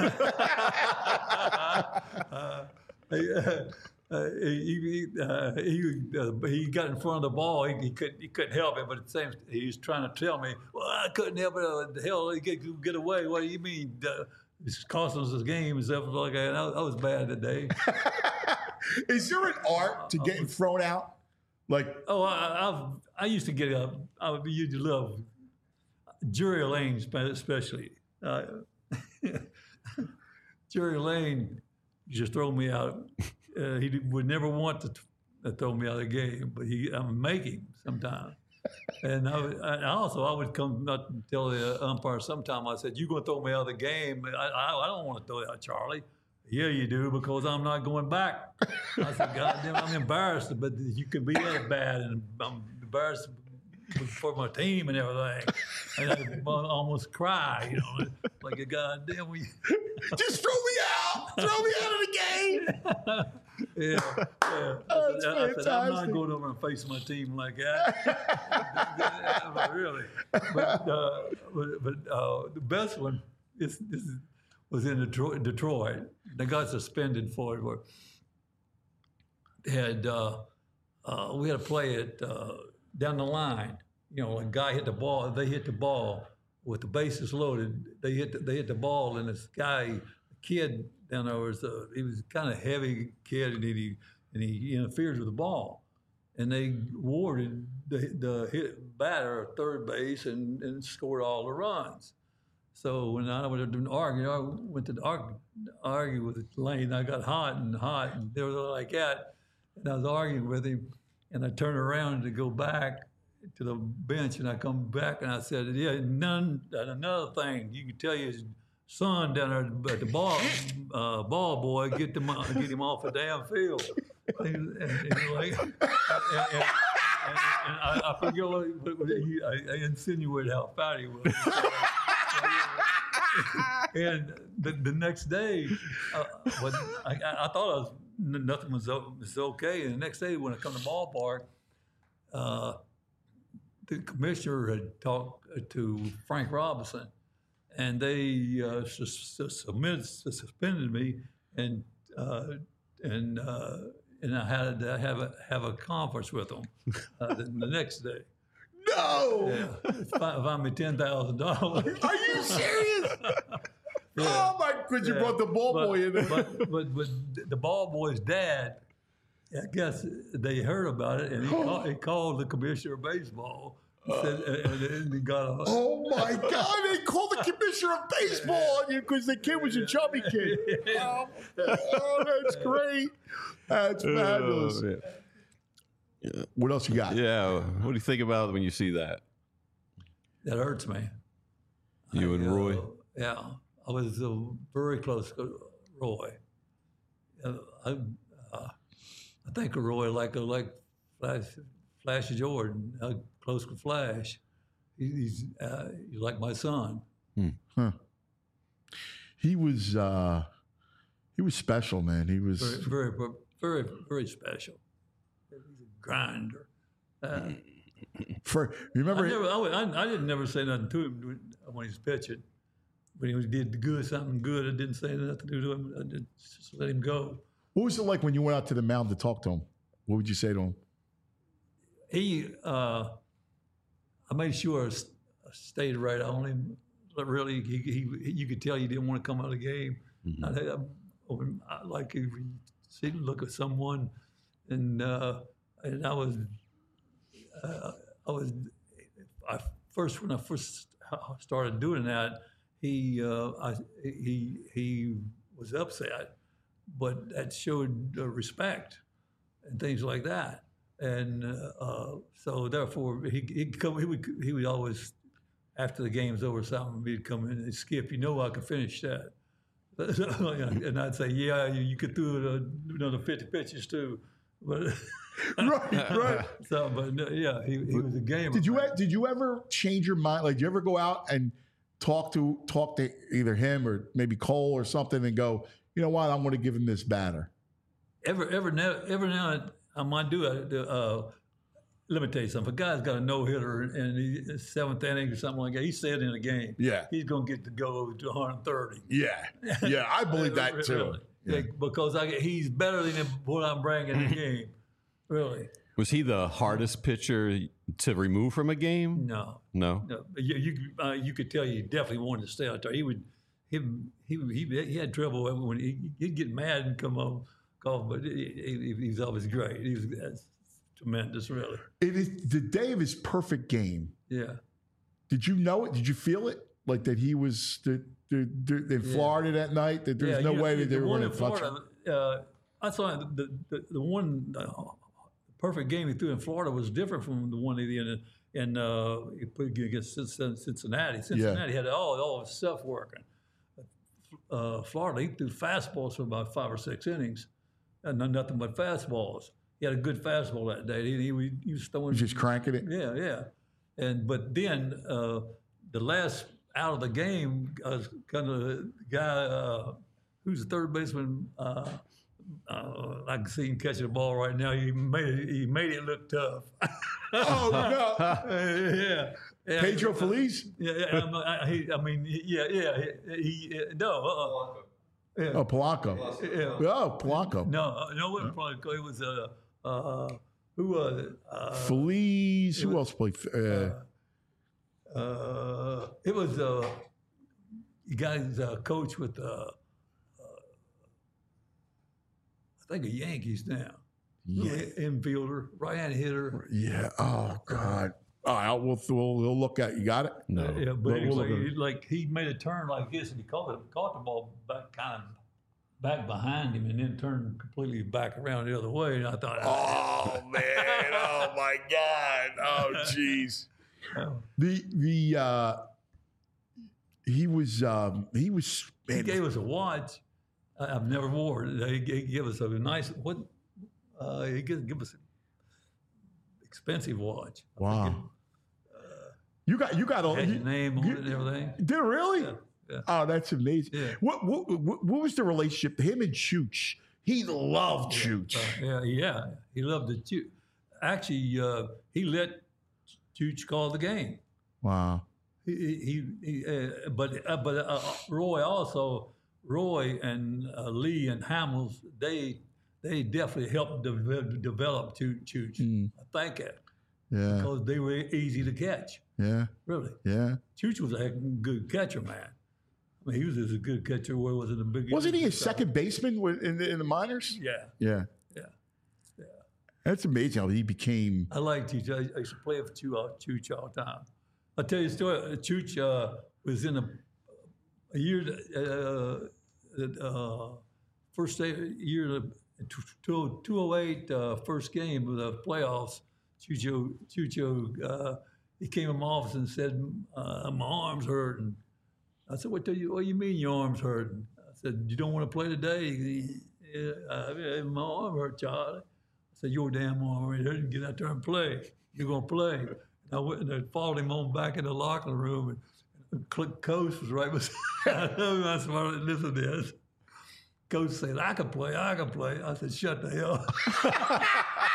uh, he, uh, uh, he, he, uh, he, uh, he got in front of the ball. He, he couldn't. He couldn't help it. But at the same, he was trying to tell me, "Well, I couldn't help it. Uh, the hell, he get get away. What do you mean? Uh, it's costing us this game and stuff like that." I, I was bad today. Is there an art to getting thrown out? Like, Oh, I, I've I used to get up. I would used to love Jerry Lane, especially. Uh, Jerry Lane used to throw me out. Uh, he would never want to, to throw me out of the game, but he I would make him sometimes. And I, would, I also I would come up and tell the umpire sometime. I said, "You're going to throw me out of the game. I, I, I don't want to throw you out, Charlie." "Yeah, you do, because I'm not going back." I said, "God damn, I'm embarrassed, but you can be that bad, and I'm embarrassed for my team and everything." And I almost cry, you know, like a goddamn. We... just throw me out. Throw me out of the game. yeah, yeah. Oh, I, said, I said, I'm not going over and facing my team like that. Really. But, uh, but, but uh, the best one is, is, was in Detroit. Detroit. They got suspended for it. Where had uh, uh, we had to play it uh, down the line. You know, a guy hit the ball. They hit the ball with the bases loaded. They hit the, they hit the ball, and this guy, kid down there was uh, he was kind of heavy kid, and he and he interfered with the ball, and they awarded the the hit batter third base and, and scored all the runs. So when I was arguing, I went to argue, argue with Lane. I got hot and hot, and they were like that, and I was arguing with him, and I turned around to go back to the bench, and I come back and I said, "Yeah, none. And another thing, you can tell your son down there at the ball, uh, ball boy, get them, get him off the damn field." And, and, and, like, and, and, and, and I, I forget what, what, what he, I, I insinuated how fat he was. And the, the next day, uh, when I, I thought I was nothing was, was okay. And the next day, when I come to the ballpark, uh, the commissioner had talked to Frank Robinson, and they uh, sus- submitted, suspended me, and uh, and uh, and I had to have a have a conference with them uh, the, the next day. No. Yeah, find, find me ten thousand dollars. Are you serious? Yeah. Oh my! Because you Yeah. brought the ball but, boy in there. But, but but the ball boy's dad, I guess they heard about it, and he, called, he called the commissioner of baseball. Said, and, and he got a, Oh my God! They called the commissioner of baseball on you because the kid was a chubby kid. Oh, oh, that's great. That's fabulous. Oh, yeah. What else you got? Yeah. What do you think about it when you see that? that hurts me. You I, and uh, Roy? Yeah, I was uh, very close to Roy. Uh, I, uh, I think of Roy like a, like Flash, Flash Jordan, uh, close to Flash. He, he's uh, he's like my son. He was uh, he was special, man. He was Very, very, very, very special. He's a grinder. Uh, for. You I remember? never, I, would- I, I didn't never say nothing to him when he was pitching. When he was, did good, something good, I didn't say nothing to him. I just let him go. What was it like when you went out to the mound to talk to him? What would you say to him? He, uh, I made sure I s- I stayed right on him. But really, he, he, you could tell he didn't want to come out of the game. Mm-hmm. I, I, I, like if you see, look at someone, and uh, and I was, uh, I was, I first when I first started doing that, he, uh, I, he, he was upset, but that showed uh, respect and things like that. And uh, uh, so therefore, he he'd come. He would he would always, after the game's over, something he'd come in and Skip. You know, I can finish that. And I'd say, yeah, you, you could do uh, another fifty pitches too. But Right, right. so, but no, yeah, he, he was a gamer. Did you man. did you ever change your mind? Like, did you ever go out and talk to talk to either him or maybe Cole or something and go, you know what, I'm going to give him this batter? Ever, ever now, every now and I might do it. Uh, let me tell you something. If a guy's got a no hitter and he's seventh inning or something like that, he's said in a game. Yeah. he's gonna get to go to one thirty. Yeah, yeah, I believe that too. Really. Yeah, because I, he's better than what I'm bringing in the game. Really, Was he the hardest pitcher to remove from a game? no, No. no. You you, uh, you could tell you definitely wanted to stay out there. He would he he he, he had trouble when he, he'd get mad and come home golf, but he, he, he's always great. He's that's tremendous, really. It is the day of his perfect game. Yeah. Did you know it? Did you feel it? Like that he was the, the, the, in Florida that night? That there's yeah, no you know, way that they the were one going in to touch him? Florida. Uh, I saw the the, the one uh, perfect game he threw in Florida was different from the one he did in. And uh, he played against Cincinnati. Cincinnati Yeah. had all all his stuff working. Uh, Florida, he threw fastballs for about five or six innings, and nothing but fastballs. He had a good fastball that day. He, he, he was throwing. He's just cranking it. Yeah, yeah. And but then uh, the last out of the game, uh, kind of the guy uh, who's the third baseman. Uh, uh, I can see him catching the ball right now. He made it, he made it look tough. Oh no! yeah, yeah. Pedro Feliz? Yeah, yeah. I'm, I, he, I mean, yeah, yeah. He, he no. Uh, yeah. Oh, Polanco. Yeah. Oh, Polanco. No, uh, no, it wasn't Polanco. It was uh, uh, who was it? Uh, Feliz. Who else played? Uh, uh, it was uh, you guys uh, coach with uh, uh, I think a Yankees now. Yeah, infielder, right-hand hitter. yeah. Oh God. All right. We'll, we'll we'll look at. You got it. No. Yeah, but We'll- it was we'll like, look at he, like he made a turn like this, and he caught it, caught the ball back kind of back behind him, and then turned completely back around the other way. And I thought, Oh man. Oh my God. Oh jeez. The the uh, he was um, he was he man, gave us a watch. I- I've never wore it. He gave, gave us a nice what? Uh, he gave, give us an expensive watch. I wow. think You got you got it all had you, your name on you- it and everything. Did it really? Yeah, yeah. Oh, that's amazing. Yeah. What, what what what was the relationship? Him and Chooch. He loved Chooch. Uh, yeah, yeah. He loved the Chooch. Actually, uh, he let Chooch call the game. Wow. He, he, he uh, but uh, but uh, Roy also Roy and uh, Lee and Hamels they they definitely helped de- develop Chooch. Chooch. Mm. I think it Yeah. because they were easy to catch. Yeah. Really, Yeah. Chooch was a heck of a good catcher, man. I mean, he was as a good catcher. Where was it the big? Wasn't he a second baseman with- in the in the minors? Yeah, Yeah. yeah. That's amazing how he became. I like Chooch. I, I used to play with Chooch, uh, Chooch all the time. I'll tell you a story. Uh, Chooch uh, was in a, a year, uh, uh, first day, year, two oh eight, uh, first game of the playoffs. Chucho, Chucho, uh, he came in my office and said, uh, my arm's hurting. I said, what do you, what do you mean your arm's hurting? I said, you don't want to play today? He, yeah, uh, my arm hurt, Charlie. I said, your damn arm ain't hurting. Get out there and play. You're going to play. And I went and I followed him on back in the locker room, and, and Click Coach was right beside him. I said, listen to this. Coach said, I can play, I can play. I said, shut the hell up.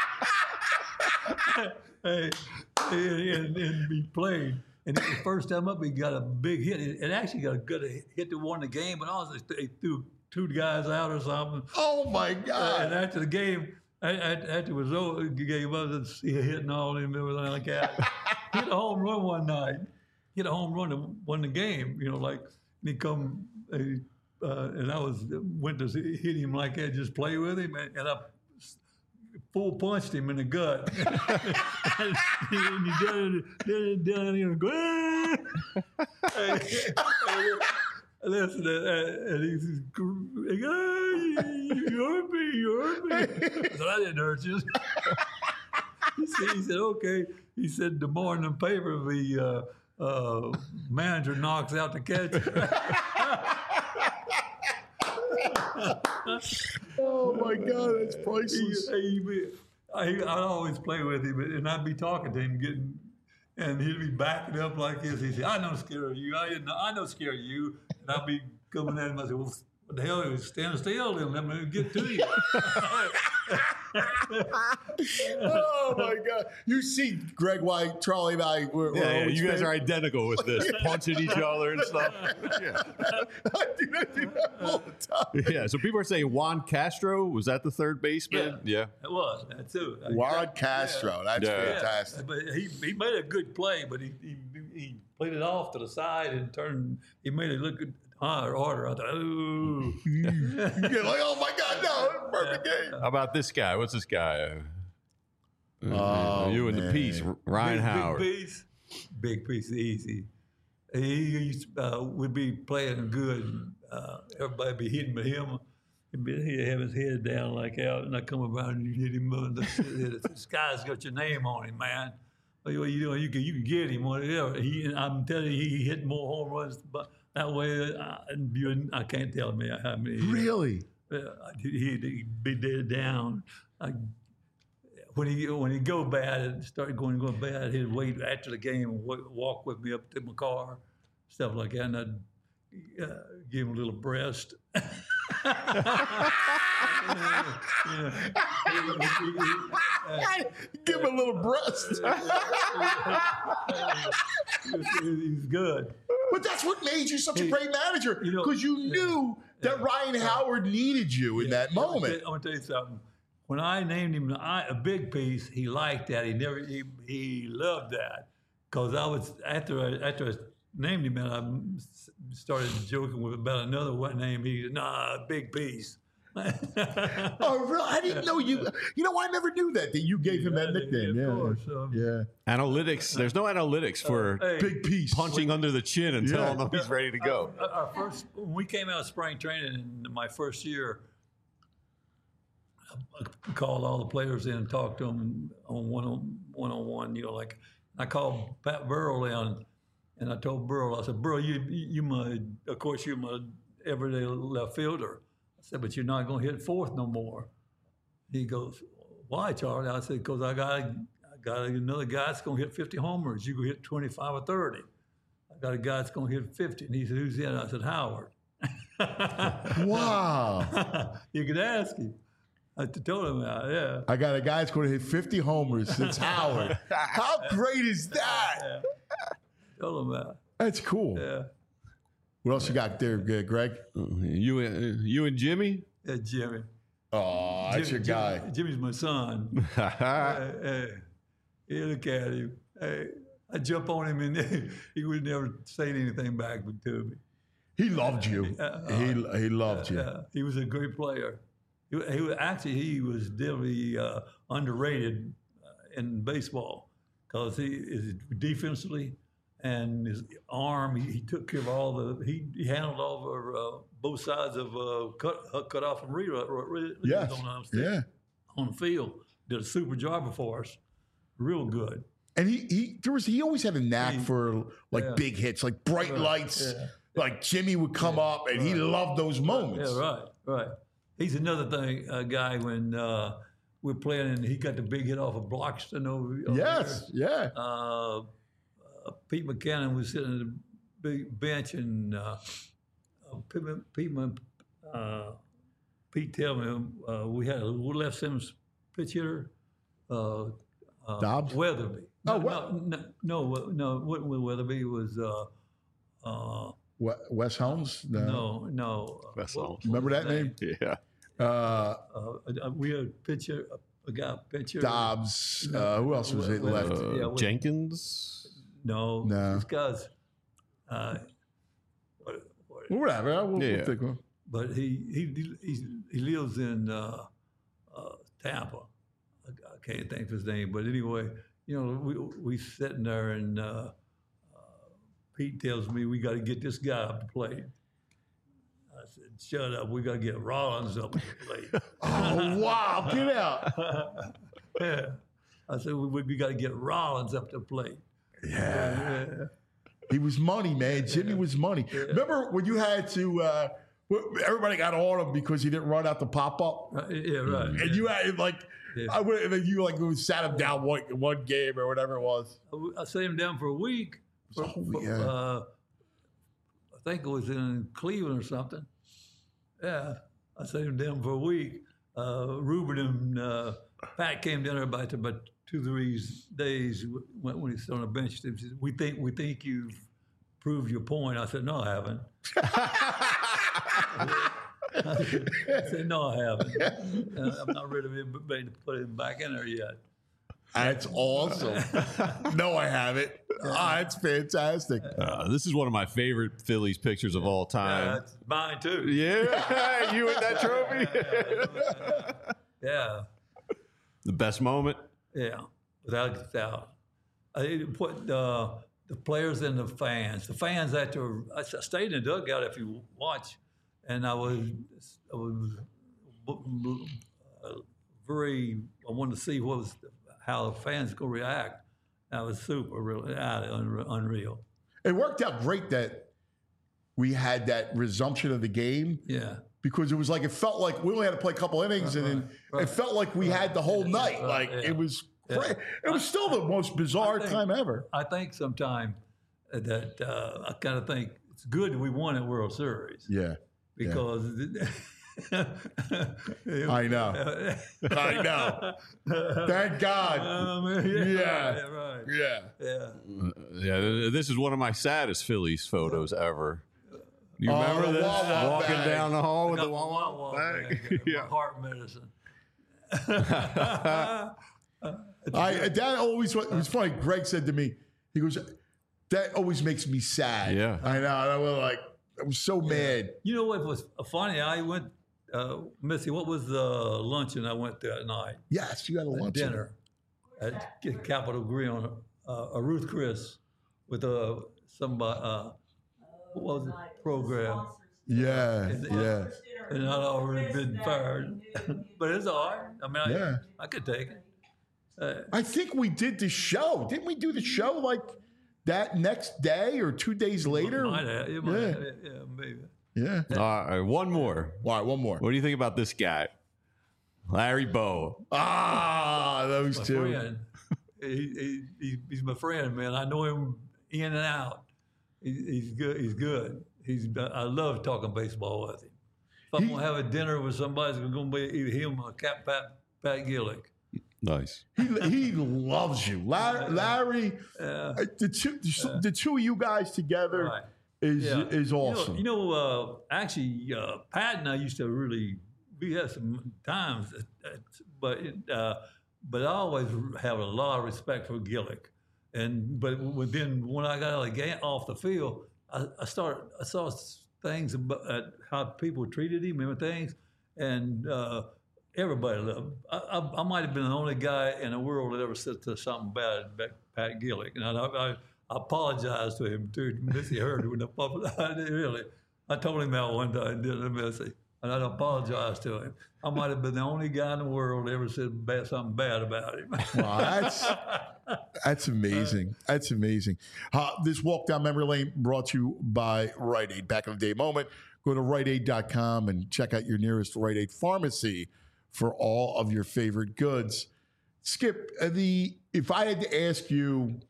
Hey, and, and he played. And the first time up, he got a big hit. It actually got a good hit to win the game, but also they threw two guys out or something. Oh my God! And after the game, after it was over, the game was hitting all him and everything like that. He hit a home run one night. He hit a home run to win the game. You know, like and he come, uh, and I was went to hit him like that, just play with him, and, and I full punched him in the gut. And he done it, done it, and go. Listen, and he's, he goes, you hurt me, you hurt me. I said, I didn't hurt you. He said, he said, okay. He said, the morning paper, the uh, uh, manager knocks out the catcher. Oh my God, that's priceless. He, he, I, I'd always play with him, and I'd be talking to him, getting, and he'd be backing up like this. He'd say, "I know scare you. I didn't. I know scare you." And I'd be coming at him. I said, "Well, what the hell? Stand still, and let me get to you." Oh my God! You see, Greg White, Charlie, and I. We're, we're Yeah, yeah, always you guys fans. are identical with this, punching each other and stuff. Yeah. I do that, do that all the time. Yeah, so people are saying Juan Castro, was that the third baseman? Yeah. It was that too. Juan Castro, that's Yeah. fantastic. But he, he made a good play, but he, he he played it off to the side and turned. He made it look good. higher order. I thought, ooh. You're like, oh my God, no, perfect game. How about this guy? What's this guy? Oh, you and man. the piece, Ryan big, Howard. Big piece, big piece, easy. He used, uh, would be playing good. Uh, everybody be hitting with him. He'd, be, he'd have his head down like out, and I come around and you hit him. Uh, the, this guy's got your name on him, man. What you doing? You can you can get him. Whatever. He, I'm telling you, he hit more home runs. But that way, I, you, I can't tell me how many. Really? Uh, he'd, he'd be dead down. I, when he when he go bad and started going going bad, he'd wait after the game and w- walk with me up to my car, stuff like that, and I'd uh, give him a little breast. Give him a little breast. He's good. But that's what made you such a great manager, You know, because you knew that Ryan Howard needed you in that I want moment. to tell you something. When I named him a big piece, he liked that. He never he, he loved that, because I was after I, after I named him and I started joking with about another what name. He said, "Nah, big piece." Oh, really? I didn't know you. You know, I never knew that that you gave him that Yeah, nickname. of Yeah, course, um, yeah. Analytics. There's no analytics for Hey, Big piece. punching under the chin and Yeah. telling him he's ready to go. Our our first, when we came out of spring training in my first year, I called all the players in and talked to them on one on one on one. You know, like I called Pat Burrell in, and I told Burrell, I said, "Burrell, you you my, of course you're my everyday left fielder." I said, "But you're not going to hit fourth no more." He goes, "Why, Charlie?" I said, "Because I got I got another guy that's going to hit fifty homers. You can hit twenty-five or thirty. I got a guy that's going to hit fifty." And he said, "Who's that?" I said, "Howard." Wow. You could ask him. I told him that, yeah. I got a guy that's going to hit fifty homers. It's Howard. How great is that? yeah. Told him that, That's cool. yeah. What else you got there, uh, Greg? You and you and Jimmy. Yeah, Jimmy. Oh, that's your Jimmy- guy. Jimmy- Jimmy's my son. hey, hey, hey, look at him. Hey, I jump on him and he would never say anything back to me. He loved you. Uh, He he loved you. Yeah, he was a great player. He, he was, actually he was definitely uh, underrated uh, in baseball, because he is defensively and his arm. He, he took care of all the. He, he handled all of uh, both sides of uh, cut uh, cut off and read. Re, Yes. on, Yeah. on the field. Did a super job for us. Real good. And he he there was he always had a knack He- for like yeah. big hits, like bright Right, lights. yeah. Like Jimmy would come up, and he loved those moments. Yeah, right, right. He's another thing, uh, guy when uh, we're playing and he got the big hit off of Bloxton over, over Yes, yeah. there. Uh, uh, Pete McCannon was sitting on the big bench, and uh, uh, Pete, Pete, uh, Pete tell me uh, we had a left center pitch hitter, uh, uh, Dobbs? Weatherby. Oh, no, what? no, no, no, no, what Weatherby was. Uh, uh, We- Wes Helms? no, no. uh, Wes what- Helms. what Remember was that his name? Yeah. Uh, Uh, we had a pitcher, a, a guy pitcher. Dobbs. Uh, who else was it Well, left? Uh, Yeah, what- Jenkins. No, No. this guy's. Uh, what, what, Whatever. We'll, we'll Yeah. think of him. but he he he, he lives in uh, uh, Tampa. I, I can't think of his name, but anyway, you know, we we sitting there and uh, uh, Pete tells me we got to get this guy up to plate. I said, "Shut up! We got to get Rollins up to plate." Oh, wow. Get out. yeah, I said we, we got to get Rollins up to plate. Yeah. Yeah. He was money, man. Jimmy was money. Remember when you had to, uh, everybody got on him because he didn't run out the pop up? Right, yeah, right. And yeah. you had like, Yeah. I would, and then you like sat him down one, one game or whatever it was. I sat him down for a week. For, Oh, for, yeah. uh, I think it was in Cleveland or something. Yeah, I sat him down for a week. Uh, Ruben and uh, Pat came down there about about two, three days when, when he was on the bench. They said, "We think we think you've proved your point." I said, "No, I haven't." I said, "No, I haven't. Uh, I'm not ready to put him back in there yet." That's awesome. No, I haven't. Ah, that's fantastic. Uh, this is one of my favorite Phillies pictures of all Yeah, time. that's mine too. Yeah, you with that trophy? Yeah, The best moment? yeah, without a doubt. I put uh, the players and the fans. The fans after I stayed in the dugout. If you watch, and I was, I was uh, very. I wanted to see what was how the fans could react. That was super, really, unreal. It worked out great that we had that resumption of the game Yeah. because it was like it felt like we only had to play a couple innings, and then right. it felt like we had the whole night. right, Like yeah. it was, Yeah. cra- it was still the most bizarre think- time ever. I think sometime that uh, I kind of think it's good that we won a World Series Yeah, because I know. I know. Thank God. Um, yeah, Yeah. right, right. Yeah. Yeah. Yeah, this is one of my saddest Phillies photos ever. You Oh, remember the this? Wawa Walking bag. down the hall with Got the my Wawa Wawa bag. bag, my Yeah. heart medicine. I that always it was funny. Greg said to me, he goes, "That always makes me sad." Yeah. I know. And I was like, I was so mad. You know what was funny? I went, uh, Missy. What was the luncheon I went to at night? Yes, you had a lunch. Dinner at Capitol Grill, uh, a Ruth Chris with a somebody. Uh, what was the program? Yeah, yeah. And I'd already been fired, but it's all right. I mean, I, Yeah. I could take it. Uh, I think we did the show. Didn't we do the show like that next day or two days later? might have, it might Yeah. have, yeah, maybe. Yeah. All right, one more. All right, one more. What do you think about this guy? Larry Bow. Ah, those My two. friend, he, he, he, he's my friend, man. I know him in and out. He, he's good. He's good. He's. I love talking baseball with him. If I'm He- gonna have a dinner with somebody, it's gonna be either him or Cap Pat Pat Gillick. Nice. He, he loves you, Larry. Larry Uh, uh, the two, the, the two of you guys together right. is Yeah. is awesome. You know, you know uh, actually, uh, Pat and I used to really. We had some times, uh, but it, uh, but I always have a lot of respect for Gillick. And but then when I got out of the game, off the field, I, I started I saw things about uh, how people treated him and things, and uh, everybody loved him. I, I, I might have been the only guy in the world that ever said to something bad about Pat Gillick, and I, I, I apologized to him too. Missy heard it when the I did really. I told him that one time, didn't I, Missy? And I apologized to him. I might have been the only guy in the world that ever said bad, something bad about him. Wow, that's that's amazing. That's amazing. Uh, this walk down memory lane brought to you by Rite Aid. Back in the day moment. Go to rite aid dot com and check out your nearest Rite Aid pharmacy for all of your favorite goods. Skip, uh, the if I had to ask you,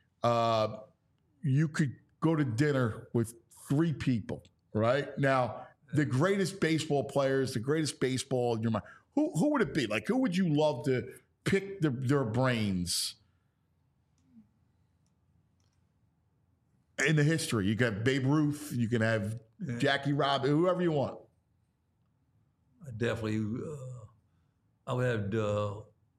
uh, you could go to dinner with three people, right? Now, the greatest baseball players, the greatest baseball in your mind. Who who would it be? Like, who would you love to pick the, their brains in the history? You can have Babe Ruth, you can have Jackie Robinson, whoever you want. I definitely, uh, I would have. Uh,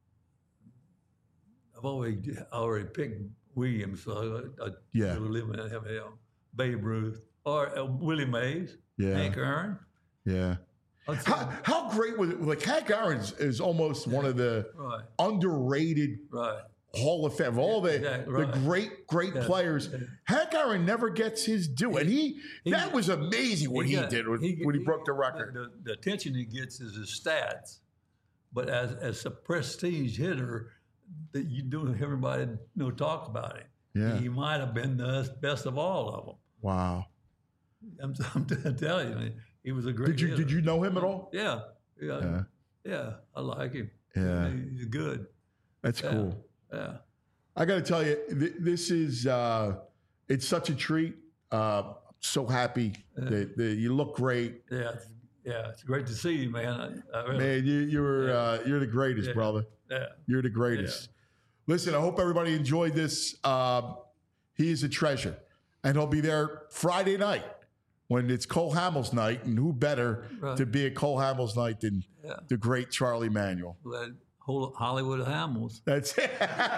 I've already already picked Williams, so I, I Yeah. really live in him. Babe Ruth or uh, Willie Mays, Yeah. Hank Aaron. Yeah. I'd say- How, how great was it? Like, Hank Aaron is almost one of the right, underrated right. Hall of Fame. Of all the, Exactly, the right. great, great Yeah. players, Hank Aaron never gets his due. And he, He- that was amazing what he, got- did when he, when he broke the record. The, the attention he gets is his stats, but as as a prestige hitter, that you don't have everybody you know talk about him. Yeah. He might have been the best of all of them. Wow. I'm, I'm telling you, he was a great. Did you hitter. did you know him at all? Yeah, yeah, Yeah. yeah. I like him. Yeah. He's good. That's Yeah. cool. Yeah. I got to tell you, th- this is uh, it's such a treat. Uh, so happy that, that you look great, Yeah, it's, yeah, it's great to see you, man. I, I really, man. You you're Yeah. uh, you're the greatest, Yeah. brother. yeah, You're the greatest. Listen, I hope everybody enjoyed this. Um, he is a treasure, and he'll be there Friday night when it's Cole Hamels night, and who better Right. to be at Cole Hamels night than Yeah. the great Charlie Manuel? Well, Hol- Hollywood Hamels. That's it.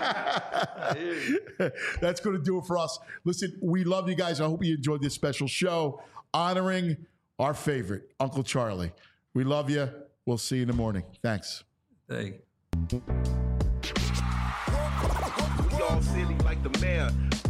That's going to do it for us. Listen, we love you guys. I hope you enjoyed this special show honoring our favorite, Uncle Charlie. We love you. We'll see you in the morning. Thanks. Hey. We all silly like the mayor.